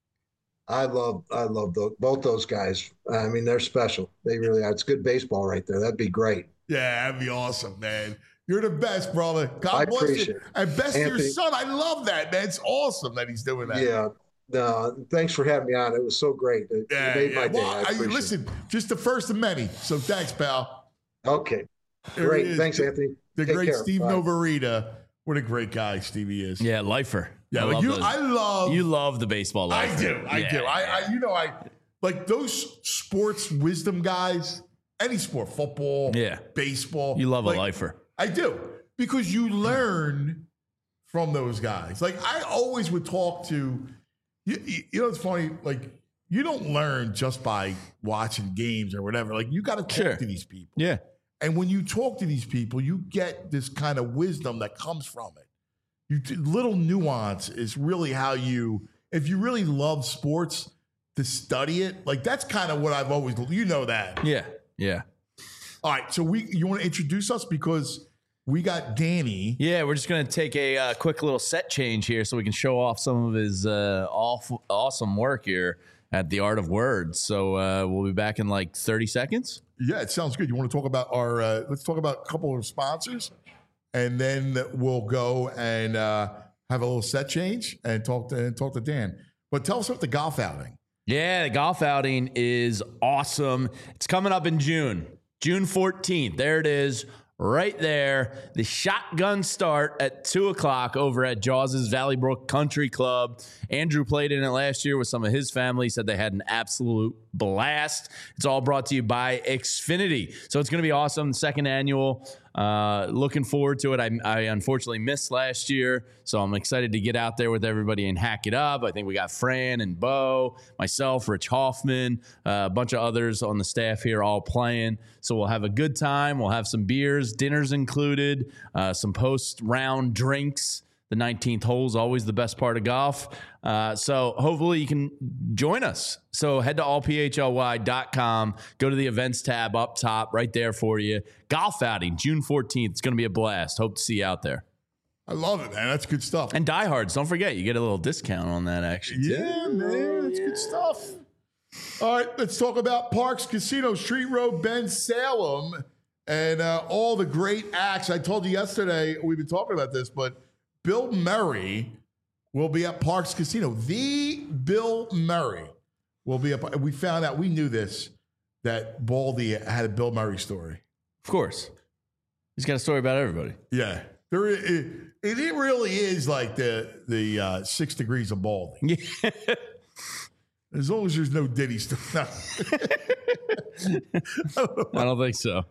I love I love those, both those guys. I mean, they're special. They really are. It's good baseball right there. That'd be great. Yeah, that'd be awesome, man. You're the best, brother. God I bless appreciate you. it. And best to your Anthony- son. I love that, man. It's awesome that he's doing that. Yeah. No, thanks for having me on. It was so great. It, Yeah, you made yeah. my day. Well, I I, appreciate listen, just the first of many. So thanks, pal. it. Okay. There Great. it is. Thanks, Anthony. The Take great care. Steve Bye. Novarita. What a great guy Stevie is. Yeah, lifer. Yeah, I like love you. those. I love. You love the baseball I lifer. do. I Yeah, do. I, yeah. I. You know. I like those sports wisdom guys. Any sport, football. Yeah. Baseball. You love like, a lifer. I do because you learn from those guys. Like I always would talk to. You, you you know, it's funny. Like you don't learn just by watching games or whatever. Like you got to talk Sure. to these people. Yeah. And when you talk to these people, you get this kind of wisdom that comes from it. You little nuance is really how you, if you really love sports, to study it. Like that's kind of what I've always, you know that. Yeah. Yeah. All right, so we, you want to introduce us because we got Danny. Yeah, we're just going to take a uh, quick little set change here so we can show off some of his uh, awful, awesome work here at The Art of Words. So uh, we'll be back in like thirty seconds. Yeah, it sounds good. You want to talk about our, uh, let's talk about a couple of sponsors and then we'll go and uh, have a little set change and talk to, and talk to Dan. But tell us about the golf outing. Yeah, the golf outing is awesome. It's coming up in June, June fourteenth. There it is, right there. The shotgun start at two o'clock over at Jaws's Valley Brook Country Club. Andrew played in it last year with some of his family. Said they had an absolute blast. It's all brought to you by Xfinity. So it's going to be awesome. Second annual. Uh, looking forward to it. I, I unfortunately missed last year, so I'm excited to get out there with everybody and hack it up. I think we got Fran and Bo, myself, Rich Hoffman, uh, a bunch of others on the staff here all playing. So we'll have a good time. We'll have some beers, dinners included, uh, some post-round drinks. The nineteenth hole is always the best part of golf. Uh, so hopefully you can join us. So head to all p h l y dot com. Go to the events tab up top, right there for you. Golf outing, June fourteenth. It's going to be a blast. Hope to see you out there. I love it, man. That's good stuff. And diehards, don't forget, you get a little discount on that action. Yeah, man. That's good stuff. All right, let's talk about Parks Casino, Street Road, Ben Salem, and uh, all the great acts. I told you yesterday, we've been talking about this, but Bill Murray will be at Parks Casino. The Bill Murray will be up. We found out, we knew this, that Baldy had a Bill Murray story. Of course. He's got a story about everybody. Yeah. There, it, it really is like the the uh, six degrees of Baldy. Yeah. As long as there's no Diddy stuff. No. I don't think so.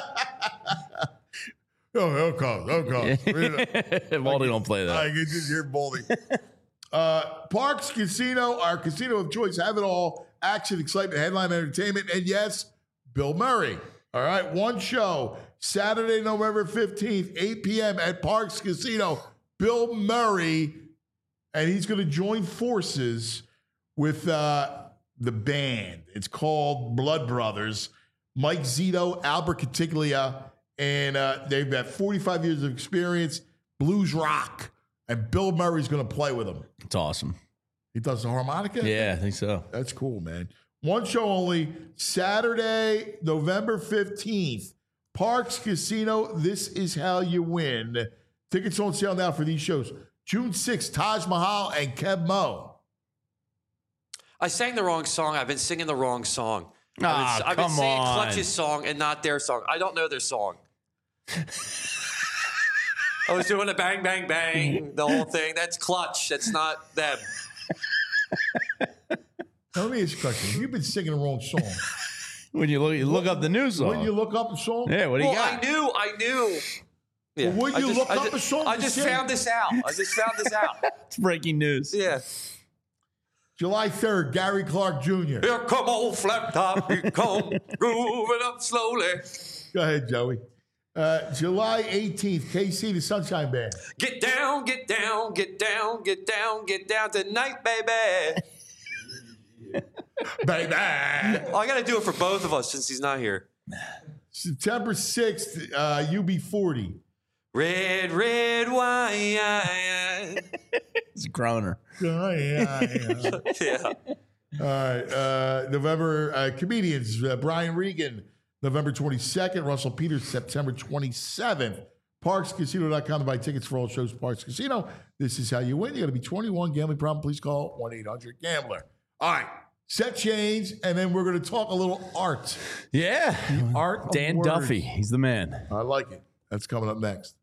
Oh, he'll come. He'll come. Baldy don't play that. I can just hear Baldy. uh, Parks Casino, our casino of choice, have it all. Action, excitement, headline entertainment, and yes, Bill Murray. All right, one show, Saturday, November fifteenth, eight p.m. at Parks Casino. Bill Murray, and he's going to join forces with uh, the band. It's called Blood Brothers. Mike Zito, Albert Catiglia, and uh, they've got forty-five years of experience, blues rock, and Bill Murray's going to play with them. It's awesome. He does the harmonica? Yeah, I think so. That's cool, man. One show only, Saturday, November fifteenth, Parks Casino. This is how you win. Tickets on sale now for these shows. June sixth, Taj Mahal and Kev Mo. I sang the wrong song. I've been singing the wrong song. Ah, I've been, I've been come singing on. Clutch's song and not their song. I don't know their song. I was doing a bang, bang, bang, the whole thing. That's Clutch. That's not them. Now, let me ask you a question. You've been singing the wrong song. When you look, you look up the news song. When you look up a song? Yeah, what do you Well, got? I knew, I knew. Yeah. Well, when I you just, look I up just, a song I to just sing. found this out. I just found this out. It's breaking news. Yeah. July third, Gary Clark Junior Here come old flat top. Here come grooving up slowly. Go ahead, Joey. Uh, July eighteenth, K C, the Sunshine Band. Get down, get down, get down, get down, get down tonight, baby. Baby. Oh, I got to do it for both of us since he's not here. September sixth, uh, U B forty. Red, red wine. It's a groaner. Oh, yeah, yeah. Yeah. All right. Uh, November, uh, comedians, uh, Brian Regan, November twenty-second. Russell Peters, September twenty-seventh. Parks Casino dot com to buy tickets for all shows. Parks Casino. This is how you win. You got to be twenty-one. Gambling problem, please call one eight hundred gambler. All right. Set change, and then we're going to talk a little art. Yeah. The art of Dan words. Duffy. He's the man. I like it. That's coming up next.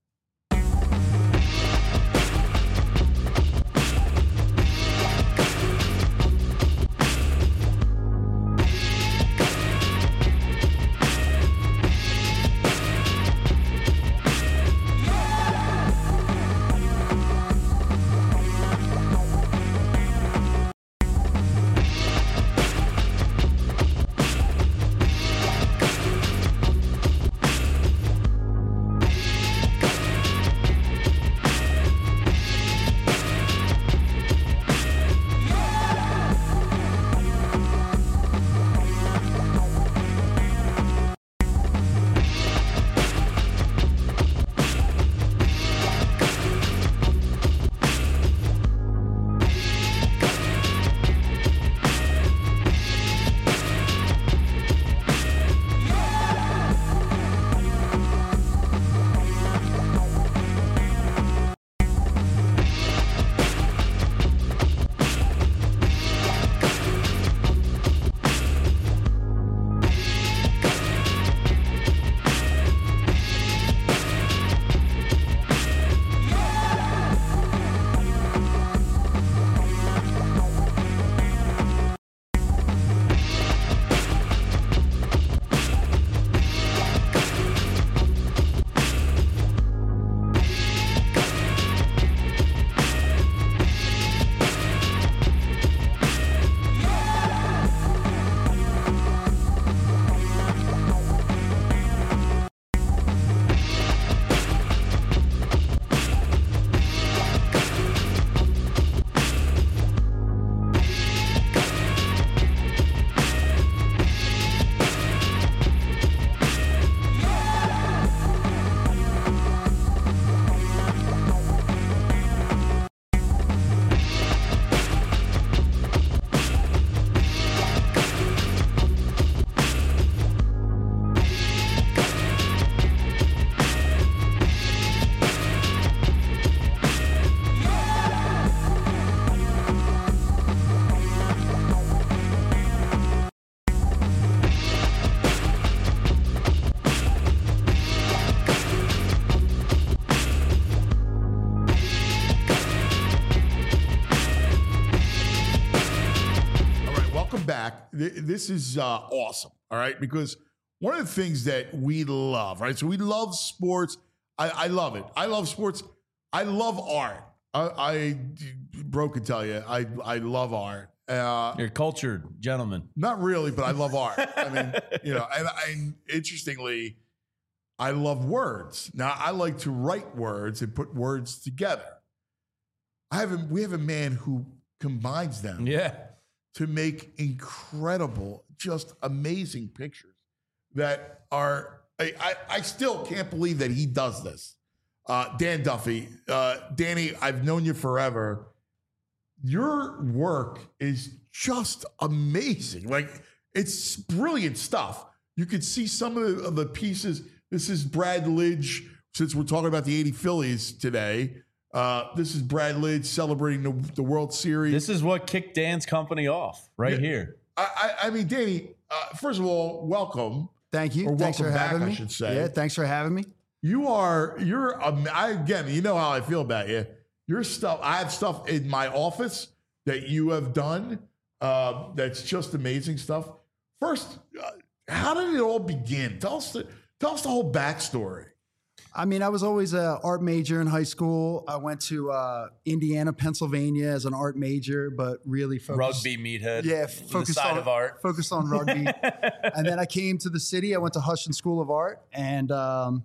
th- this is uh, awesome. All right, because one of the things that we love, right? So we love sports. I, I love it. I love sports. I love art. I, I bro can tell you, I I love art. Uh, You're a cultured gentleman. Not really, but I love art. I mean, you know, and, and interestingly, I love words. Now, I like to write words and put words together. I have a, we have a man who combines them Yeah. to make incredible, just amazing pictures that are, I, I, I still can't believe that he does this. Uh, Dan Duffy, uh, Danny, I've known you forever. Your work is just amazing. Like, it's brilliant stuff. You could see some of the, of the pieces. This is Brad Lidge, since we're talking about the eighty Phillies today. Uh, this is Brad Lidge celebrating the, the World Series. This is what kicked Dan's company off right Yeah. here. I, I, I mean, Danny, uh, first of all, welcome. Thank you. Or Thanks for welcome back, having I me. should say. Yeah, thanks for having me. You are, you're, um, I, again, you know how I feel about you. Your stuff, I have stuff in my office that you have done uh, that's just amazing stuff. First, uh, how did it all begin? Tell us the, tell us the whole backstory. I mean, I was always an art major in high school. I went to uh, Indiana, Pennsylvania as an art major, but really focused. Rugby meathead. Yeah, the focused side on of art. Focused on rugby. And then I came to the city. I went to Huston School of Art. And um,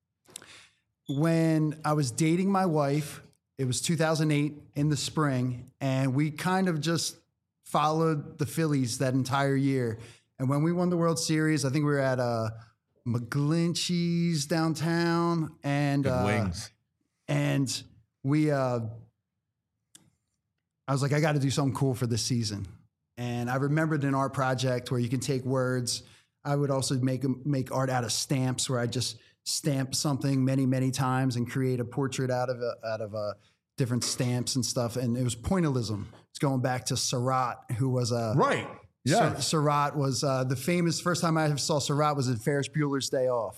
when I was dating my wife, it was two thousand eight in the spring, and we kind of just followed the Phillies that entire year. And when we won the World Series, I think we were at uh, McGlinchey's downtown, and Good uh, wings. and we, uh, I was like, I got to do something cool for this season. And I remembered an art project where you can take words. I would also make make art out of stamps, where I just stamp something many, many times and create a portrait out of a, out of a different stamps and stuff. And it was pointillism. It's going back to Surratt, who was a right. Yeah, Sur- Surratt was uh, the famous. First time I ever saw Surratt was in Ferris Bueller's Day Off.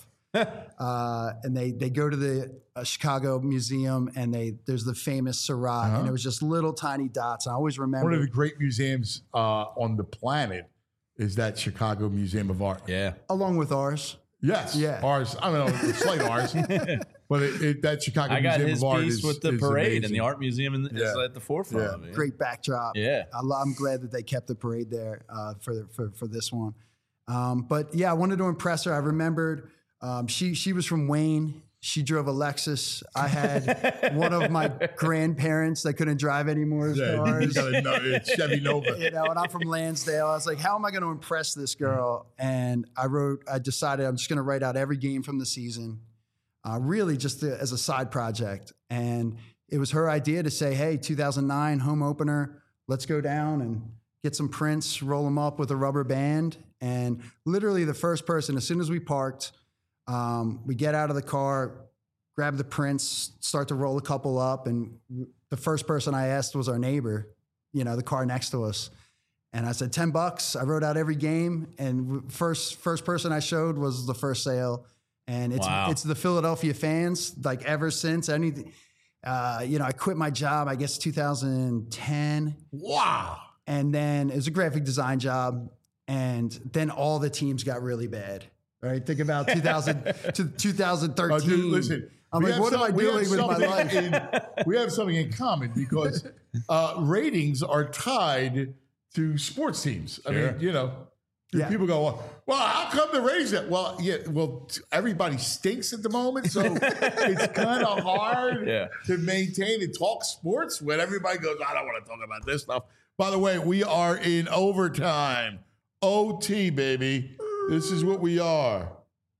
uh, and they they go to the uh, Chicago Museum, and they there's the famous Surratt, Uh-huh. and it was just little tiny dots. I always remember One of the great museums uh, on the planet is that Chicago Museum of Art. Yeah. along with ours. Yes. Yeah. Ours. I don't know, slight ours. But it, it, that Chicago I got Museum his of Art piece is, with the is parade amazing. and the art museum in the, is Yeah. at the forefront Yeah. of it. Great backdrop. Yeah. I lo- I'm glad that they kept the parade there uh, for, for for this one. Um, but yeah, I wanted to impress her. I remembered um, she she was from Wayne. She drove a Lexus. I had one of my grandparents that couldn't drive anymore. Yeah, you got a no- it's Chevy Nova. You know, and I'm from Lansdale. I was like, how am I going to impress this girl? And I wrote, I decided I'm just going to write out every game from the season, uh, really just to, as a side project. And it was her idea to say, hey, two thousand nine home opener, let's go down and get some prints, roll them up with a rubber band. And literally the first person, as soon as we parked, um, we get out of the car, grab the prints, start to roll a couple up. And the first person I asked was our neighbor, you know, the car next to us. And I said, ten bucks. I wrote out every game. And first, first person I showed was the first sale. And it's, Wow. it's the Philadelphia fans, like ever since anything, uh, you know, I quit my job, I guess two thousand ten. Wow. And then it was a graphic design job. And then all the teams got really bad. Right? Think about two thousand to twenty thirteen. Uh, dude, listen, I'm we like, have what am some- I we have doing with my something life? in- we have something in common because uh, ratings are tied to sports teams. I Sure. mean, you know, Yeah. people go, well, well, how come the ratings? Are-? Well, yeah, well, t- everybody stinks at the moment, so it's kind of hard Yeah. to maintain and talk sports when everybody goes, I don't want to talk about this stuff. By the way, we are in overtime. O T, baby. This is what we are.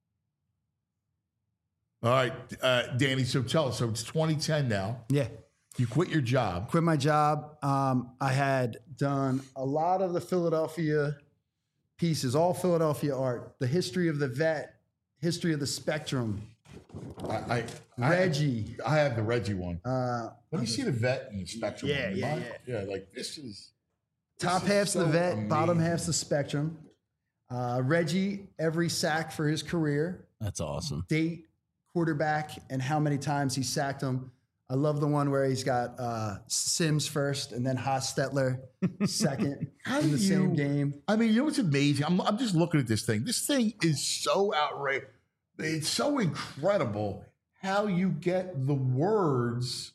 All right, uh, Danny, so tell us. So it's twenty ten now. Yeah. You quit your job. Quit my job. Um, I had done a lot of the Philadelphia pieces, all Philadelphia art, the history of the vet, history of the Spectrum, I, I Reggie. I, I have the Reggie one. Uh, Let me see the vet and the spectrum. Yeah, one. You yeah, mind? yeah. Like this is top this is half's so the vet, amazing. bottom half's the Spectrum. Uh, Reggie, every sack for his career, That's awesome. date, quarterback, and how many times he sacked him. I love the one where he's got uh, Sims first and then Hostetler second How in do the same you- game. I mean, you know what's amazing? I'm, I'm just looking at this thing. This thing is so outrageous. It's so incredible how you get the words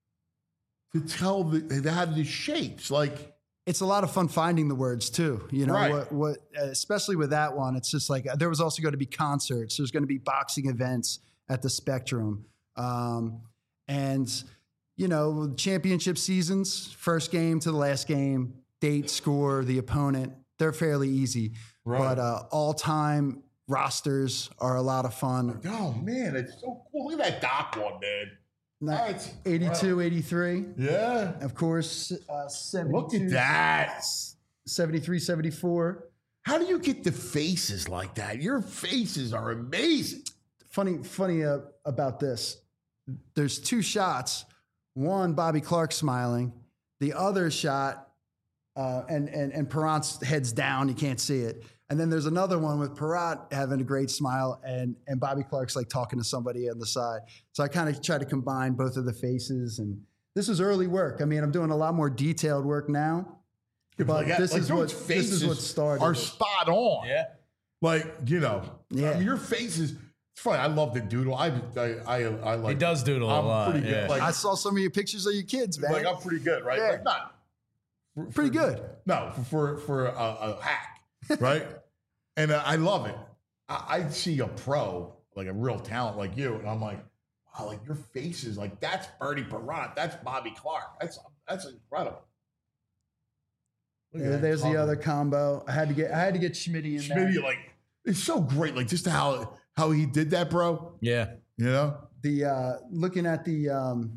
to tell the, they have the shapes. Like, It's a lot of fun finding the words too. You know Right. what? What especially with that one, it's just like there was also going to be concerts. There's going to be boxing events at the Spectrum, um, and you know, championship seasons, first game to the last game, date, score, the opponent. They're fairly easy, Right. but uh, all-time rosters are a lot of fun. oh man, it's so cool. Look at that Doc one, man. Not- That's eighty-two, eighty-three, Yeah. of course, uh, seventy-two, Look at that. seventy-three, seventy-four. How do you get the faces like that? Your faces are amazing. Funny, funny uh, about this. There's two shots. One, Bobby Clark smiling. The other shot, uh, and and and Perrant's head's down. You can't see it. And then there's another one with Perrant having a great smile, and and Bobby Clark's like talking to somebody on the side. So I kind of try to combine both of the faces. And this is early work. I mean, I'm doing a lot more detailed work now. But Like, this like is those what this faces is what started. Are it. spot on. Yeah. Like, you know, Yeah. I mean, your faces. It's funny. I love the doodle. I I I, I like. He does doodle I'm a lot. pretty good. yeah. Like, I saw some of your pictures of your kids, man. like I'm pretty good, right? Yeah. Like not for- Pretty for- good. No, for for, for a, a hack, right? and uh, I love it. I, I see a pro, like a real talent like you, and I'm like, wow, like your face is like that's Bernie Perrant, that's Bobby Clark, that's that's incredible. Look at Yeah, that there's the cover. other combo. I had to get I had to get Schmitty in there. Schmitty, like it's so great, like just how how he did that, bro. yeah. You know, The uh, looking at the um,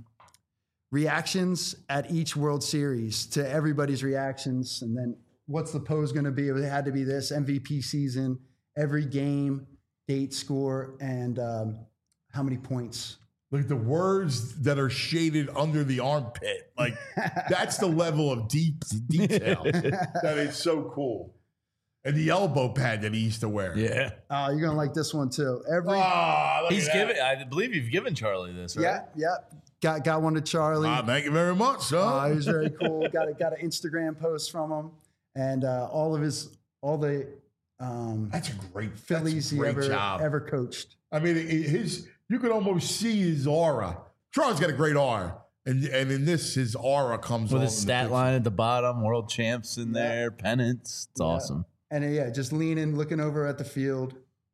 reactions at each World Series to everybody's reactions, and then what's the pose going to be? It had to be this M V P season, every game, date, score, and um, how many points. like the words that are shaded under the armpit, like that's the level of deep detail that is so cool. And the elbow pad that he used to wear. Yeah. Oh, you're gonna like this one too. Every Ah, look He's at that. given, I believe you've given Charlie this, right? yeah, yeah. Got got one to Charlie. Ah, thank you very much, son. Uh, he was very cool. got a, got an Instagram post from him, and uh, all of his all the um, That's a great Phillies that's a he great ever job. ever coached. I mean, it- his you could almost see his aura. Charlie's got a great aura, and and in this, his aura comes With on his in the stat picture. line at the bottom, world champs in there, pennants. It's Yeah. awesome. And uh, yeah, just leaning, looking over at the field.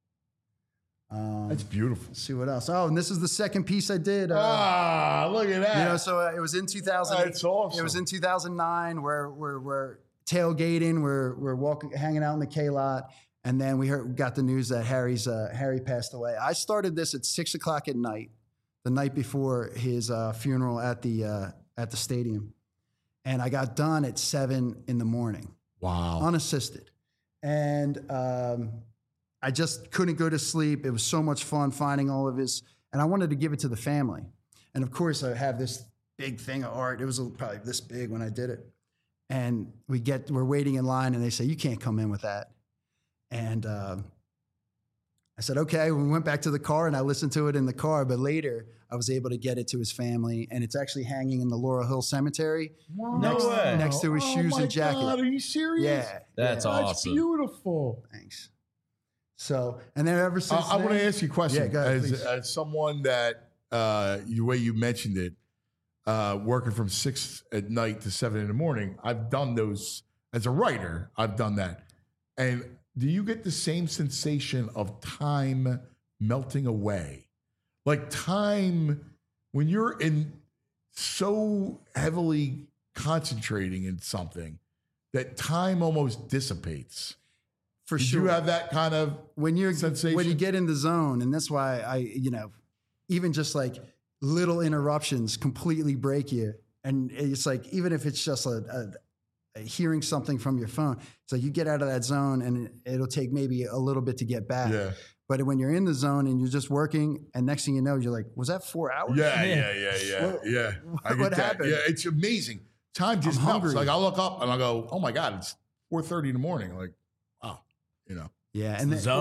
Um, That's beautiful. let's see what else. Oh, and this is the second piece I did. Uh, Ah, look at that. you know, so uh, it was in two thousand. That's awesome. It was in two thousand nine where we're we're tailgating, we're we're walking, hanging out in the K lot, and then we heard got the news that Harry's uh, Harry passed away. I started this at six o'clock at night, the night before his uh, funeral at the uh, at the stadium, and I got done at seven in the morning, wow. unassisted, and um, I just couldn't go to sleep. It was so much fun finding all of his, and I wanted to give it to the family, and of course I have this big thing of art. It was probably this big when I did it. And we get, we're waiting in line, and they say, you can't come in with that. And um, I said, okay. We went back to the car, and I listened to it in the car. But later, I was able to get it to his family, and it's actually hanging in the Laurel Hill Cemetery Wow. next, way. next to his Oh shoes my and jacket. God, are you serious? Yeah, That's yeah. awesome. That's beautiful. Thanks. So, and then ever Uh, since I want to then- ask you a question. Yeah, go ahead, as, please. as someone that, uh, the way you mentioned it, uh, working from six at night to seven in the morning, I've done those as a writer. I've done that. And do you get the same sensation of time melting away? Like time, when you're in so heavily concentrating in something that time almost dissipates. for Did sure. you have that kind of when you're sensation? when you get in the zone, and that's why I, you know, even just like little interruptions completely break you. And it's like, even if it's just a, a, a hearing something from your phone, it's like you get out of that zone, and it, it'll take maybe a little bit to get back. Yeah. But when you're in the zone and you're just working, and next thing you know, you're like, was that four hours? Yeah, yeah, yeah, yeah, What- yeah. I get what that. happened? Yeah, it's amazing. Time just I'm melts. hungry. Like I look up and I go, "Oh my god, it's four thirty in the morning." Like, wow, you know. Yeah. It's And the then- zone.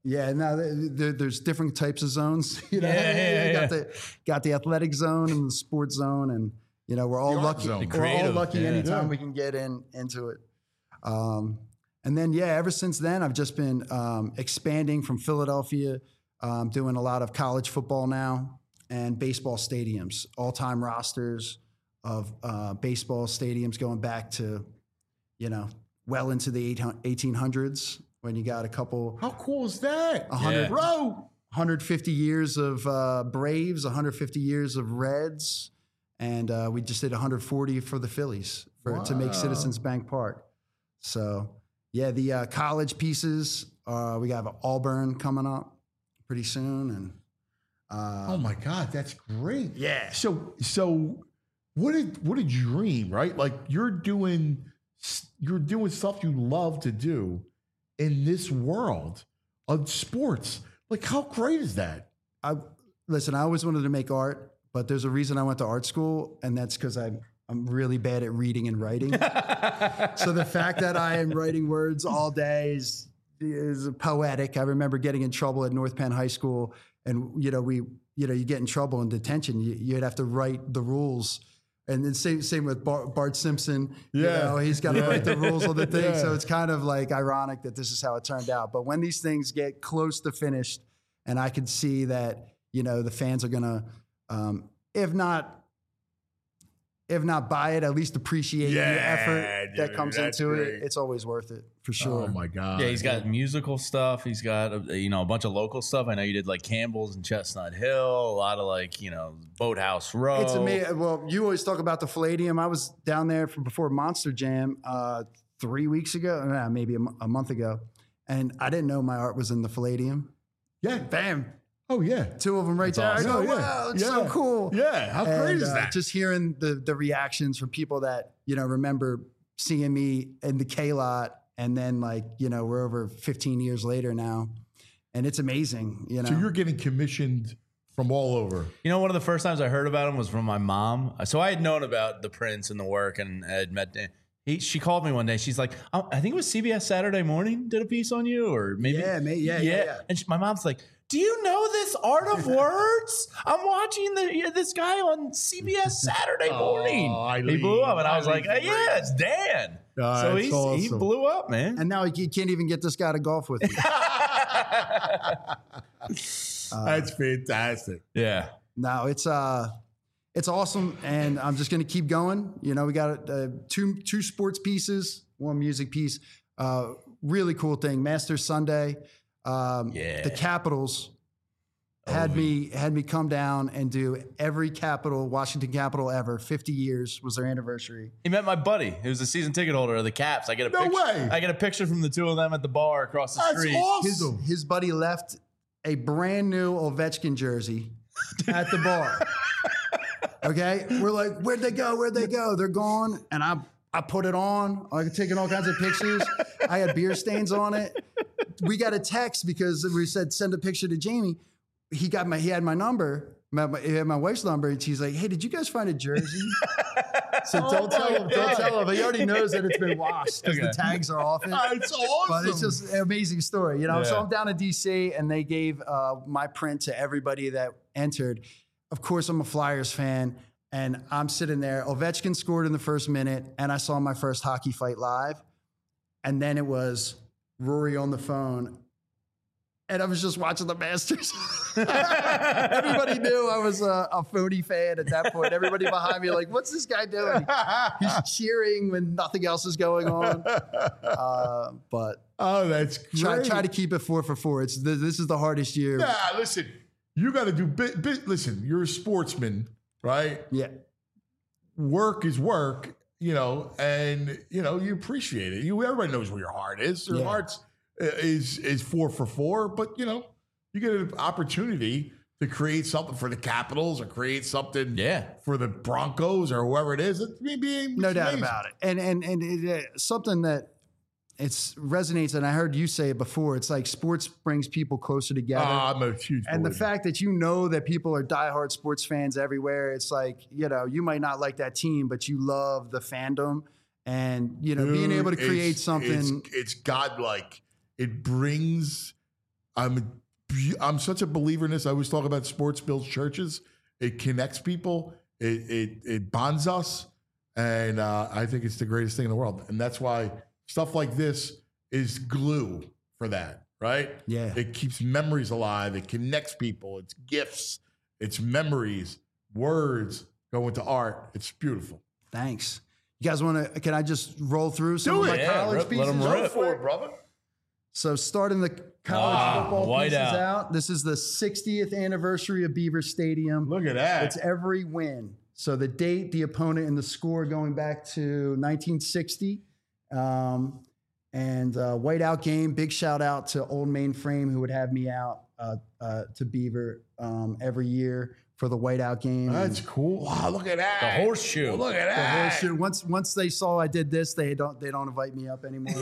Yeah, now there, there's different types of zones. You know, Yeah, yeah, you got yeah. the got the athletic zone and the sports zone, and you know we're all The art lucky. zone. The We're all creative, lucky yeah. anytime Yeah. we can get in into it. Um, and then yeah, ever since then I've just been um, expanding from Philadelphia, um, doing a lot of college football now and baseball stadiums, all time rosters of uh, baseball stadiums going back to, you know, well into the eighteen hundreds. When you got a couple, How cool is that? a hundred, Yeah. Bro. one hundred fifty years of uh, Braves, one hundred fifty years of Reds, and uh, we just did one hundred forty for the Phillies for to make Wow. Citizens Bank Park. So yeah, the uh, college pieces. Uh, we got Auburn coming up pretty soon, and uh, Oh my God, that's great. yeah, So so what a what a dream, right? Like you're doing you're doing stuff you love to do in this world of sports. Like how great is that? I listen. I always wanted to make art, but there's a reason I went to art school, and that's because I'm I'm really bad at reading and writing. So the fact that I am writing words all day is is poetic. I remember getting in trouble at North Penn High School, and you know we you know you get in trouble in detention. You, you'd have to write the rules. And then same same with Bart, Bart Simpson. You Yeah. know, he's got to Yeah. write the rules on the thing. Yeah. So it's kind of like ironic that this is how it turned out. But when these things get close to finished, and I could see that, you know, the fans are gonna, um, if not, if not buy it, at least appreciate Yeah, the effort that dude, comes that's into great. it. It's always worth it for sure. Oh my God. Yeah, he's got musical stuff. He's got uh, you know a bunch of local stuff. I know you did like Campbell's and Chestnut Hill. A lot of like you know Boathouse Row. It's amazing. Well, you always talk about the Palladium. I was down there for before Monster Jam uh, three weeks ago, nah, maybe a, mo- a month ago, and I didn't know my art was in the Palladium. Yeah. Bam, Oh yeah. two of them right there. awesome. I go, Yeah, yeah. wow, it's so Yeah. cool. Yeah. How And, great is uh, that? Just hearing the the reactions from people that you know remember seeing me in the K lot, and then like you know we're over fifteen years later now, and it's amazing. You know, So you're getting commissioned from all over. You know, one of the first times I heard about him was from my mom. So I had known about the Prince and the work, and I had met. He, she called me one day. She's like, oh, I think it was C B S Saturday Morning did a piece on you, or maybe Yeah, may- yeah, yeah, yeah. And she, my mom's like, do you know this Art of Words? I'm watching the yeah, this guy on C B S Saturday Morning. Oh, he Eileen, blew up, and I was like, Eileen's yeah, great. it's Dan. Oh, so that's he's, he awesome. blew up, man. and now you can't even get this guy to golf with you. That's fantastic. yeah. No, it's uh, it's awesome, and I'm just gonna keep going. You know, we got uh, two two sports pieces, one music piece. Uh, really cool thing, Masters Sunday. Um, Yeah. the Capitals had me had me come down and do every Capital Washington Capital ever. fifty years was their anniversary. He met my buddy, who was a season ticket holder of the Caps. I get a No picture, way. I get a picture from the two of them at the bar across the That's street. His, awesome. his buddy left a brand new Ovechkin jersey at the bar. Okay, we're like, where'd they go? Where'd they go? They're gone. And I I put it on. I was taking all kinds of pictures. I had beer stains on it. We got a text because we said send a picture to Jamie. He got my he had my number. My, my- he had my wife's number, and she's like, "Hey, did you guys find a jersey?" So don't tell him. Don't tell him. He already knows that it's been washed because Okay. the tags are off it. That's awesome. But it's just an amazing story, you know. So Yeah. I'm down in D C, and they gave uh, my print to everybody that entered. Of course, I'm a Flyers fan, and I'm sitting there. Ovechkin scored in the first minute, and I saw my first hockey fight live. And then it was Rory on the phone, and I was just watching the Masters. Everybody knew I was a, a phony fan at that point. Everybody behind me, like, what's this guy doing? He's cheering when nothing else is going on. Uh, but Oh, that's great. try, try to keep it four for four. It's th- this is the hardest year. Nah, listen, you got to do bit, bit. Listen, you're a sportsman, right? Yeah. Work is work, you know, and you know you appreciate it. You everybody knows where your heart is. Your Yeah. heart's uh, is is four for four, but you know you get an opportunity to create something for the Capitals or create something Yeah. for the Broncos or whoever it is. It's maybe No doubt about it. And and and it, uh, something that it's resonates, and I heard you say it bore. It's like sports brings people closer together. Ah, I'm a huge and the believer. fact that you know that people are diehard sports fans everywhere, it's like, you know, you might not like that team, but you love the fandom, and you know, being Dude, able to create it's- something. It's, it's godlike. It brings I'm I'm such a believer in this. I always talk about sports builds churches. It connects people. It it it bonds us, and uh, I think it's the greatest thing in the world. And that's why stuff like this is glue for that, right? Yeah. It keeps memories alive. It connects people. It's gifts. It's memories. Words go into art. It's beautiful. Thanks. You guys want to? Can I just roll through some Do of it. my Yeah, college rip- pieces? let 'em Go rip. for it, brother. So starting the college Ah, football white pieces out. out. This is the sixtieth anniversary of Beaver Stadium. Look at that. It's every win. So the date, the opponent, and the score going back to nineteen sixty. Um, and uh, whiteout game. Big shout out to Old Mainframe who would have me out uh, uh, to Beaver um, every year for the whiteout game. That's And cool. Wow, look at that. The horseshoe. Look at the that. horseshoe. Once once they saw I did this, they don't they don't invite me up anymore.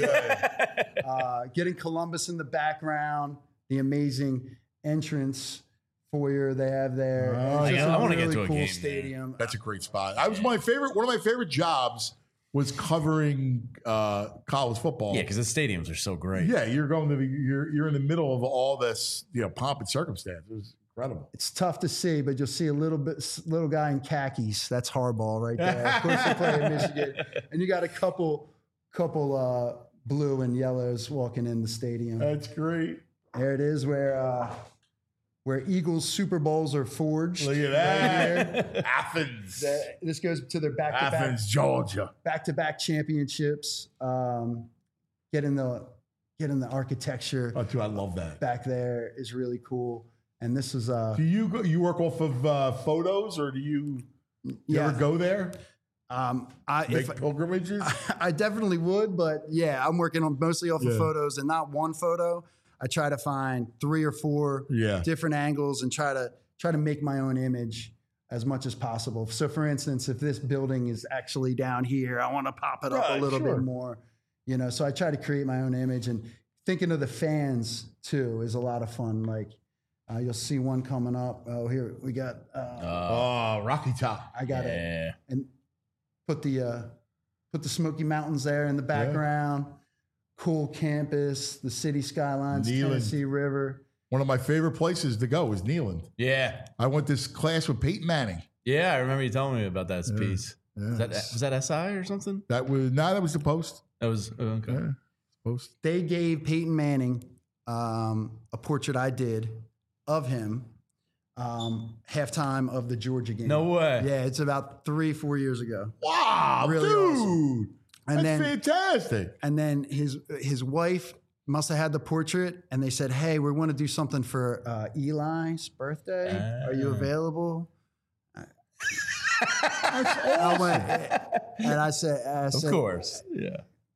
uh, getting Columbus in the background, the amazing entrance foyer they have there. Oh, It's just yeah, I a wanna get really to a cool game there. stadium. That's a great spot. I was my favorite. One of my favorite jobs was covering uh, college football. Yeah, because the stadiums are so great. Yeah, you're going to the you're you're in the middle of all this, you know, pomp and circumstance. It was incredible. It's tough to see, but you'll see a little bit little guy in khakis. That's Harbaugh right there. Of course, they play in Michigan, and you got a couple couple uh, blue and yellows walking in the stadium. That's great. There it is, where uh, where Eagles Super Bowls are forged. Look at that. Athens. The- this goes to their back to back Athens, Georgia. back to back championships. Um, getting the getting the architecture Oh, dude, I love that. back there is really cool. And this is uh, Do you go, you work off of uh, photos, or do you, you yeah. ever go there? Um, I Make if pilgrimages? I definitely would, but yeah, I'm working on mostly off Yeah. of photos and not one photo. I try to find three or four Yeah. different angles and try to try to make my own image as much as possible. So, for instance, if this building is actually down here, I want to pop it up Right, a little sure. bit more. You know, so I try to create my own image, and thinking of the fans too is a lot of fun. Like uh, you'll see one coming up. Oh, here we got. Uh, Oh, Rocky Top. I got it. Yeah. And put the uh, put the Smoky Mountains there in the background. Cool campus, the city skylines, Neyland. Tennessee River. One of my favorite places to go is Neyland. Yeah. I went this class with Peyton Manning. Yeah, I remember you telling me about that piece. Yeah. Was that, was that S I or something? That was no, that was the Post. That was oh, okay. Yeah, Post. They gave Peyton Manning um, a portrait I did of him um, halftime of the Georgia game. No way. Yeah, it's about three, four years ago. Wow, Really dude. awesome. And That's then fantastic. and then his his wife must have had the portrait, and they said, "Hey, we want to do something for uh, Eli's birthday. Are you Ah. available?" I went, and I said, I Of said, course. Yeah.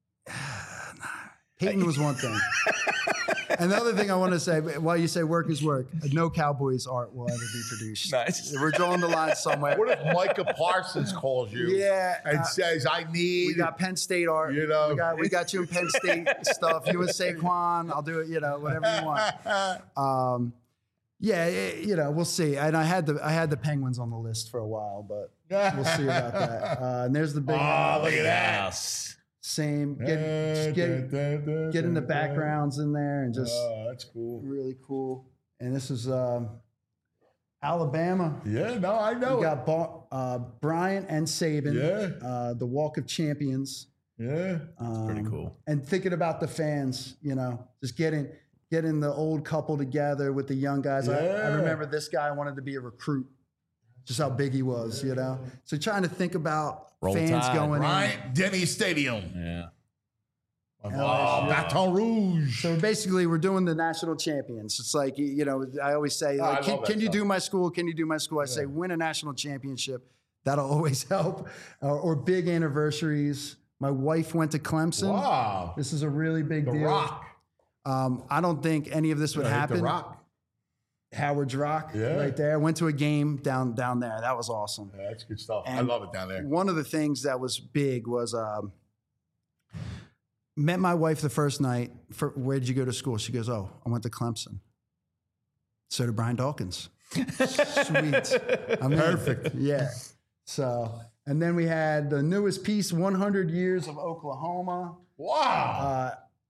Peyton was one thing. And the other thing I want to say, while you say work is work, no Cowboys art will ever be produced. Nice. We're drawing the line somewhere. What if Micah Parsons calls you Yeah, and uh, says, I need We got Penn State art. You know. we got we got you in Penn State stuff. You and Saquon, I'll do it. You know, whatever you want. Um, yeah, it- you know, we'll see. And I had the I had the Penguins on the list for a while, but we'll see about that. Uh, and there's the big Oh, look at that. Yes. same. Get just get getting the backgrounds in there and just Oh, that's cool. really cool. And this is um, Alabama. Yeah, no, I know. We it. got Ba- uh, Bryant and Saban. Yeah. Uh, the Walk of Champions. Yeah. Um, Pretty cool. And thinking about the fans, you know, just getting getting the old couple together with the young guys. I, I Yeah. remember this guy wanted to be a recruit, just how big he was, you know. So trying to think about Roll fans Tide. going in. Bryant Denny Stadium. Yeah. Oh, Baton Rouge. So basically, we're doing the national champions. It's like, you know, I always say, Oh, I like, can, love that can you stuff. do my school? Can you do my school? I say, win a national championship. That'll always help. Uh, or big anniversaries. My wife went to Clemson. Wow. This is a really big The deal. Rock. Um, I don't think any of this would Yeah, hit happen. The Rock. Howard's Rock, Yeah. right there. Went to a game down down there. That was awesome. Yeah, that's good stuff. I And love it down there. One of the things that was big was um, met my wife the first night. For, where did you go to school? She goes, "Oh, I went to Clemson." So did Brian Dawkins. Sweet. I mean, Perfect. Yeah. So, and then we had the newest piece, one hundred years of Oklahoma. Wow. Uh,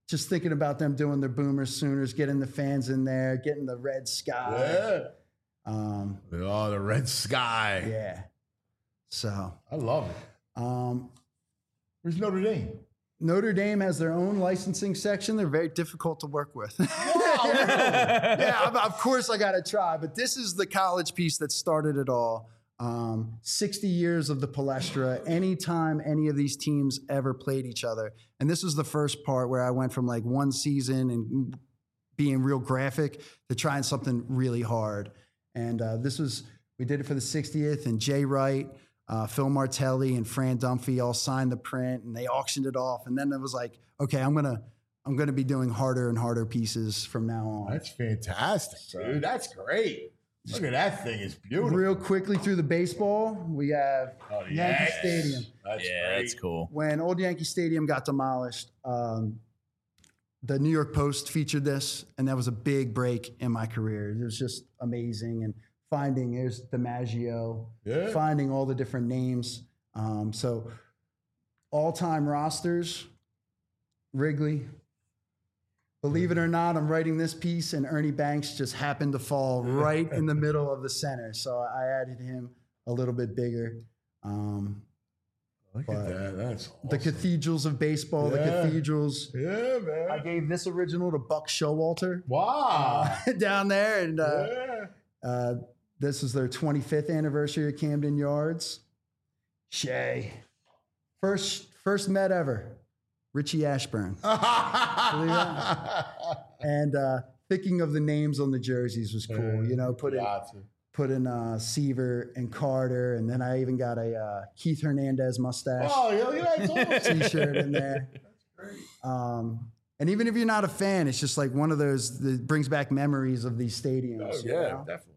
just thinking about them doing their Boomers, Sooners, getting the fans in there, getting the red sky. Yeah. Um, oh, the red sky. Yeah. So I love it. Um, Where's Notre Dame? Notre Dame has their own licensing section. They're very difficult to work with. yeah, of course I got to try. But this is the college piece that started it all. Um, sixty years of the Palestra. Anytime any of these teams ever played each other. And this was the first part where I went from like one season and being real graphic to trying something really hard. And uh, this was, we did it for the sixtieth, and Jay Wright, Uh, Phil Martelli and Fran Dunphy all signed the print, and they auctioned it off. And then it was like, okay, I'm gonna I'm gonna be doing harder and harder pieces from now on. That's fantastic, dude. That's great. Look at that thing; it's beautiful. Real quickly through the baseball, we have oh, Yankee yes. Stadium. That's yeah, great. that's cool. When old Yankee Stadium got demolished, um, the New York Post featured this, and that was a big break in my career. It was just amazing. And finding, there's DiMaggio, Yeah. finding all the different names. Um, so all-time rosters, Wrigley. Believe it or not, I'm writing this piece, and Ernie Banks just happened to fall right in the middle of the center. So I added him a little bit bigger. Um, Look at that. That's awesome. The cathedrals of baseball, Yeah. the cathedrals. Yeah, man. I gave this original to Buck Showalter. Wow. Uh, down there. And uh, yeah. uh, this is their twenty-fifth anniversary of Camden Yards. Shay. First, first Met ever. Richie Ashburn. Believe that? And uh, thinking of the names on the jerseys was cool. You know, put in, put in uh, Seaver and Carter. And then I even got a uh, Keith Hernandez mustache Oh, yeah, that's awesome. t-shirt in there. That's great. Um, and even if you're not a fan, it's just like one of those that brings back memories of these stadiums. Oh, you yeah, know? definitely.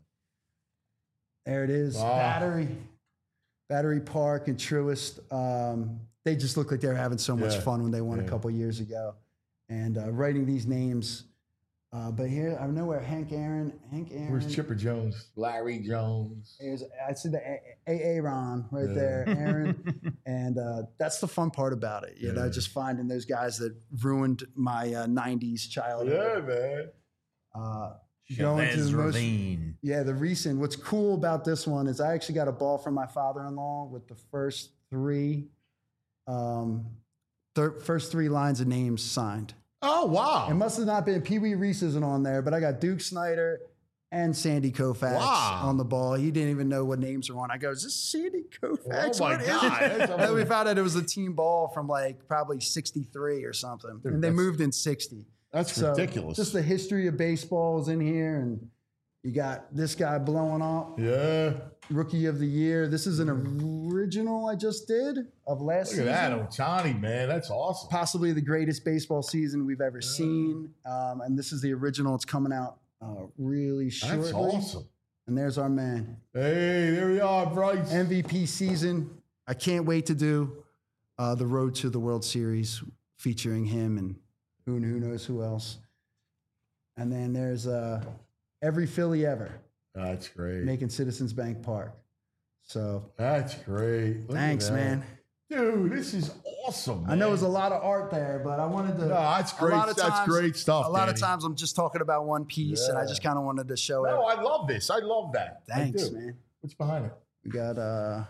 There it is. Wow. Battery. Battery Park and Truist. Um, they just look like they're having so much Yeah. fun when they won Yeah. a couple years ago. And uh, writing these names. Uh, but here, I know where Hank Aaron, Hank Aaron. Where's Chipper Jones? Larry Jones. Here's, I see the A A Ron right Yeah. there, Aaron. And uh, that's the fun part about it. You know, Yeah. just finding those guys that ruined my uh, nineties childhood. Yeah, man. Uh, going to the most, Ravine. yeah, the recent. What's cool about this one is I actually got a ball from my father-in-law with the first three, um, thir- first three lines of names signed. Oh, wow. It must have not been Pee Wee Reese isn't on there, but I got Duke Snyder and Sandy Koufax Wow. on the ball. He didn't even know what names were on. I go, is this Sandy Koufax? Oh, my What is God. it? That's And then we found out it was a team ball from like probably sixty-three or something, Dude, and they that's- moved in sixty. That's So, ridiculous. Just the history of baseball is in here, and you got this guy blowing up, yeah. Rookie of the Year. This is an original I just did of last Look at season. that, Otani, man. That's awesome. Possibly the greatest baseball season we've ever seen. Um, and this is the original. It's coming out uh, really shortly. That's awesome. And there's our man. Hey, there we are, Bryce. M V P season. I can't wait to do uh, the Road to the World Series featuring him and who, who knows who else. And then there's uh, every Philly ever That's great. making Citizens Bank Park. So That's great. Look at thanks, that. man. Dude, this is awesome. I know man. there's a lot of art there, but I wanted to. No, that's a great. lot of That's times- great stuff. A lot of Danny. times I'm just talking about one piece, and I Yeah. just kind of wanted to show No, it. I love this. I love that. I Thanks, do. man. What's behind it? We got uh,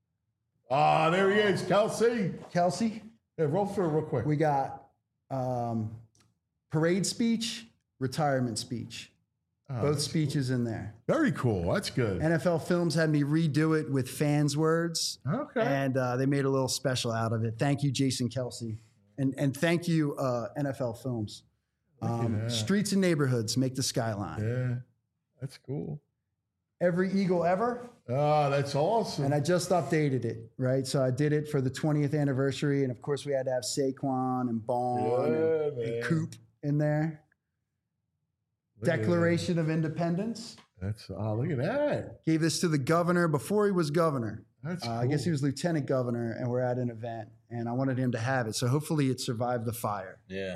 Ah, there he is, Kelsey. Kelsey. Yeah, roll through real quick. We got um, parade speech, retirement speech. Oh, Both that's speeches in there. Very cool. That's good. N F L Films had me redo it with fans' words, Okay. and uh, they made a little special out of it. Thank you, Jason Kelsey, and and thank you, uh, N F L Films. Um, that. streets and neighborhoods make the skyline. Yeah, that's cool. Every Eagle ever. Ah, that's awesome. And I just updated it, right? So I did it for the twentieth anniversary. And of course, we had to have Saquon and Bond Yeah, and, man. and Coop in there. Look at Declaration of Independence. That's ah, look at that. Gave this to the governor before he was governor. That's Uh, cool. I guess he was lieutenant governor, and we're at an event. And I wanted him to have it. So hopefully it survived the fire. Yeah.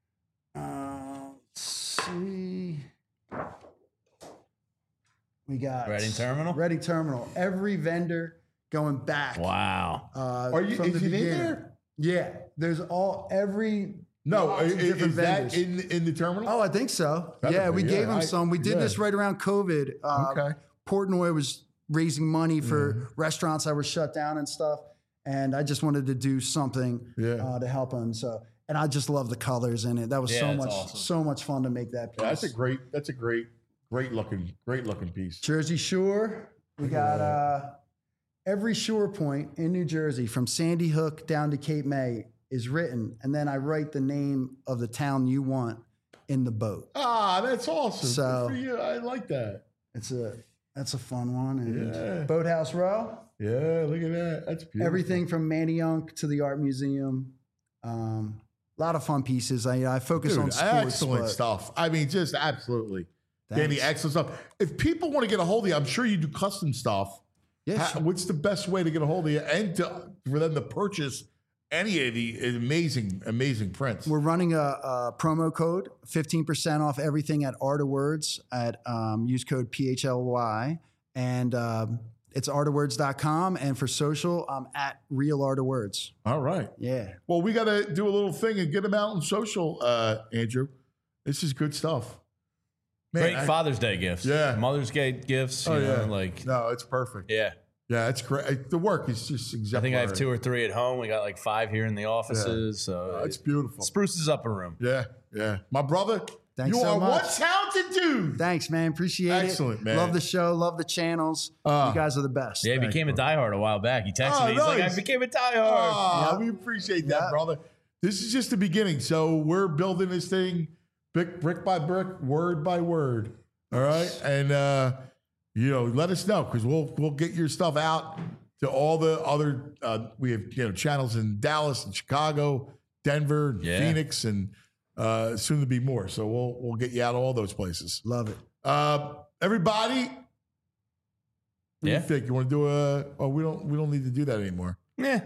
Uh, let's see. We got Reading Terminal? Reading Terminal. Every vendor going back. Wow. Uh, Are you? from Is the it in beginning. there? Yeah, there's all every No, Lots is, of different is that vendors. in in the terminal? Oh, I think so. Better yeah, be, we yeah, gave him I- some. We did yeah. this right around COVID. Uh, Okay. Portnoy was raising money for Mhm. restaurants that were shut down and stuff. And I just wanted to do something Yeah. uh, to help him. So, and I just love the colors in it. That was Yeah, so it's much, awesome. so much fun to make that piece. Yeah, that's a great. That's a great, great looking, great looking piece. Jersey Shore. We got uh, every shore point in New Jersey from Sandy Hook down to Cape May is written, and then I write the name of the town you want in the boat. Ah, that's awesome. So- Good for you. I like that. It's a that's a fun one. And Yeah. Boathouse Row. Yeah, look at that. That's beautiful. Everything from Manayunk to the art museum. Um, a lot of fun pieces. I I focus Dude, on sports. excellent but stuff. I mean, just absolutely. Danny, thanks. excellent stuff. If people want to get a hold of you, I'm sure you do custom stuff. Yeah, How- sure. what's the best way to get a hold of you and to, for them to purchase any of the amazing, amazing prints? We're running a, a promo code, fifteen percent off everything at Art of Words at um, use code P H L Y. And um, it's art of words dot com. And for social, I'm at Real Art of Words. All right. Yeah. Well, we got to do a little thing and get them out on social, uh, Andrew. This is good stuff. Man, Great I- Father's Day gifts. Yeah. Mother's Day gifts. Oh, you know, yeah. like, No, it's perfect. yeah. Yeah, it's great. The work is just I exemplary. think I have two or three at home. We got like five here in the offices. So Oh, it's beautiful. spruces up a room. Yeah, yeah. My brother, Thanks you so are one much. talented dude. Thanks, man. Appreciate it. Excellent, man. Love the show. Love the channels. Uh, you guys are the best. Yeah, he Thanks, became a bro. diehard a while back. He texted Oh, me. He's like, nice. I became a diehard. Ah, Yep. we appreciate that, Yep. brother. This is just the beginning. So we're building this thing brick, brick by brick, word by word. All right. And, uh, you know, let us know because we'll, we'll get your stuff out to all the other, uh, we have, you know, channels in Dallas and Chicago, Denver, and Yeah. Phoenix, and uh, soon to be more. So we'll, we'll get you out of all those places. Love it. Uh, everybody, what do Yeah. you think? You want to do a? Oh, we don't. We don't need to do that anymore. Yeah.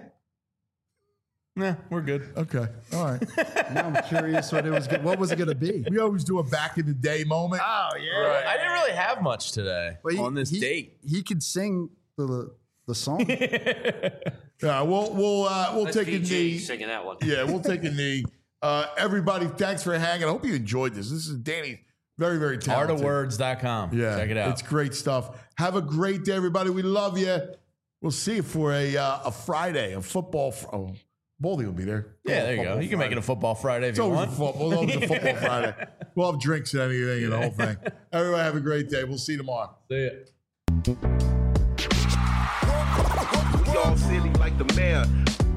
Nah, we're good. Okay. All right. Now I'm curious what it was. go- What was it going to be? we always do a back in the day moment. Oh, yeah. I didn't really have much today Well, he- on this he- date. He could sing the the song. Yeah. We'll we'll uh, we'll That's take a P G knee. singing that one. Yeah, we'll take a knee. Uh, everybody, thanks for hanging. I hope you enjoyed this. This is Danny. Very very art talented. of words dot com. Yeah, Check it out. It's great stuff. Have a great day, everybody. We love you. We'll see you for a uh, a Friday, a football. Fr- oh, Baldy will be there. yeah, there you go. Football You can make it Friday. a football Friday if It's you always want. a football. It's always a football Friday. We'll have drinks and anything and the whole thing. Everybody have a great day. We'll see you tomorrow. See ya. We all silly like the mayor.